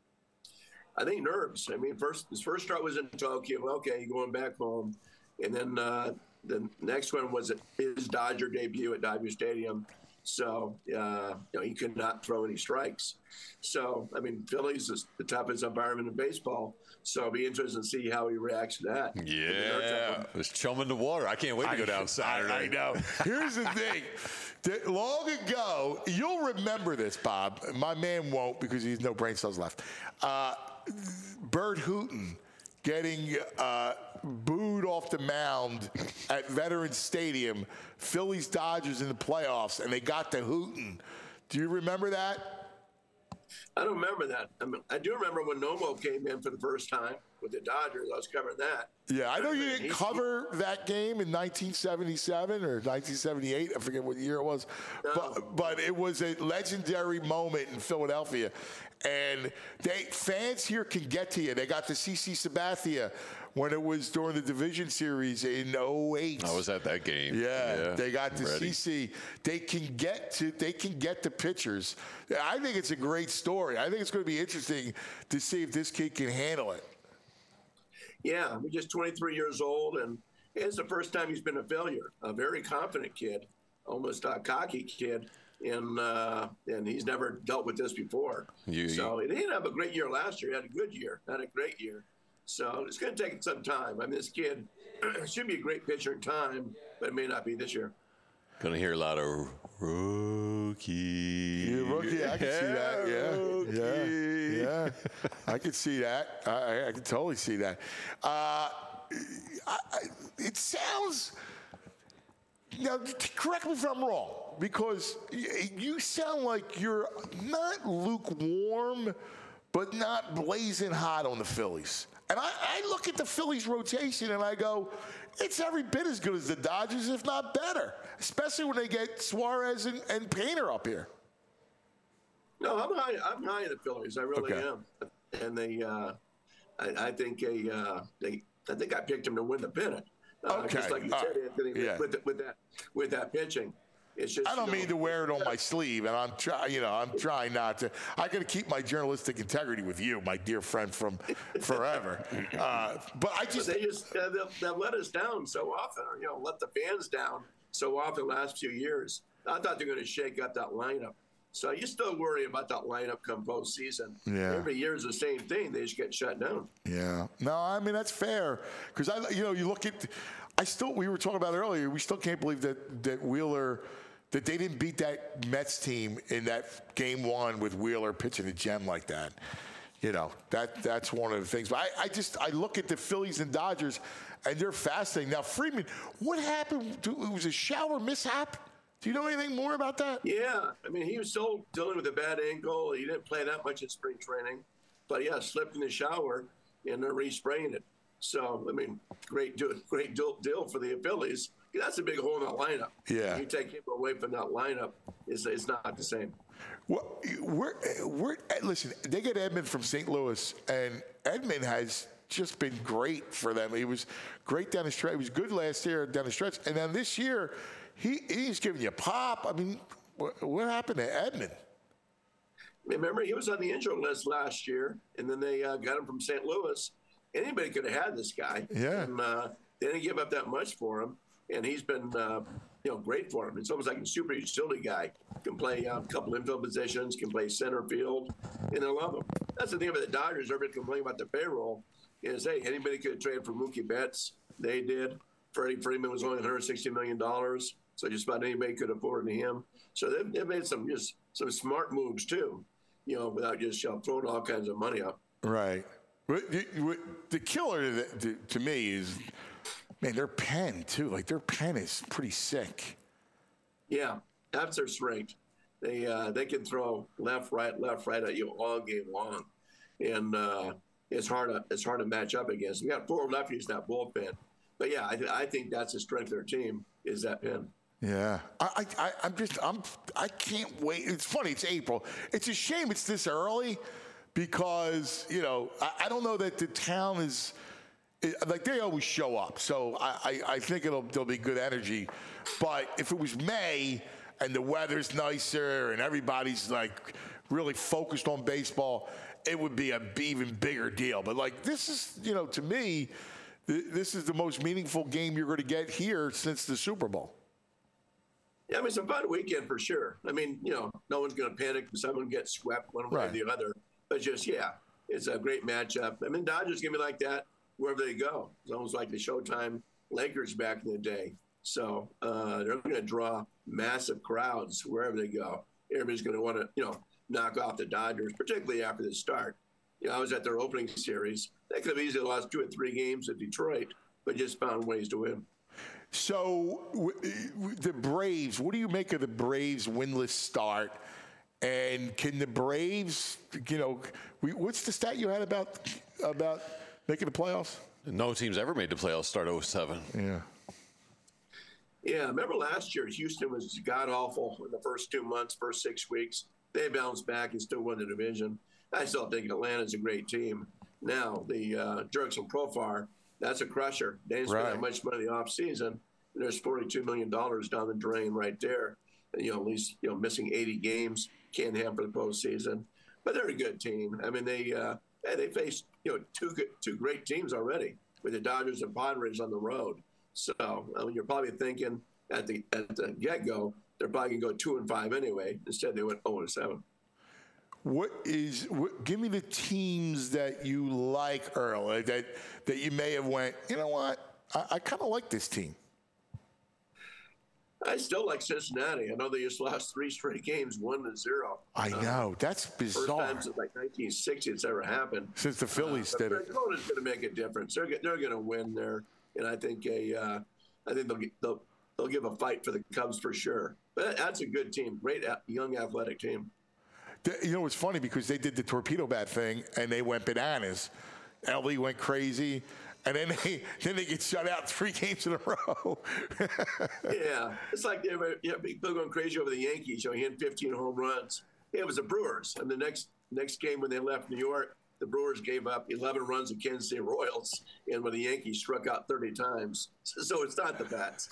I think nerves. I mean, first his first start was in Tokyo. Okay, going back home, and then uh, the next one was his Dodger debut at Dodger Stadium. So, uh, you know, he could not throw any strikes. So, I mean, Phillies is the toughest environment in baseball. So it'll be interesting to see how he reacts to that. Yeah, it's chum in the water. I can't wait to go down Saturday. I, I know. Here's the thing. Long ago, you'll remember this, Bob. My man won't because he has no brain cells left. Uh, Bert Hooton getting uh, booed off the mound at Veterans Stadium, Phillies Dodgers in the playoffs, and they got to Hooton. Do you remember that? I don't remember that. I mean, I do remember when Nomo came in for the first time with the Dodgers. I was covering that. Yeah, I know you didn't cover that game in nineteen seventy-seven or nineteen seventy-eight. I forget what year it was. No. But, but it was a legendary moment in Philadelphia. And they fans here can get to you. They got to C C Sabathia when it was during the division series in oh eight. I was at that game. Yeah, yeah they got to Ready. C C. They can get to they can get the pitchers. I think it's a great story. I think it's going to be interesting to see if this kid can handle it. Yeah, he's just twenty-three years old, and it's the first time he's been a failure. A very confident kid, almost a cocky kid. And uh, and he's never dealt with this before. You, so he didn't have a great year last year. He had a good year, had a great year. So it's going to take some time. I mean, this kid should be a great pitcher in time, but it may not be this year. Going to hear a lot of rookie. Yeah, rookie. I can see that. Yeah, yeah, yeah. I can see that. I, I can totally see that. Uh, I, I, it sounds. Now, correct me if I'm wrong, because you sound like you're not lukewarm, but not blazing hot on the Phillies. And I, I look at the Phillies rotation and I go, it's every bit as good as the Dodgers, if not better, especially when they get Suarez and, and Painter up here. No, I'm high. I'm high in the Phillies. I really Okay. am. And they, uh, I, I think they, uh, they, I think I picked them to win the pennant. Uh, Okay. Just like you All said, right. Anthony, Yeah. with, with that, with that pitching. It's just, I don't you know, mean to wear it on my sleeve, and I'm trying. You know, I'm trying not to. I got to keep my journalistic integrity with you, my dear friend from forever. Uh, but I just, But they just uh, they'll, they'll let us down so often, or you know, let the fans down so often the last few years. I thought they were going to shake up that lineup. So you still worry about that lineup come postseason. Yeah. Every year is the same thing. They just get shut down. yeah. No, I mean that's fair because I, you know, you look at. I still, we were talking about it earlier. We still can't believe that that Wheeler, that they didn't beat that Mets team in that game one with Wheeler pitching a gem like that. You know, that that's one of the things. But I, I just, I look at the Phillies and Dodgers, and they're fascinating. Now, Freeman, what happened? To, it was a shower mishap. Do you know anything more about that? Yeah, I mean, he was still dealing with a bad ankle. He didn't play that much in spring training, but yeah, slipped in the shower and they're respraying it. So, I mean, great, deal, great deal, deal for the Phillies. That's a big hole in that lineup. Yeah. You take him away from that lineup, it's, it's not the same. Well, we're, we're, listen, they get Edman from Saint Louis, and Edman has just been great for them. He was great down the stretch. He was good last year down the stretch. And then this year, he he's giving you pop. I mean, what, what happened to Edman? Remember, he was on the injured list last year, and then they uh, got him from Saint Louis. Anybody could have had this guy. Yeah. And uh, they didn't give up that much for him, and he's been, uh, you know, great for him. It's almost like a super utility guy. Can play uh, a couple infield positions, can play center field, and they love him. That's the thing about the Dodgers. Everybody complaining about the payroll is, hey, anybody could trade for Mookie Betts. They did. Freddie Freeman was only one hundred sixty million dollars, so just about anybody could afford him. So they've, they've made some just some smart moves too, you know, without just you know, throwing all kinds of money up. Right. The killer to, to, to me is, man, their pen too. Like their pen is pretty sick. Yeah, that's their strength. They uh, they can throw left, right, left, right at you all game long, and uh, it's hard to it's hard to match up against. We got four lefties in that bullpen, but yeah, I, th- I think that's the strength of their team is that pen. Yeah, I, I, I'm just, I'm, I can't wait. It's funny. It's April. It's a shame it's this early, because you know I, I don't know that the town is it, like they always show up. So I, I, I think it'll there'll be good energy. But if it was May and the weather's nicer and everybody's like really focused on baseball, it would be a b- even bigger deal. But like this is, you know, to me, th- this is the most meaningful game you're going to get here since the Super Bowl. Yeah, I mean, it's a fun weekend for sure. I mean, you know, no one's going to panic if someone gets swept one way Right. or the other. But just, yeah, it's a great matchup. I mean, Dodgers going to be like that wherever they go. It's almost like the Showtime Lakers back in the day. So uh, they're going to draw massive crowds wherever they go. Everybody's going to want to, you know, knock off the Dodgers, particularly after the start. You know, I was at their opening series. They could have easily lost two or three games at Detroit, but just found ways to win. So w- w- the Braves, what do you make of the Braves' winless start? And can the Braves, you know, we, what's the stat you had about about making the playoffs? No team's ever made the playoffs start oh seven. Yeah. Yeah, remember last year, Houston was god-awful in the first two months, first six weeks. They bounced back and still won the division. I still think Atlanta's a great team. Now, the uh, Jerks and Profar, that's a crusher. They didn't spend Right. that much money in the offseason. There's forty-two million dollars down the drain right there. And, you know, at least, you know, missing eighty games, can't have for the postseason. But they're a good team. I mean, they uh, they faced, you know, two good, two great teams already with the Dodgers and Padres on the road. So I mean, you're probably thinking at the at the get-go, they're probably going to go two and five anyway. Instead, they went oh and seven. What is? What, give me the teams that you like, Earl. That that you may have went. You know what? I, I kind of like this team. I still like Cincinnati. I know they just lost three straight games, one to zero. I know. That's First bizarre. time since like nineteen sixty it's ever happened. Since the Phillies uh, did it. Arizona's going to make a difference. They're they're going to win there, and I think a uh, I think they'll, get, they'll they'll give a fight for the Cubs for sure. But that's a good team, great young athletic team. You know, it's funny because they did the torpedo bat thing and they went bananas. L E went crazy, and then they then they get shut out three games in a row. Yeah, it's like they were, you know, people going crazy over the Yankees. You know, he had fifteen home runs. Yeah, it was the Brewers, and the next next game when they left New York, the Brewers gave up eleven runs to Kansas City Royals, and when the Yankees struck out thirty times. So it's not the bats.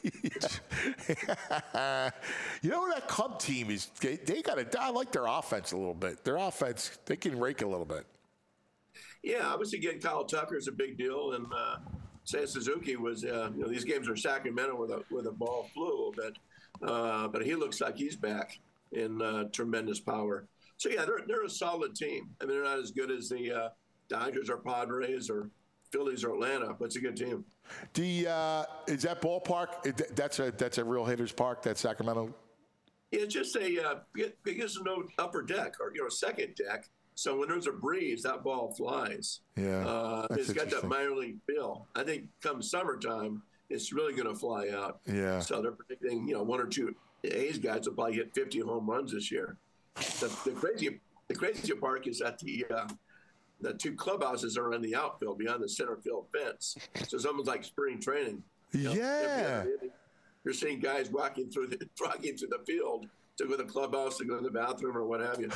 You know, that Cub team is, they, they got to, I like their offense a little bit. Their offense, they can rake a little bit. Yeah, obviously getting Kyle Tucker is a big deal, and uh, Seiya Suzuki was, uh, you know, these games are Sacramento where the, where the ball flew a little bit, uh, but he looks like he's back in uh, tremendous power. So, yeah, they're, they're a solid team. I mean, they're not as good as the uh, Dodgers or Padres or Phillies or Atlanta, but it's a good team. The uh, is that ballpark? Is that- That's a that's a real hitters park. That Sacramento. It's just a uh, it, it gives no upper deck or you know second deck. So when there's a breeze, that ball flies. Yeah, uh, that's it's got that interesting. minor league feel. I think come summertime, it's really going to fly out. Yeah. So they're predicting you know one or two A's guys will probably hit fifty home runs this year. The, the crazy the crazy part is that the uh, the two clubhouses are in the outfield beyond the center field fence. So it's almost like spring training. You know, Yeah. You're seeing guys walking through the walking through the field to go to the clubhouse, to go to the bathroom, or what have you.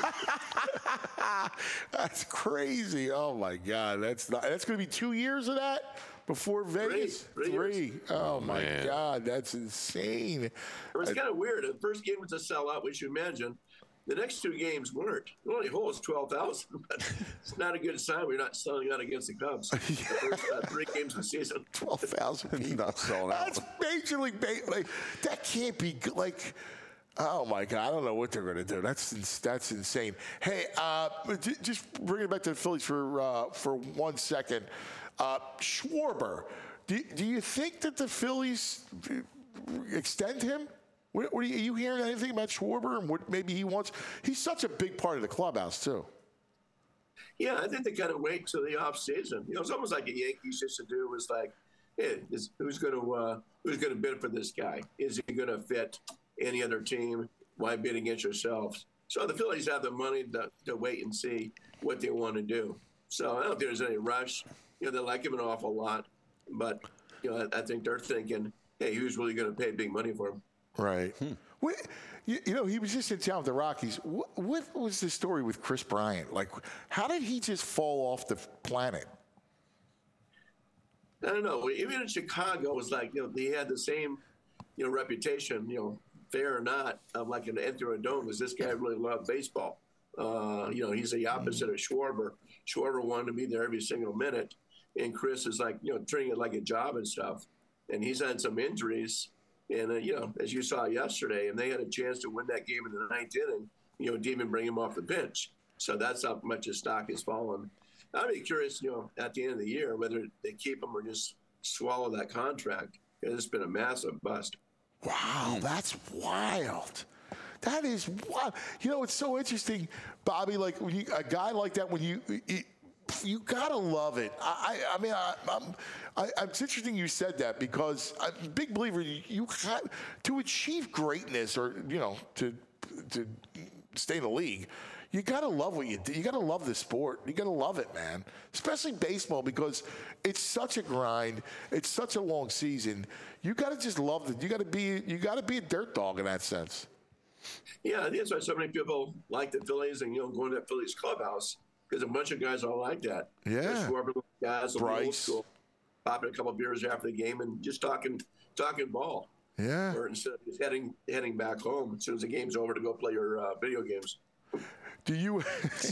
That's crazy. Oh my God, that's not, that's going to be two years of that before Vegas. Three. Three years. Oh my Man. God, that's insane. It was kind of weird. The first game was a sellout, which you imagine. The next two games weren't. The only hole is twelve thousand, but it's not a good sign. We're not selling out against the Cubs. The first uh, three games of the season. Twelve thousand people. Not selling out. That's Major League Baseball. Like, that can't be good. Like, oh my God, I don't know what they're going to do. That's ins- that's insane. Hey, uh, j- just bring it back to the Phillies for uh, for one second. Uh, Schwarber, do, do you think that the Phillies extend him? What, what are, you, are you hearing anything about Schwarber and what maybe he wants? He's such a big part of the clubhouse too. Yeah, I think they kind of wait till the off season. You know, it's almost like a Yankees used to do. Was like, hey, is, who's going to uh, who's going to bid for this guy? Is he going to fit any other team? Why bid against yourselves? So the Phillies have the money to, to wait and see what they want to do. So I don't think there's any rush. You know, they like him an awful lot, but you know, I, I think they're thinking hey, who's really going to pay big money for him? Right. Hmm. What, you, you know, he was just in town with the Rockies. What, what was the story with Chris Bryant? Like, how did he just fall off the planet? I don't know. Even in Chicago, it was like, you know, he had the same, you know, reputation, you know, fair or not, of like an enter a dome, because this guy really loved baseball. Uh, you know, he's the opposite of Schwarber. Schwarber wanted to be there every single minute, and Chris is like, you know, treating it like a job and stuff. And he's had some injuries, and uh, you know, as you saw yesterday, and they had a chance to win that game in the ninth inning. You know, didn't even bring him off the bench. So that's how much his stock has fallen. I'd be curious, you know, at the end of the year, whether they keep him or just swallow that contract. It's been a massive bust. Wow, that's wild. That is wild. You know, it's so interesting, Bobby. Like when you, a guy like that, when you, you, you gotta love it. I, I, I mean, I, I'm, I, it's interesting you said that because I'm a big believer. You, you have to achieve greatness, or you know, to to stay in the league. You gotta love what you do. You gotta love the sport. You gotta love it, man. Especially baseball, because it's such a grind. It's such a long season. You gotta just love it. You gotta be. You gotta be a dirt dog in that sense. Yeah, I think that's why so many people like the Phillies and you know going to that Phillies clubhouse, because a bunch of guys are like that. Yeah, Schwarber guys, Bryce, old school, popping a couple of beers after the game and just talking talking ball. Yeah, or instead of just heading heading back home as soon as the game's over to go play your uh, video games. Do you,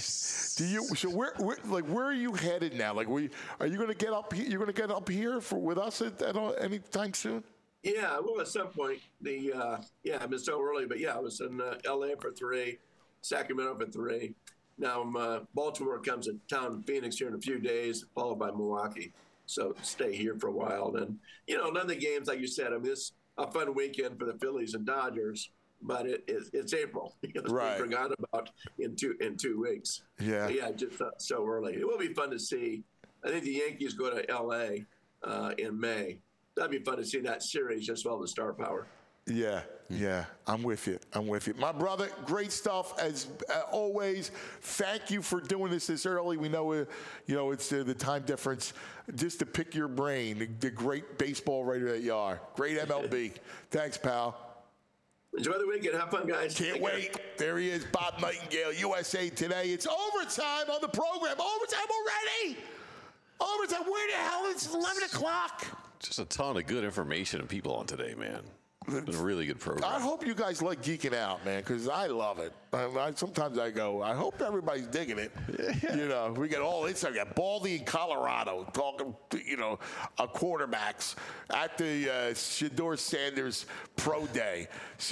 do you? So where, where, like, where are you headed now? Like, we are you going to get up? You're going to get up here for with us at, at any time soon? Yeah, well, at some point, the uh, yeah, I've been so early, but yeah, I was in uh, L A for three, Sacramento for three. Now um, uh, Baltimore comes to town, Phoenix here in a few days, followed by Milwaukee. So stay here for a while. And you know, none of the games, like you said, I mean, this a fun weekend for the Phillies and Dodgers. But it, it, it's April. It's right. been forgotten about in two in two weeks. Yeah. So yeah, just uh, so early. It will be fun to see. I think the Yankees go to L A uh, in May. That'd be fun to see that series just well the star power. Yeah, yeah, I'm with you. I'm with you. My brother, great stuff as uh, always. Thank you for doing this this early. We know, uh, you know, it's uh, the time difference. Just to pick your brain, the, the great baseball writer that you are. Great M L B. Thanks, pal. Enjoy the weekend. Have fun, guys. Can't Take wait. care. There he is, Bob Nightingale, U S A Today. It's overtime on the program. Overtime already. Overtime. Where the hell is it? eleven o'clock? Just a ton of good information and people on today, man. It's been a really good program. I hope you guys like geeking out, man, because I love it. I, I, sometimes I go, I hope everybody's digging it. Yeah. You know, we get all this. I got Baldy in Colorado talking, you know, uh, quarterbacks at the uh, Shedeur Sanders Pro Day.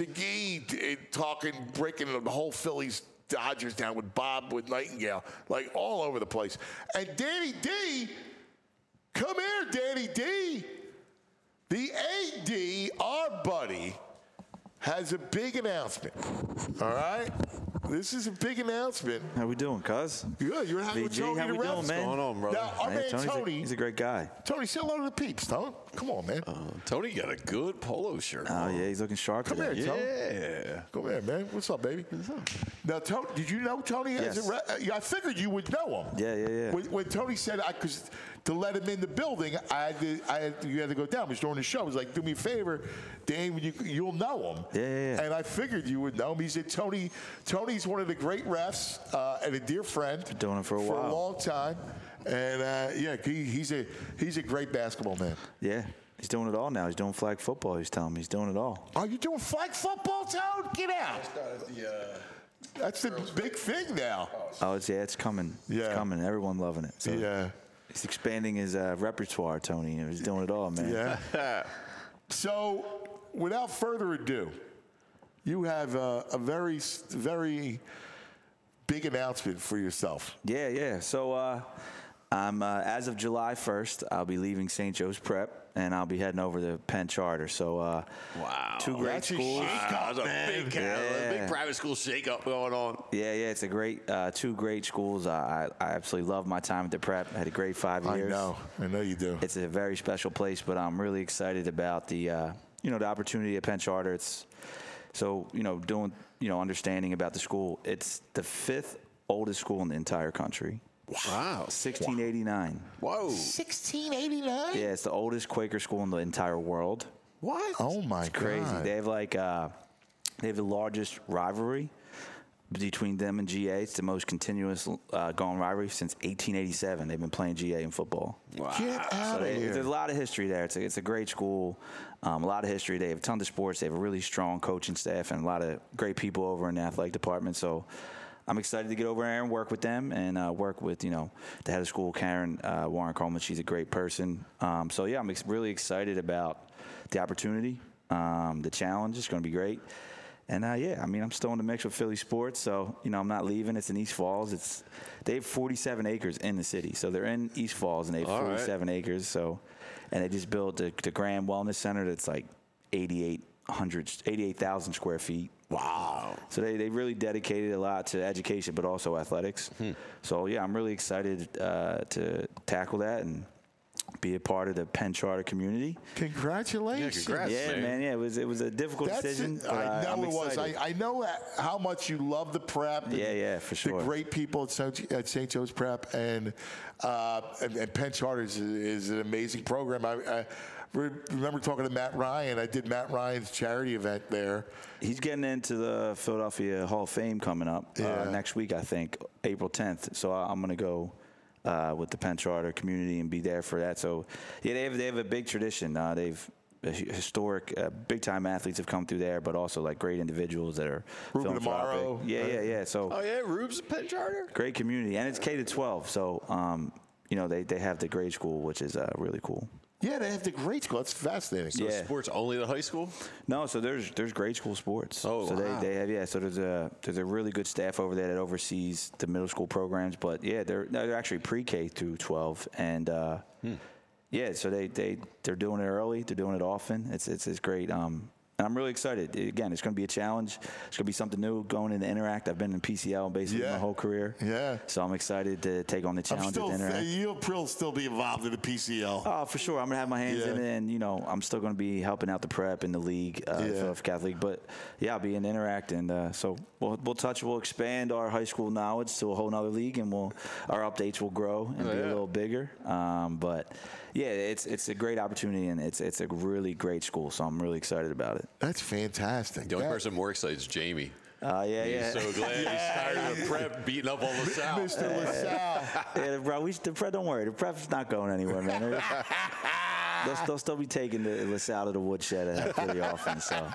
Shaggy uh, talking, breaking the whole Phillies Dodgers down with Bob, with Nightingale, like all over the place. And Danny D, come here, Danny D. The A D, our buddy, has a big announcement. All right? This is a big announcement. How we doing, cuz? Good. You're having V G, Tony how we the doing, What's man? going on, brother? Now, our Hey, man Tony's Tony. A, he's a great guy. Tony, say hello to the peeps, Tony. Come on, man. Uh, Tony got a good polo shirt. Oh, yeah, he's looking sharp Come today. here, Tony. Yeah. Come here, man. What's up, baby? What's up? Now, Tony, did you know Tony has Yes. a re- uh, yeah, I figured you would know him. Yeah, yeah, yeah. When, when Tony said I could, to let him in the building, I had to, I had to, you had to go down. He was during the show. He was like, do me a favor, Dan, you, you'll know him. Yeah, yeah, yeah. And I figured you would know him. He said, Tony, Tony's one of the great refs uh, and a dear friend. Been doing it for a for while. a long time. And uh, yeah, he, he's a he's a great basketball man. Yeah, he's doing it all now. He's doing flag football. He's telling me he's doing it all. Are you doing flag football, Tone? Get out. That's the big thing now. Oh, it's yeah, it's coming. Yeah. It's coming. Everyone loving it. So Yeah. he's expanding his uh, repertoire, Tony. You know, he's doing it all, man. Yeah. So, without further ado, you have a, a very, very big announcement for yourself. Yeah, yeah. So, uh, I'm uh, as of July first, I'll be leaving Saint Joe's Prep, and I'll be heading over to Penn Charter. So, uh, Wow. two great That's a schools. shake-up, Wow, there's a man. big, kind of- Yeah. big private school shake-up going on. Yeah, yeah, it's a great, uh, two great schools. I, I I absolutely love my time at the Prep. I had a great five I years. know. I know you do. It's a very special place, but I'm really excited about the, uh, you know, the opportunity at Penn Charter. It's so, you know, doing, you know, understanding about the school. It's the fifth oldest school in the entire country. Wow. sixteen eighty-nine. Whoa. sixteen eighty-nine? Yeah, it's the oldest Quaker school in the entire world. What? Oh my It's crazy. God. They have like uh, they have the largest rivalry between them and G A. It's the most continuous uh, going rivalry since eighteen eighty-seven. They've been playing G A in football. Wow. Get out So of they, here. there's a lot of history there. It's a, it's a great school, um, a lot of history. They have tons of sports. They have a really strong coaching staff and a lot of great people over in the athletic department. So I'm excited to get over there and work with them and uh, work with, you know, the head of school, Karen uh, Warren Coleman. She's a great person. Um, so, yeah, I'm ex- really excited about the opportunity, um, the challenge. It's going to be great. And, uh, yeah, I mean, I'm still in the mix with Philly sports, so, you know, I'm not leaving. It's in East Falls. It's They have forty-seven acres in the city. So they're in East Falls, and they have All right. forty-seven acres. So, and they just built the, the Graham Wellness Center that's like eighty-eight hundred, eighty-eight thousand square feet. Wow. So they, they really dedicated a lot to education, but also athletics. Hmm. So, yeah, I'm really excited uh, to tackle that and be a part of the Penn Charter community. Congratulations. Yeah, congrats. Yeah, man. man. Yeah, it was it was a difficult That's decision. it. but I know I'm it was. I, excited. I know how much you love the prep. Yeah, yeah, for sure. The great people at Saint at Saint Joe's Prep and uh, and, and Penn Charter is, is an amazing program. I, I re- remember talking to Matt Ryan. I did Matt Ryan's charity event there. He's getting into the Philadelphia Hall of Fame coming up Yeah. uh, next week, I think, April tenth. So I'm going to go uh, with the Penn Charter community and be there for that. So, yeah, they have, they have a big tradition. Uh, they've historic, uh, big-time athletes have come through there, but also, like, great individuals that are Ruben philanthropic. Amaro. Yeah, yeah, yeah. So Oh, yeah, Rube's a Penn Charter? great community. And it's K to twelve. So, um, you know, they, they have the grade school, which is uh, really cool. Yeah, they have the grade school. It's fascinating. So Yeah. sports only the high school? No, so there's there's grade school sports. Oh, so wow. they, they have yeah. So there's a there's a really good staff over there that oversees the middle school programs. But yeah, they're they're actually pre-K through twelve, and uh, yeah, so they they they're doing it early. They're doing it often. It's it's it's great. Um, and I'm really excited. Again, it's going to be a challenge. It's going to be something new going into Interact. I've been in P C L basically Yeah. my whole career. Yeah. So I'm excited to take on the I'm challenge still, with Interact. you'll probably still be involved in the P C L. Oh, for sure. I'm gonna have my hands Yeah. in it, and you know, I'm still gonna be helping out the prep in the league, uh, the Yeah. Philadelphia Catholic. But yeah, I'll be in Interact, and uh, so we'll we'll touch, we'll expand our high school knowledge to a whole nother league, and we'll our updates will grow and Oh, be yeah. a little bigger. Um, but yeah, it's it's a great opportunity, and it's it's a really great school. So I'm really excited about it. That's fantastic. The only That- person more excited is Jamie. Uh, yeah, He's yeah. so glad he's tired of the prep beating up on LaSalle. Mister LaSalle. yeah, bro. We should, the prep. Don't worry, the prep's not going anywhere, man. they'll, they'll still be taking the LaSalle to the woodshed uh, pretty often. So.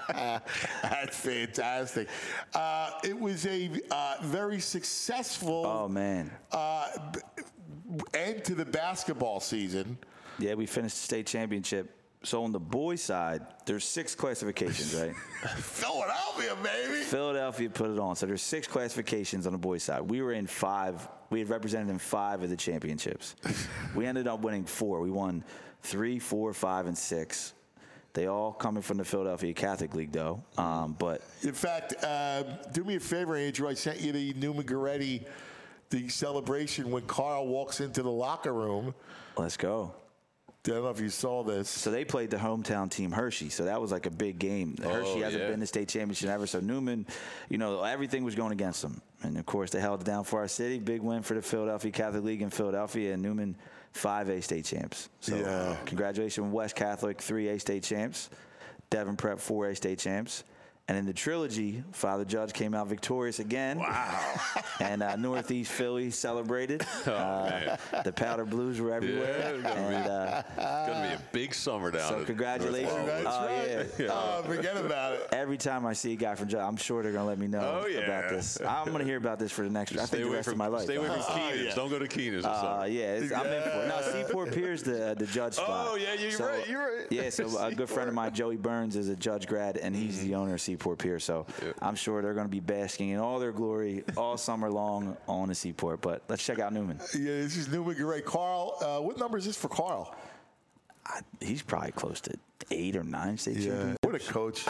That's fantastic. Uh, it was a uh, very successful Oh man. uh, b- end to the basketball season. Yeah, we finished the state championship. So on the boys' side, there's six classifications, right? Philadelphia, baby. Philadelphia put it on. So there's six classifications on the boys' side. We were in five. We had represented in five of the championships. We ended up winning four. We won three, four, five, and six. They all coming from the Philadelphia Catholic League, though. Um, but In fact, uh, do me a favor, Andrew. I sent you the Newman Goretti, the celebration when Carl walks into the locker room. let's go. I don't know if you saw this. So they played the hometown team, Hershey. So that was like a big game. Hershey hasn't yeah. been to state championship ever. So Newman, you know, everything was going against them. And of course, they held it down for our city. Big win for the Philadelphia Catholic League in Philadelphia. And Newman, five A state champs. So Yeah. congratulations, West Catholic, three A state champs. Devon Prep, four A state champs. And in the trilogy, Father Judge came out victorious again. Wow. And uh, Northeast Philly celebrated. uh, the Powder Blues were everywhere. Yeah, it's gonna be- and, uh, It's going to be a big summer down so at congratulations. North That's Oh, right. yeah. Oh, forget about it. Every time I see a guy from Judge, I'm sure they're going to let me know Oh, yeah. about this. I'm going to hear about this for the next, I Stay think the away rest from, of my life. Stay away from Oh, Keenan's. yeah. Don't go to Keenan's. or Uh, something. yeah, it's, I'm in for it. No, Seaport Pier's the the judge spot. Oh, yeah, you're So, right, you're right. Yeah, so a good friend of mine, Joey Burns, is a judge grad, and he's the owner of Seaport Pier. So I'm sure they're going to be basking in all their glory all summer long on the Seaport. But let's check out Newman. Yeah, this is Newman Goretti. Carl, uh, what number is this for Carl? I, he's probably close to eight or nine state champions. What a coach.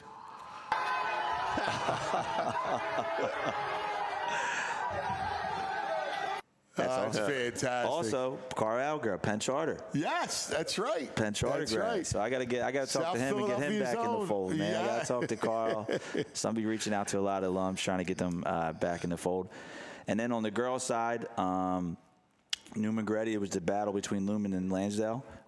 That's Uh, That's awesome. fantastic. Also, Carl Alger, Penn Charter. Yes, that's right. Penn Charter That's grad. right. So I gotta get, I gotta talk South to him and get him Philadelphia's back in own. the fold, man. I Yeah. gotta talk to Carl. So I'll be reaching out to a lot of alums, trying to get them uh, back in the fold. And then on the girls' side, um, Newman Goretti, it was the battle between Lumen and Lansdale.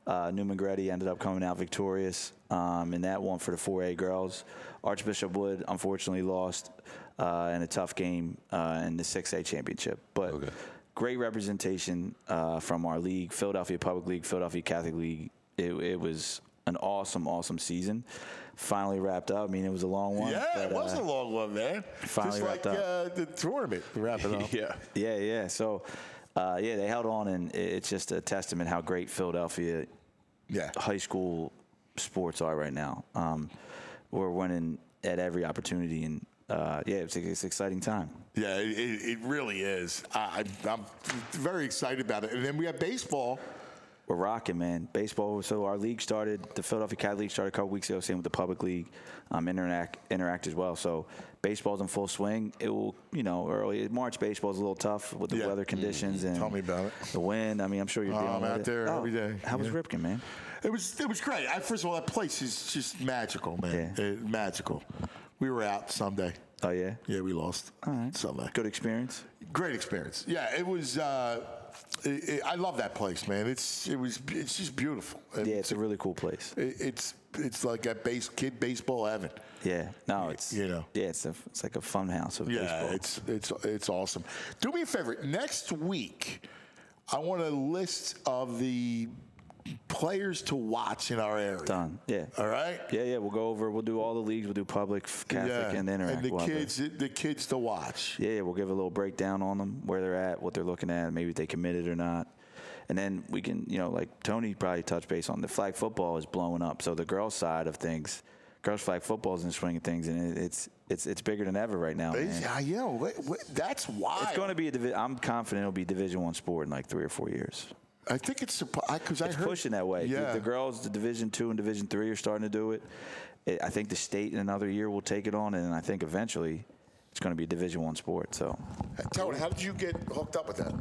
Uh, Newman Gretty ended up coming out victorious um, in that one for the four A girls. Archbishop Wood unfortunately lost uh, in a tough game uh, in the six A championship. But okay. Great representation uh, from our league, Philadelphia Public League, Philadelphia Catholic League. It, it was an awesome, awesome season. Finally wrapped up. I mean, it was a long one. Yeah, but, it was uh, a long one, man. Finally Just wrapped like up. Uh, the tournament wrapping up. yeah. Yeah, yeah. So, uh, yeah, they held on, and it's just a testament how great Philadelphia yeah. high school sports are right now. Um, we're winning at every opportunity, and uh, yeah, it's, it's an exciting time. Yeah, it, it really is. I, I'm very excited about it. And then we have baseball. We're rocking, man. Baseball. So our league started, the Philadelphia Cat League started a couple weeks ago, same with the Public League, um, Interact, Interact as well. So baseball's in full swing. It will, you know, early March baseball's a little tough with the yeah. weather conditions mm-hmm. and Tell me about it. The wind. I mean, I'm sure you're oh, dealing I'm with out it. there oh, every day. How was yeah. Ripken, man? It was it was great. I, first of all, that place is just magical, man. Yeah. It, magical. We were out Sunday. Oh yeah. Yeah, we lost. All right. Sunday. Good experience. Great experience. Yeah, it was. Uh, it, it, I love that place, man. It's it was it's just beautiful. It, yeah, it's a really cool place. It, it's it's like a base kid baseball heaven. Yeah. No, it's you know. Yeah, it's a it's like a fun house of yeah, baseball. it's it's it's awesome. Do me a favor. Next week, I want a list of the players to watch in our area. Done. Yeah. All right. Yeah, yeah. We'll go over. We'll do all the leagues. We'll do public, Catholic, yeah. and Interact. And the we'll kids, the, the kids to watch. Yeah, yeah, we'll give a little breakdown on them, where they're at, what they're looking at, maybe if they committed or not. And then we can, you know, like Tony probably touched base on, the flag football is blowing up. So the girls' side of things, girls' flag football is in the swing of things, and it's it's it's bigger than ever right now. Man. Yeah, you know, that's why. It's going to be a divi- I'm confident it'll be a Division One sport in like three or four years. I think it's because I it's heard, pushing that way. Yeah. The, the girls, the Division Two and Division Three are starting to do it. it. I think the state in another year will take it on, and I think eventually it's going to be a Division One sport. So, Tony, how did you get hooked up with that?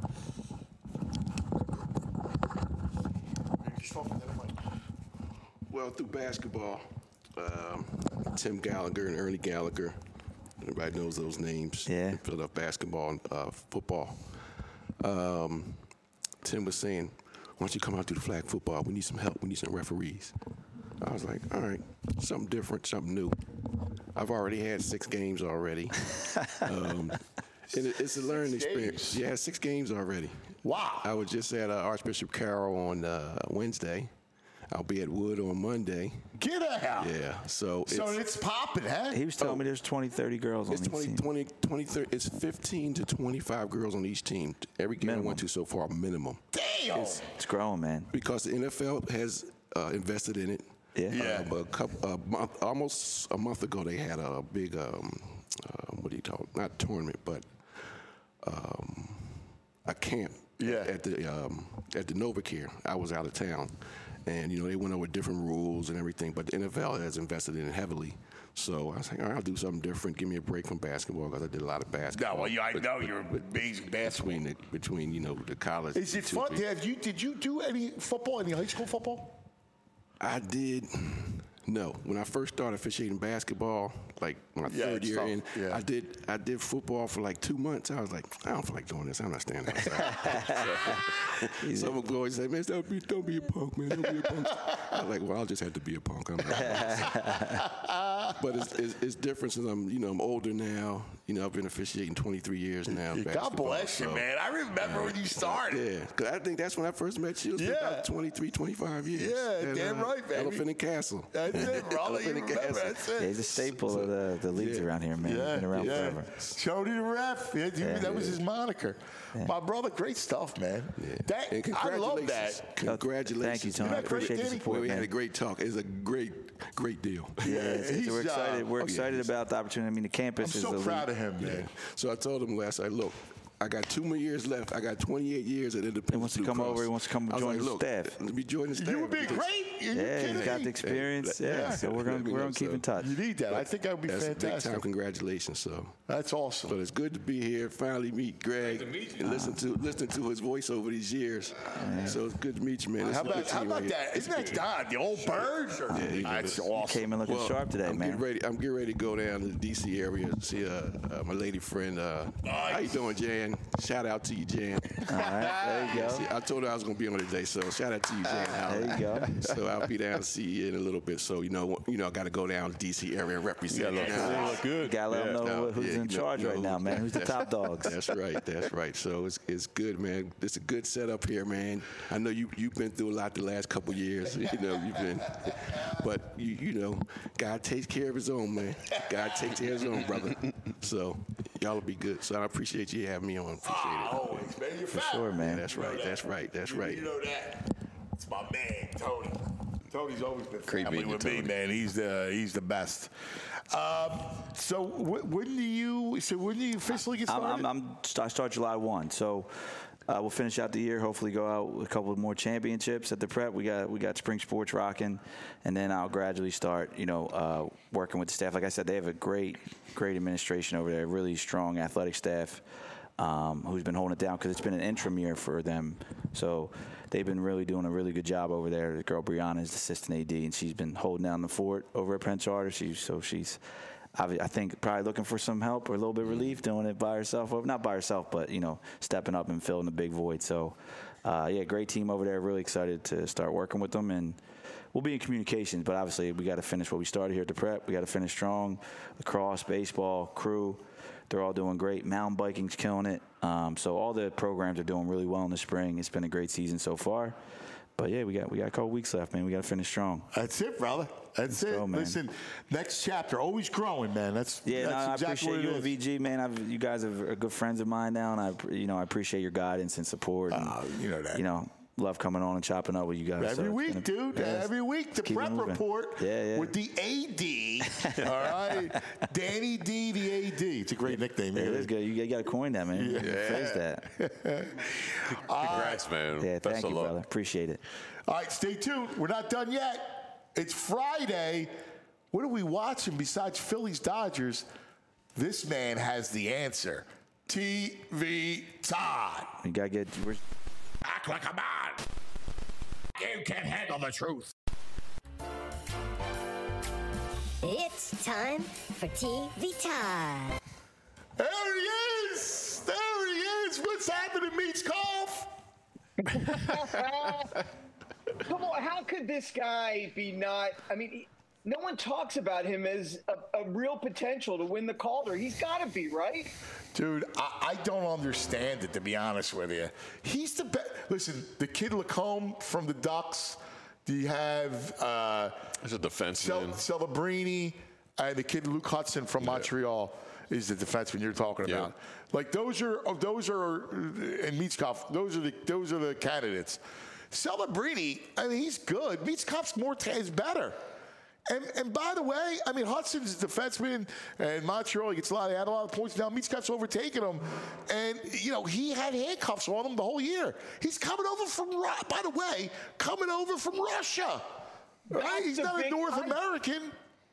Well, through basketball, um, Tim Gallagher and Ernie Gallagher. Everybody knows those names. Yeah. Philadelphia basketball and uh, football. Um, Tim was saying, why don't you come out to the flag football? We need some help. We need some referees. I was like, all right, something different, something new. I've already had six games already. um, and it, it's a learning six experience. Games. Yeah, six games already. Wow. I was just at uh, Archbishop Carroll on uh, Wednesday. I'll be at Wood on Monday. Get out. Yeah. So it's, so it's popping, huh? He was telling oh, me there's twenty, thirty girls it's on twenty, each team. twenty, twenty, thirty, it's fifteen to twenty-five girls on each team. Every game minimum. I went to so far, minimum. Damn. It's, it's growing, man. Because the N F L has uh, invested in it. Yeah. yeah. Uh, but a couple, uh, month, almost a month ago, they had a big, um, uh, what do you call it? Not tournament, but um, a camp yeah. at the um, at the NovaCare. I was out of town. And, you know, they went over different rules and everything, but the N F L has invested in it heavily. So I was like, all right, I'll do something different. Give me a break from basketball because I did a lot of basketball. No, well, yeah, I but, know you're an amazing basketball. Between, the, between, you know, the college. Is it fun? Have you, did you do any football, any high school football? I did. No. When I first started officiating basketball, like my yeah, third year tough. in, yeah. I did I did football for like two months. I was like, I don't feel like doing this. I'm not standing outside. so, someone would always say, man, don't be, don't be a punk, man. Don't be a punk. I'm like, well, I'll just have to be a punk. I'm not. But it's, it's, it's different since I'm, you know, I'm older now. You know, I've been officiating twenty-three years now. God bless you, so, man. I remember uh, when you started. Yeah, because I think that's when I first met you. It was yeah. about twenty-three, twenty-five years. Yeah, and, damn uh, right, baby. Elephant and Castle. That's it, brother. You remember, that's it. Yeah, he's a staple so, of the, the leagues yeah. around here, man. Yeah, He's been around yeah. forever. Jody the Ref. Yeah, dude, Yeah. that was his moniker. Yeah. My brother, great stuff, man. Yeah. That, and I love that. Congratulations. Thank you, Tony. I appreciate the support, we man. had a great talk. It's a great, great deal. Yeah, it's, it's, we're excited. Uh, we're oh, excited yeah, about the opportunity. I mean, the campus I'm is so elite. proud of him, man. Yeah. So I told him last night, look, I got two more years left. I got twenty-eight years at Independence. He wants to Blue come Cross. over. He wants to come I was join like, the look, staff. Let me join the staff. You would be because- great. Are you Yeah, kidding he's got me? the experience. Hey, Yeah, yeah. so we're Let going me we're know, going to keep so. in touch. You need that. I think that would be That's fantastic. a big time congratulations. So That's awesome. But it's good to be here. Finally meet Greg and listen to listen to his voice over these years. Yeah. So it's good to meet you, man. How It's a about, good how team about right that? here. Isn't that Don, the old bird? Yeah, he That's was- awesome. Came in looking Well, sharp today, I'm man. Getting ready, I'm getting ready to go down to the D C area to see uh, uh, my lady friend. Uh, Nice. How you doing, Jan? Jan. Shout out to you, Jan. All right, there you go. See, I told her I was going to be on today, so shout out to you, Jan. There you go. So I'll be down to see you in a little bit. So, you know, you know, I got to go down to D C area and represent. You gotta look good. Gotta let Yeah, them know no, who's yeah, in you know- charge you know right who- now, man. Who's the that's- top dogs? That's right. That's right. So it's it's good, man. It's a good setup here, man. I know you you've been through a lot the last couple years. You know, you've been, but you you know, God takes care of His own, man. God takes care of His own, brother. So y'all will be good. So I appreciate you having me on. Appreciate it. Always, man. You're For fat. sure, man. That's right. That's right. That's right. You know that. It's my man, Tony. Tony's always been Great family meeting you, with me, Tony. man. He's the he's the best. Um, so wh- when do you? So when do you officially get I'm, started? I'm, I'm I start July first, so uh, we'll finish out the year. Hopefully, go out with a couple of more championships at the prep. We got we got spring sports rocking, and then I'll gradually start, you know, uh, working with the staff. Like I said, they have a great great administration over there, really strong athletic staff. Um, who's been holding it down because it's been an interim year for them. So they've been really doing a really good job over there. The girl Brianna is the assistant A D, and she's been holding down the fort over at Penn Charter. She's, so she's, I I think, probably looking for some help or a little bit of relief doing it by herself. Well, not by herself, but, you know, stepping up and filling the big void. So, uh, yeah, great team over there. Really excited to start working with them. And we'll be in communications, but obviously we got to finish what we started here at the prep. We got to finish strong. Lacrosse, baseball, crew. They're all doing great. Mountain biking's killing it. Um, so all the programs are doing really well in the spring. It's been a great season so far. But yeah, we got we got a couple weeks left, man. We got to finish strong. That's it, brother. That's Let's it. go, man. Listen, next chapter, always growing, man. That's Yeah, that's no, I exactly appreciate what you it and is. V G, man. I've, you guys are are good friends of mine now, and I you know I appreciate your guidance and support. And, Oh, you know that. You know, love coming on and chopping up with you guys. Every So it's week, been a- dude. yeah, Every week, the keep it prep moving. report Yeah, yeah. with the A D. All right, Danny D, the A D. It's a great nickname. Yeah, it man. is good. You, got to coin that, man. You phrase that. Congrats, man. Yeah, Best thank of you, luck. brother. Appreciate it. All right, stay tuned. We're not done yet. It's Friday. What are we watching besides Phillies Dodgers? This man has the answer. T V Todd. You got to get. We're, Act like a man. You can handle the truth. It's time for T V Todd. There he is. There he is. What's happening, Meats Golf? Come on, how could this guy be not? I mean, he, no one talks about him as a, a real potential to win the Calder. He's got to be, right? Dude, I, I don't understand it, to be honest with you. He's the best. Listen, the kid Lacombe from the Ducks. Do you have uh, There's a defenseman. Cel- Celebrini and the kid Luke Hudson from Montreal is the defenseman you're talking Yeah. about. Like those are those are and Meetskov, those are the those are the candidates. Celebrini, I mean, he's good. Meetskov's more is better. And, and by the way, I mean, Hudson's a defenseman, and Montreal, he gets a lot, he had a lot of points. Now Meetskov's overtaken him. And, you know, he had handcuffs on him the whole year. He's coming over from, Ru- by the way, coming over from Russia. Right? That's He's a not a big- North I- American.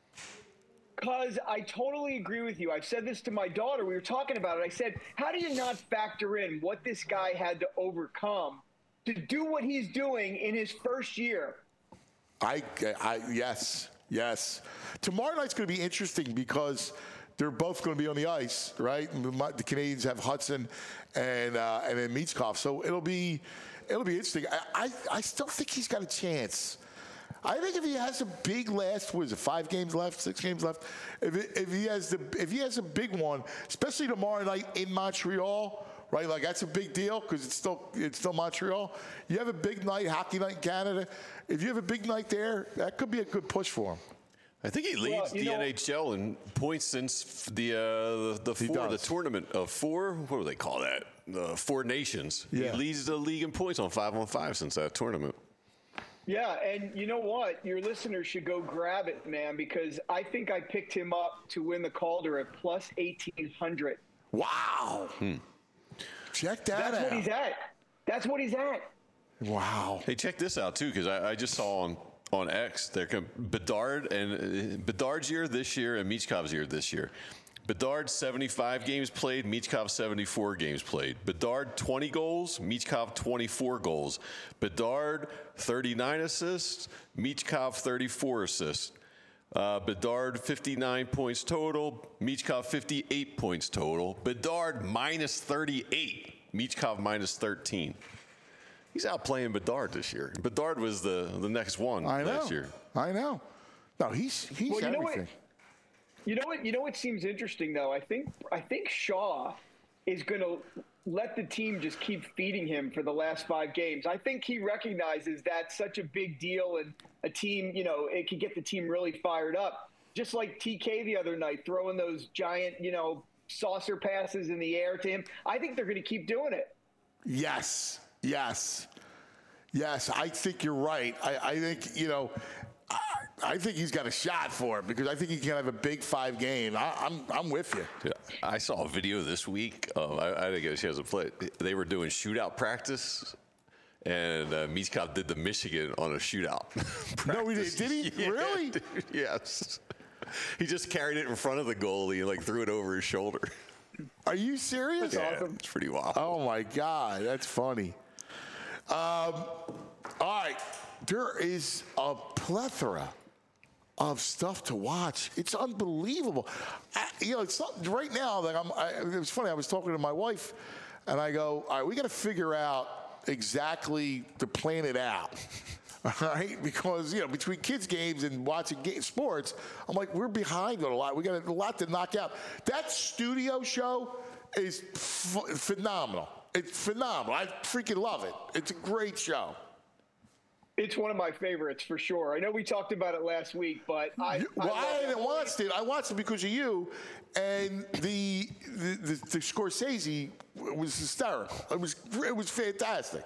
Because I totally agree with you. I've said this to my daughter. We were talking about it. I said, how do you not factor in what this guy had to overcome to do what he's doing in his first year? I, I, yes, yes. Tomorrow night's going to be interesting because they're both going to be on the ice, right? The Canadians have Hudson and uh, and then Meetskov, so it'll be it'll be interesting. I, I, I still think he's got a chance. I think if he has a big last, what is it, five games left, six games left? If, it, if he has the if he has a big one, especially tomorrow night in Montreal, right? Like that's a big deal because it's still it's still Montreal. You have a big night, hockey night in Canada. If you have a big night there, that could be a good push for him. I think he leads Well, you the know- N H L in points since the uh, the, the He four the does. tournament of four. What do they call that? The Four Nations. Yeah. He leads the league in points on five on five since that tournament. Yeah, and you know what? Your listeners should go grab it, man, because I think I picked him up to win the Calder at plus eighteen hundred. Wow. Check that That's out. what he's at. That's what he's at. Wow. Hey, check this out too, because I, I just saw on on X they're com- Bedard and uh, Bedard's year this year and Meechkov's year this year. Bedard seventy-five games played, Meechkov seventy-four games played. Bedard twenty goals, Meechkov twenty-four goals. Bedard thirty-nine assists, Meechkov thirty-four assists. Uh, Bedard, fifty-nine points total. Michkov, fifty-eight points total. Bedard, minus thirty-eight. Michkov, minus thirteen. He's outplaying Bedard this year. Bedard was the, the next one I know. last year. I know. No, he's he's Well, you know everything. what? You know what? You know what seems interesting though. I think I think Shaw is going to let the team just keep feeding him for the last five games. I think he recognizes that's such a big deal, and a team, you know, it could get the team really fired up. Just like T K the other night, throwing those giant, you know, saucer passes in the air to him. I think they're going to keep doing it. Yes, yes, yes. I think you're right. I, I think, you know, I, I think he's got a shot for it because I think he can have a big five game. I, I'm I'm with you. Yeah, I saw a video this week. Um, I, I didn't get a chance to play. They were doing shootout practice, and uh, Michkov did the Michigan on a shootout. No, he did. Did he? Yeah, Really? dude, yes. He just carried it in front of the goalie and like threw it over his shoulder. Are you serious? Yeah, it's pretty wild. Oh my God, that's funny. Um, all right, there is a plethora of stuff to watch. It's unbelievable. I, you know, it's not, right now that I'm. I, it was funny. I was talking to my wife, and I go, "All right, we got to figure out exactly to plan it out." All right, because you know, between kids' games and watching game, sports, I'm like, we're behind on a lot. We got a lot to knock out. That studio show is f- phenomenal. It's phenomenal. I freaking love it. It's a great show. It's one of my favorites for sure. I know we talked about it last week, but I well, I, I hadn't watched it. I watched it because of you, and the the, the, the Scorsese was hysterical. It was it was fantastic.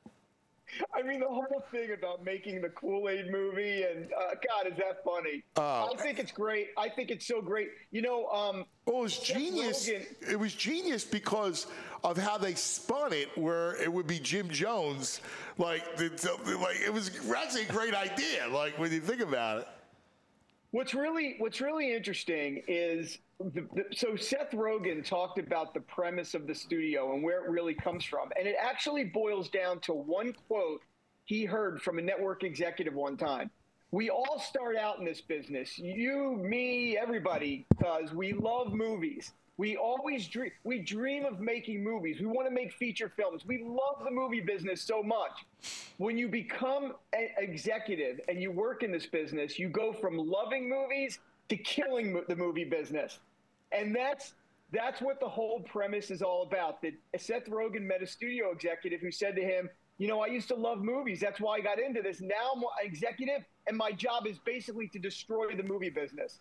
I mean, the whole thing about making the Kool-Aid movie, and uh, God, is that funny? Oh. I think it's great. I think it's so great. You know, um, well, it was genius. Rogen, it was genius because of how they spun it, where it would be Jim Jones. Like, the, the, like it was actually a great idea. Like when you think about it. What's really what's really interesting is the, the, so Seth Rogen talked about the premise of the studio and where it really comes from, and it actually boils down to one quote he heard from a network executive one time. We all start out in this business, you, me, everybody, because we love movies. We always dream. We dream of making movies. We want to make feature films. We love the movie business so much. When you become an executive and you work in this business, you go from loving movies to killing mo- the movie business. And that's that's what the whole premise is all about. That Seth Rogen met a studio executive who said to him, you know, I used to love movies. That's why I got into this. Now I'm an executive, and my job is basically to destroy the movie business.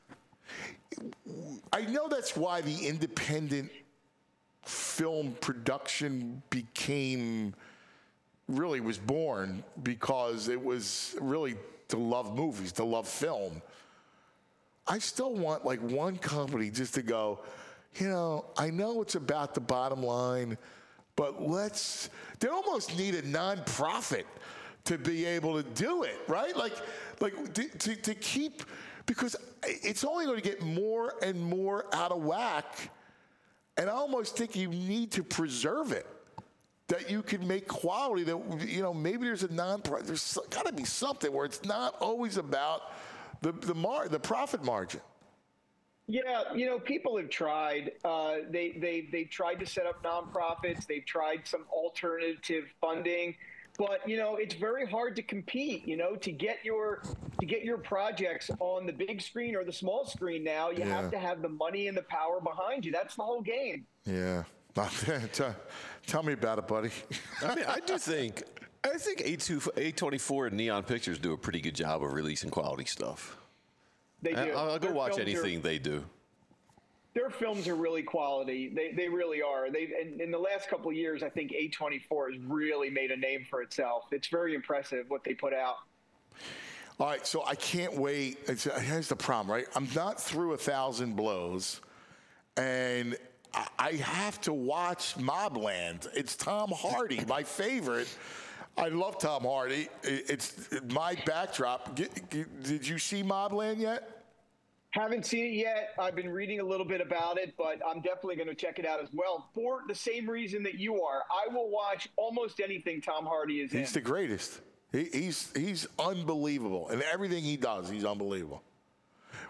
I know that's why the independent film production became really was born, because it was really to love movies, to love film. I still want like one company just to go, you know, I know it's about the bottom line, but let's, they almost need a nonprofit to be able to do it, right? Like, like to, to, to keep, because it's only going to get more and more out of whack. And I almost think you need to preserve it, that you can make quality that, you know, maybe there's a non-profit, there's got to be something where it's not always about the, the, mar- the profit margin. Yeah, you know, people have tried. Uh, they they they've tried to set up nonprofits. They've tried some alternative funding, but you know, it's very hard to compete. You know, to get your to get your projects on the big screen or the small screen now, you Yeah. have to have the money and the power behind you. That's the whole game. Yeah. tell, tell me about it, buddy. I mean, I do think I think A twenty-four and Neon Pictures do a pretty good job of releasing quality stuff. They do. I'll, I'll go Their watch films anything are- they do. Their films are really quality. They they really are. They in, in the last couple of years, I think A twenty-four has really made a name for itself. It's very impressive what they put out. All right, so I can't wait. It's, here's the problem, right? I'm not through A Thousand Blows, and I, I have to watch Mobland. It's Tom Hardy, my favorite. I love Tom Hardy. It, it's my backdrop. Get, get, did you see Mobland yet? Haven't seen it yet. I've been reading a little bit about it, but I'm definitely going to check it out as well for the same reason that you are. I will watch almost anything Tom Hardy is in. He's the greatest. He, he's he's unbelievable, and everything he does, he's unbelievable.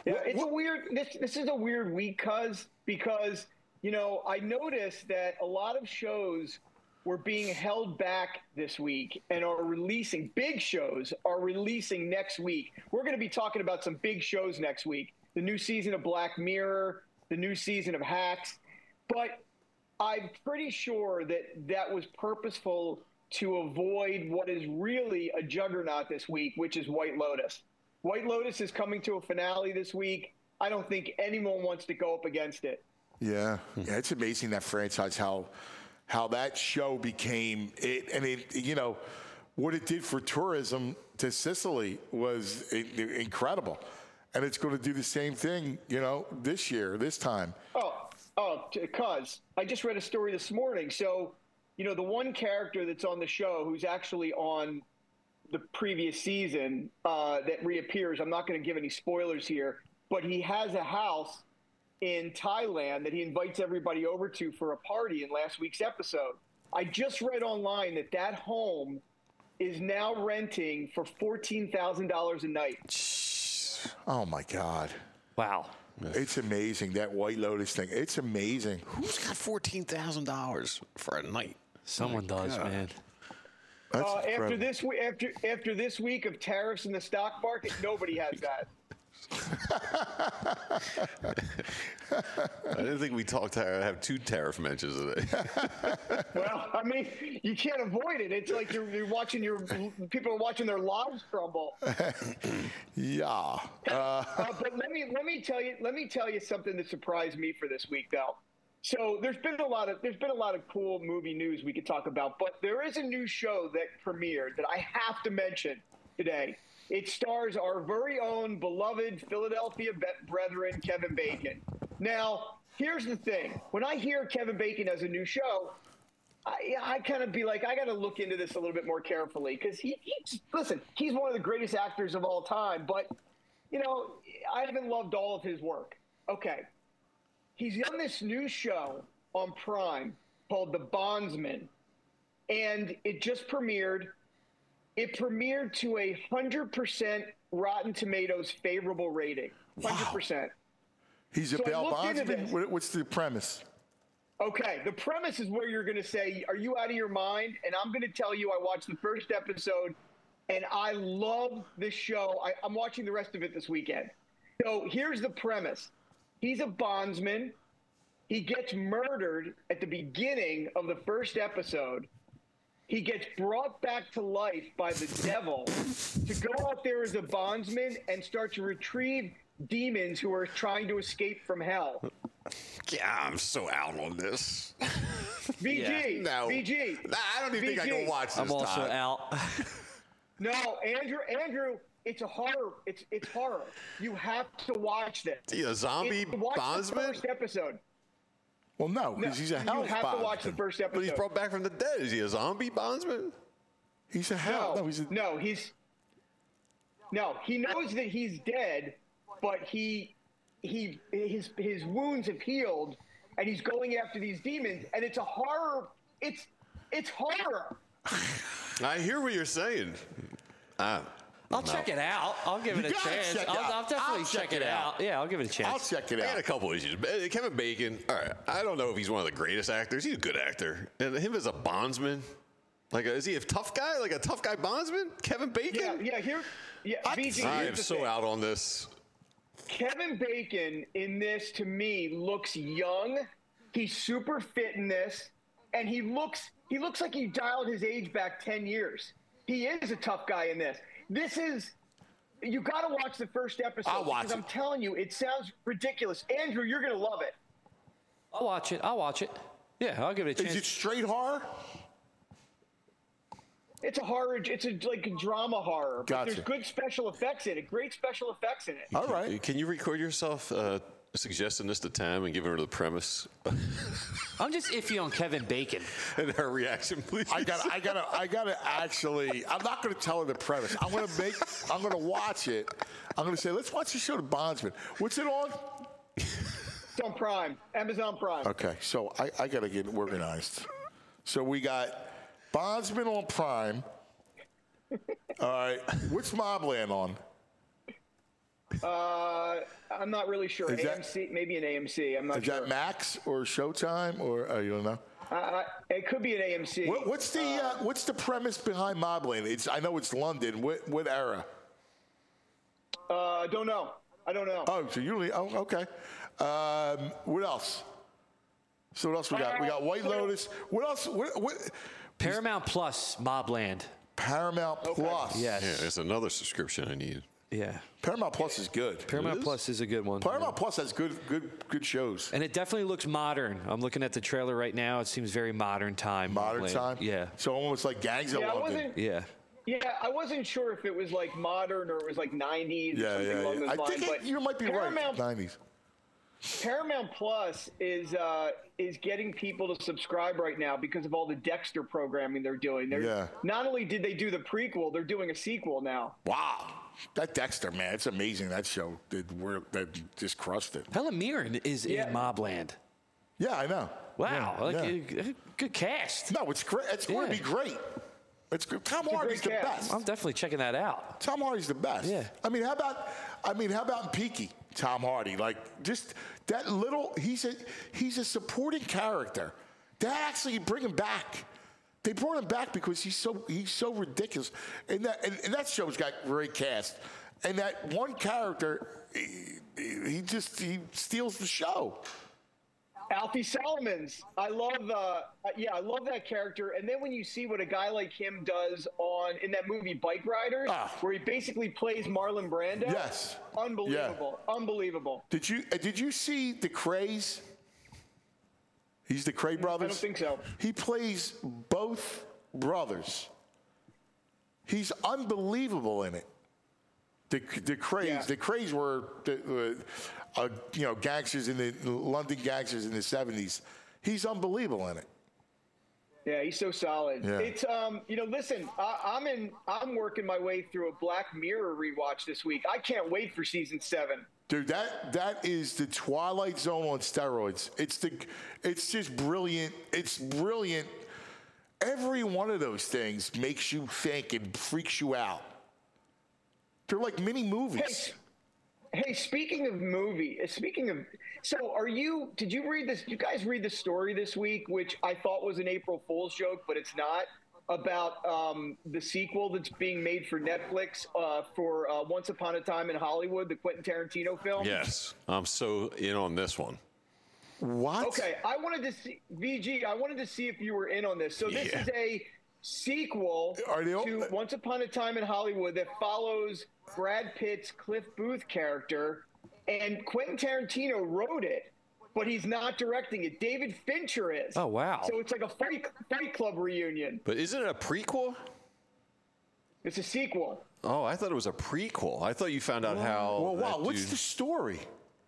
Yeah, it's a weird. This this is a weird week, cuz because you know I noticed that a lot of shows were being held back this week and are releasing. Big shows are releasing next week. We're going to be talking about some big shows next week. The new season of Black Mirror, the new season of Hacks, but I'm pretty sure that that was purposeful to avoid what is really a juggernaut this week, which is White Lotus. White Lotus is coming to a finale this week. I don't think anyone wants to go up against it. Yeah, yeah, it's amazing that franchise how how that show became it, and it you know what it did for tourism to Sicily was incredible, and it's going to do the same thing you know this year, this time. Oh, oh, cuz I just read a story this morning. So, you know, the one character that's on the show who's actually on the previous season uh, that reappears. I'm not going to give any spoilers here, but he has a house in Thailand that he invites everybody over to for a party in last week's episode. I just read online that that home is now renting for fourteen thousand dollars a night. Oh, my God. Wow. It's amazing, that White Lotus thing. It's amazing. Who's got fourteen thousand dollars for a night? Someone does, God. man. Uh, after this week, after after this week of tariffs in the stock market, nobody has that. I didn't think we talked to have two tariff mentions today. Well, I mean, you can't avoid it. It's like you're, you're watching your people are watching their lives crumble. Yeah. Uh, uh, but let me let me tell you let me tell you something that surprised me for this week, though. So there's been a lot of there's been a lot of cool movie news we could talk about, but there is a new show that premiered that I have to mention today. It stars our very own beloved Philadelphia brethren, Kevin Bacon. Now, here's the thing. When I hear Kevin Bacon has a new show, I, I kind of be like, I got to look into this a little bit more carefully because he, he, listen, he's one of the greatest actors of all time. But, you know, I haven't loved all of his work. Okay. He's done this new show on Prime called The Bondsman, and it just premiered. It premiered to a one hundred percent Rotten Tomatoes favorable rating. one hundred percent. Wow. He's a so bail bondsman? What's the premise? Okay, the premise is where you're going to say, are you out of your mind? And I'm going to tell you I watched the first episode, and I love this show. I, I'm watching the rest of it this weekend. So here's the premise. He's a bondsman. He gets murdered at the beginning of the first episode. He gets brought back to life by the devil to go out there as a bondsman and start to retrieve demons who are trying to escape from hell. Yeah, I'm so out on this. V G, Yeah. No. V G. Nah, I don't even think I can watch this. I'm also Todd. out. No, Andrew, Andrew, it's a horror. It's it's horror. You have to watch this. Is he a zombie It- watch bondsman? the first episode. Well, no, because he's a hell You have to watch the first episode. But he's brought back from the dead. Is he a zombie bondsman? He's a hell. No, No, he's a, no, he's no. He knows that he's dead, but he he his his wounds have healed, and he's going after these demons. And it's a horror. It's it's horror. I hear what you're saying. Uh, I'll no. check it out. I'll give You it a gotta chance. check it I'll, out. I'll definitely I'll check, check it it out. out. Yeah, I'll give it a chance. I'll check it I had a out. couple issues. Uh, Kevin Bacon, all right, I don't know if he's one of the greatest actors. He's a good actor. And him as a bondsman, like, is he a tough guy? Like a tough guy bondsman? Kevin Bacon? Yeah, yeah. Here, yeah. V G, I here's am the so thing. out on this. Kevin Bacon in this, to me, looks young. He's super fit in this, and he looks he looks like he dialed his age back ten years. He is a tough guy in this. This is you got to watch the first episode. I'll watch because it. I'm telling you, it sounds ridiculous. Andrew, you're gonna love it. I'll watch it. I'll watch it. Yeah, I'll give it a chance. Is it straight horror? It's a horror. It's a like a drama horror. But Gotcha. there's good special effects in it. Great special effects in it. All right. Can you record yourself uh, suggesting this to Tam and giving her the premise I'm just iffy on Kevin Bacon. and her reaction, please? I got. I got. to I got to actually. I'm not going to tell her the premise. I'm going to make. I'm going to watch it. I'm going to say, let's watch the show, The Bondsman. What's it on? It's on Prime, Amazon Prime. Okay, so I, I got to get organized. So we got Bondsman on Prime. All right, what's Mobland on? Uh, I'm not really sure. Is A that- M C, maybe an A M C. I'm not Is sure. that Max or Showtime or oh, you don't know? Uh, uh, it could be an A M C. What, what's the uh, what's the premise behind Mobland? It's I know it's London. What what era? Uh, I don't know. I don't know. Oh, so you only oh okay. Um, what else? So what else we got? We got White Lotus. What else? What, what? Paramount Plus, Mobland. Paramount Plus. Yes. Yeah, there's another subscription I need. Yeah. Paramount Plus is good. Paramount It is? Plus is a good one. Paramount Plus has good good good shows. And it definitely looks modern. I'm looking at the trailer right now. It seems very modern time. Modern Mobland. time. Yeah. So almost like Gangs of Yeah, I London. wasn't- Yeah. Yeah, I wasn't sure if it was like modern or it was like nineties Yeah, or something yeah, along yeah. those I lines. think it, but you might be Paramount, right. nineties. Paramount Plus is uh, is getting people to subscribe right now because of all the Dexter programming they're doing. They're, Yeah. Not only did they do the prequel, they're doing a sequel now. Wow. That Dexter, man, it's amazing. That show did work. That just crushed it. Helen Mirren is Yeah. in Mobland. Yeah, I know. Wow. Yeah, like, yeah. uh, good cast. No, it's great. It's going to Yeah. be great. It's good. Tom It's a Hardy's the great cast. best. I'm definitely checking that out. Tom Hardy's the best. Yeah. I mean, how about? I mean, how about in Peaky? Tom Hardy, like just that little. He's a he's a supporting character. They actually bring him back. They brought him back because he's so he's so ridiculous, and that and, and that show's got great cast. And that one character, he, he just he steals the show. Alfie Solomons. I love uh yeah, I love that character. And then when you see what a guy like him does on in that movie Bike Riders, Ah. where he basically plays Marlon Brando. Yes. Unbelievable. Unbelievable. Did you uh, did you see the Crays? He's the Cray brothers. I don't think so. He plays both brothers. He's unbelievable in it. The the Crays, Yeah. the Crays were the, uh, uh, you know gangsters in the London gangsters in the seventies. He's unbelievable in it. Yeah, he's so solid. Yeah. It's um, you know, listen, I, I'm in, I'm working my way through a Black Mirror rewatch this week. I can't wait for season seven. Dude, that that is the Twilight Zone on steroids. It's the, it's just brilliant. It's brilliant. Every one of those things makes you think and freaks you out. They're like mini movies. Hey, hey, speaking of movie, uh, speaking of, so are you? Did you read this? You guys read the story this week, which I thought was an April Fool's joke, but it's not. About um, the sequel that's being made for Netflix uh, for uh, Once Upon a Time in Hollywood, the Quentin Tarantino film. Yes, I'm so in on this one. What? Okay, I wanted to see V G. I wanted to see if you were in on this. So this Yeah. is a sequel Are they all- to Once Upon a Time in Hollywood that follows Brad Pitt's Cliff Booth character, and Quentin Tarantino wrote it, but he's not directing it. David Fincher is. Oh, wow. So it's like a Fight, fight Club reunion. But isn't it a prequel? It's a sequel. Oh, I thought it was a prequel. I thought you found out how. Well, wow. that What's dude- the story?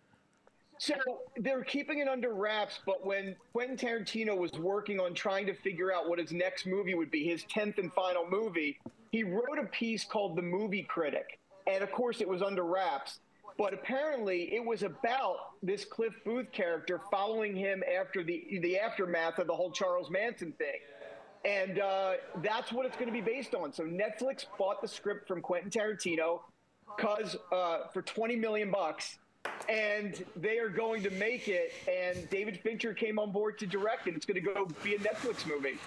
So they're keeping it under wraps, but when Quentin Tarantino was working on trying to figure out what his next movie would be, his tenth and final movie, he wrote a piece called The Movie Critic. And of course, it was under wraps. But apparently, it was about this Cliff Booth character following him after the the aftermath of the whole Charles Manson thing. And uh, that's what it's going to be based on. So Netflix bought the script from Quentin Tarantino cause, uh, for twenty million bucks. And they are going to make it, and David Fincher came on board to direct it. It's going to go be a Netflix movie.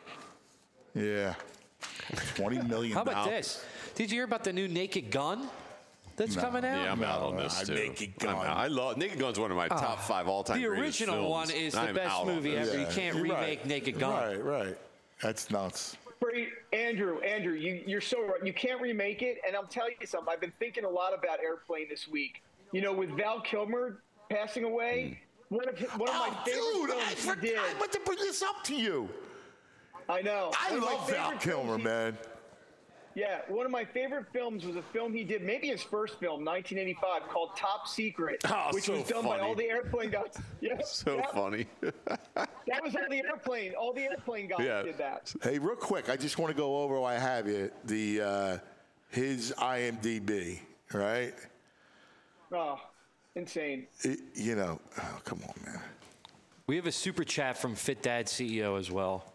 Yeah. twenty million How about dollars. this? Did you hear about the new Naked Gun that's No. coming out? Yeah, I'm out on No, this uh, too. Naked I'm Gun. out. I love Naked Gun's one of my top five all-time. The greatest original films. one is the I'm best out on movie this. ever. You can't you're remake right. Naked Gun. Right, right. That's nuts. Great, Andrew, Andrew, you, you're so right. You can't remake it. And I'll tell you something. I've been thinking a lot about Airplane this week. You know, with Val Kilmer passing away, one of his, one of my Oh, favorite dude, I, films he forgot, did. I meant to bring this up to you. I know. I One of my love Val favorite films Kilmer, he- man. Yeah, one of my favorite films was a film he did, maybe his first film, nineteen eighty-five, called Top Secret, Oh, which so was done by funny. all the airplane guys. Yeah, So yeah, funny. that was all the airplane. All the airplane guys Yeah. did that. Hey, real quick, I just want to go over while I have you the uh, his I M D B, right? Oh, insane. It, you know, oh, come on, man. We have a super chat from Fit Dad C E O as well.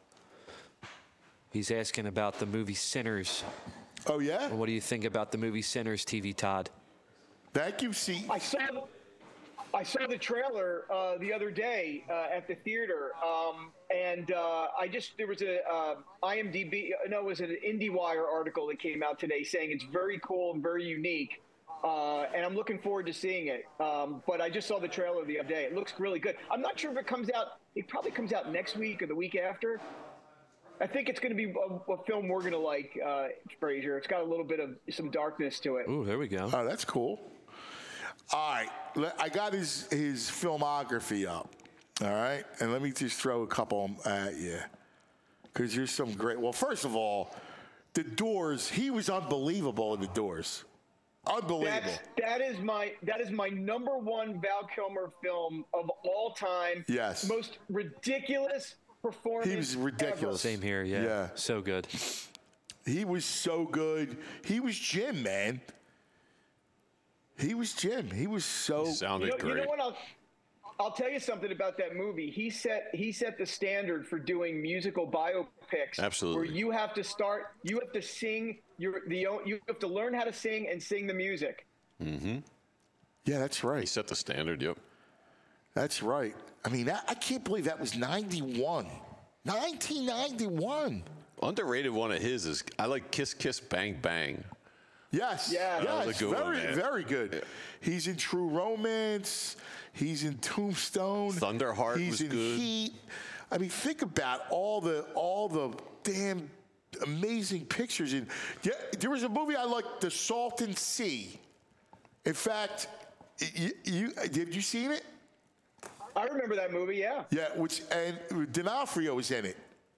He's asking about the movie Sinners. Oh yeah? What do you think about the movie Sinners, T V Todd? Thank you, C. I saw the, I saw the trailer uh, the other day uh, at the theater, um, and uh, I just there was a uh, I M D B no, it was an IndieWire article that came out today saying it's very cool and very unique, uh, and I'm looking forward to seeing it. Um, but I just saw the trailer the other day; it looks really good. I'm not sure if it comes out. It probably comes out next week or the week after. I think it's going to be a, a film we're going to like, uh, Frazier. It's got a little bit of some darkness to it. Ooh, there we go. Oh, that's cool. All right, let- I got his his filmography up. All right, and let me just throw a couple at you, because there's some great. Well, first of all, The Doors. He was unbelievable in The Doors. Unbelievable. That's, that is my that is my number one Val Kilmer film of all time. Yes. Most ridiculous performance. He was ridiculous. Same here, yeah. Yeah. So good. He was so good. He was Jim, man. He was Jim. He was so He sounded you know, great. You know what? I'll, I'll tell you something about that movie. He set he set the standard for doing musical biopics. Absolutely. Where you have to start, you have to sing your the you have to learn how to sing and sing the music. Mm-hmm. Yeah, that's right. He set the standard. Yep. That's right. I mean, that, I can't believe that was ninety-one. nineteen ninety-one. Underrated one of his is I like Kiss Kiss Bang Bang. Yes. Yeah. Yes. That was a good very, one, man. very good. Yeah. He's in True Romance. He's in Tombstone. Thunderheart He's was in good. Heat. I mean, think about all the all the damn amazing pictures. In yeah, there was a movie I liked, The Salton Sea. In fact, you, you have you seen it? I remember that movie. Yeah. Yeah, which and D'Onofrio was in it.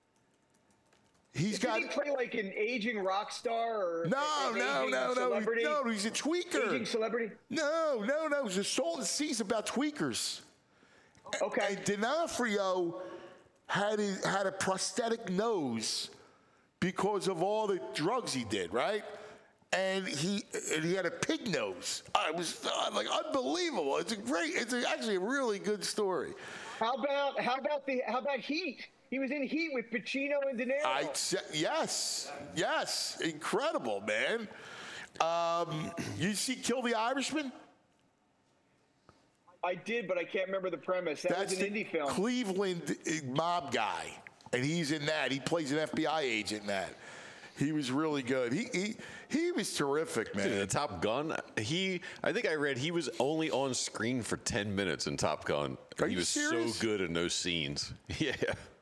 He's Did got he play like an aging rock star or no, an no, aging no, no, celebrity? no. He's a tweaker. Aging celebrity. No, no, no. The Salton Sea's about tweakers. Okay. And D'Onofrio had a, had a prosthetic nose because of all the drugs he did, right? And he and he had a pig nose. I was uh, like unbelievable. It's a great. It's a, actually a really good story. How about how about the how about Heat? He was in Heat with Pacino and De Niro. I yes, yes, incredible, man. Um, you see, Kill the Irishman? I did, but I can't remember the premise. That That's was an the indie film. Cleveland mob guy, and he's in that. He plays an F B I agent in that. He was really good. He he he was terrific, man. Dude, the Top Gun. He, I think I read he was only on screen for ten minutes in Top Gun. Are he you was serious? so good in those scenes. Yeah.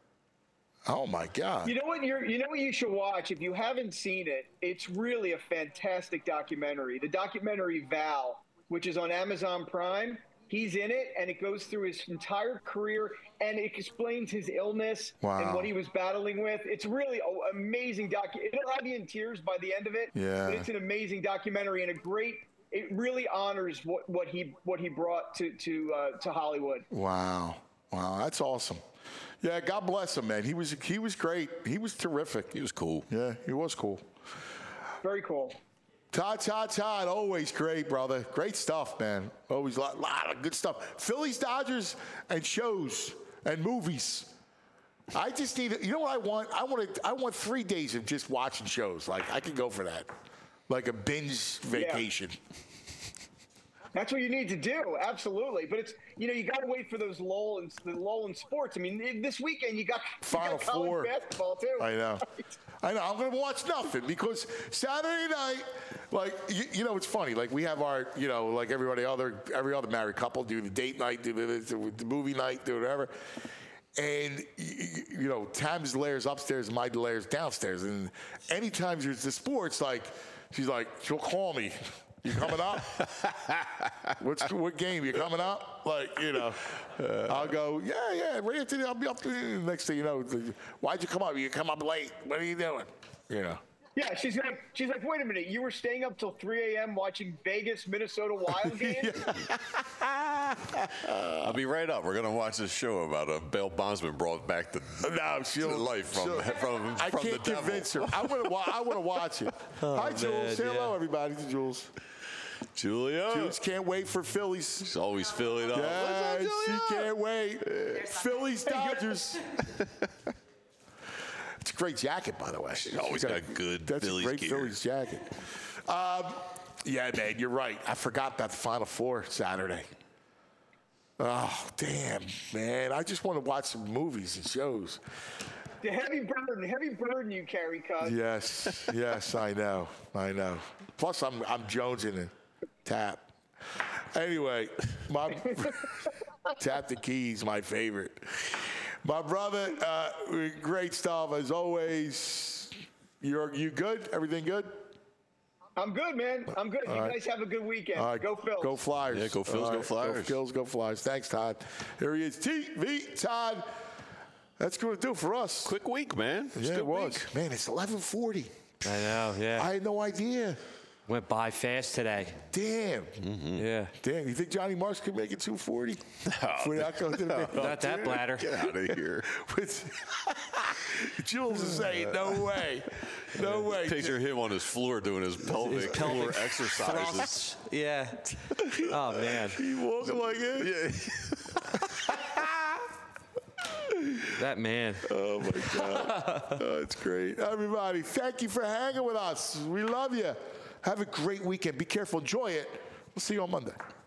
Oh my God. You know what? You're, you know what you should watch if you haven't seen it. It's really a fantastic documentary. The documentary Val, which is on Amazon Prime. He's in it, and it goes through his entire career, and it explains his illness Wow. and what he was battling with. It's really an amazing doc. It'll have you in tears by the end of it. Yeah. But it's an amazing documentary and a great. It really honors what, what he what he brought to to uh, to Hollywood. Wow, wow, that's awesome. Yeah, God bless him, man. He was he was great. He was terrific. He was cool. Yeah, he was cool. Very cool. Todd, Todd, Todd, always great, brother. Great stuff, man. Always a lot, lot of good stuff. Phillies, Dodgers, and shows and movies. I just need, you know what I want? I want to, I want three days of just watching shows. Like I could go for that, like a binge vacation. That's what you need to do, absolutely. But it's you know you got to wait for those lull and the lull in sports. I mean, this weekend you got, you Final got college Four. basketball too. I know. I know. I'm going to watch nothing because Saturday night, like, you, you know, it's funny. Like, we have our, you know, like everybody other, every other married couple do the date night, do the, the movie night, do whatever. And, you, you know, Tam's Lairs upstairs and my Lairs downstairs. And anytime there's the sports, like, she's like, she'll call me. You coming up? What's what game? You coming up? Like, you know, uh, I'll go, yeah, yeah, right after the, I'll be up there. Next thing you know, why'd you come up? You come up late. What are you doing? You know. Yeah, she's like, she's like, wait a minute, you were staying up till three a.m. watching Vegas, Minnesota Wild games? I'll be right up. We're going to watch this show about a bail bondsman brought back to, no, to life from, from, I from can't the devil. convince her. I want to. I want to watch it. Oh, Hi, Jules. man, Say hello, yeah. everybody. To Jules. Julia. Jules can't wait for Phillies. She's always filling up. Yeah, she can't wait. Phillies, Dodgers. It's a great jacket, by the way. She's always got a good That's Phillies a great gear. Phillies jacket. Um, yeah, man, you're right. I forgot about the Final Four Saturday. Oh, damn, man. I just want to watch some movies and shows. The heavy burden, heavy burden you carry, cuz. Yes, yes, I know. I know. Plus, I'm I'm jonesing and tap. Anyway, my Tap the Keys, my favorite. My brother, uh, great stuff as always. You're you good? Everything good? I'm good, man. I'm good. All you right. guys have a good weekend. All right, Go Phils. Go Flyers. Yeah, go Phils, All go right, Flyers. Go Phils, go Flyers. Thanks, Todd. Here he is, T V Todd. That's going to do it for us. Quick week, man. Yeah, Good it was. week. Man, it's eleven forty. I know, yeah. I had no idea. Went by fast today. Damn. Mm-hmm. Yeah. Damn. You think Johnny Marks could make it two forty? No, no, not that bladder. Get out of here. Jules is saying, no way. No way. Picture him on his floor doing his pelvic, His pelvic floor exercises. thrusts. Yeah. Oh, man. He walking like it. Yeah. That man. Oh, my God. Oh, it's great. Everybody, thank you for hanging with us. We love you. Have a great weekend. Be careful. Enjoy it. We'll see you on Monday.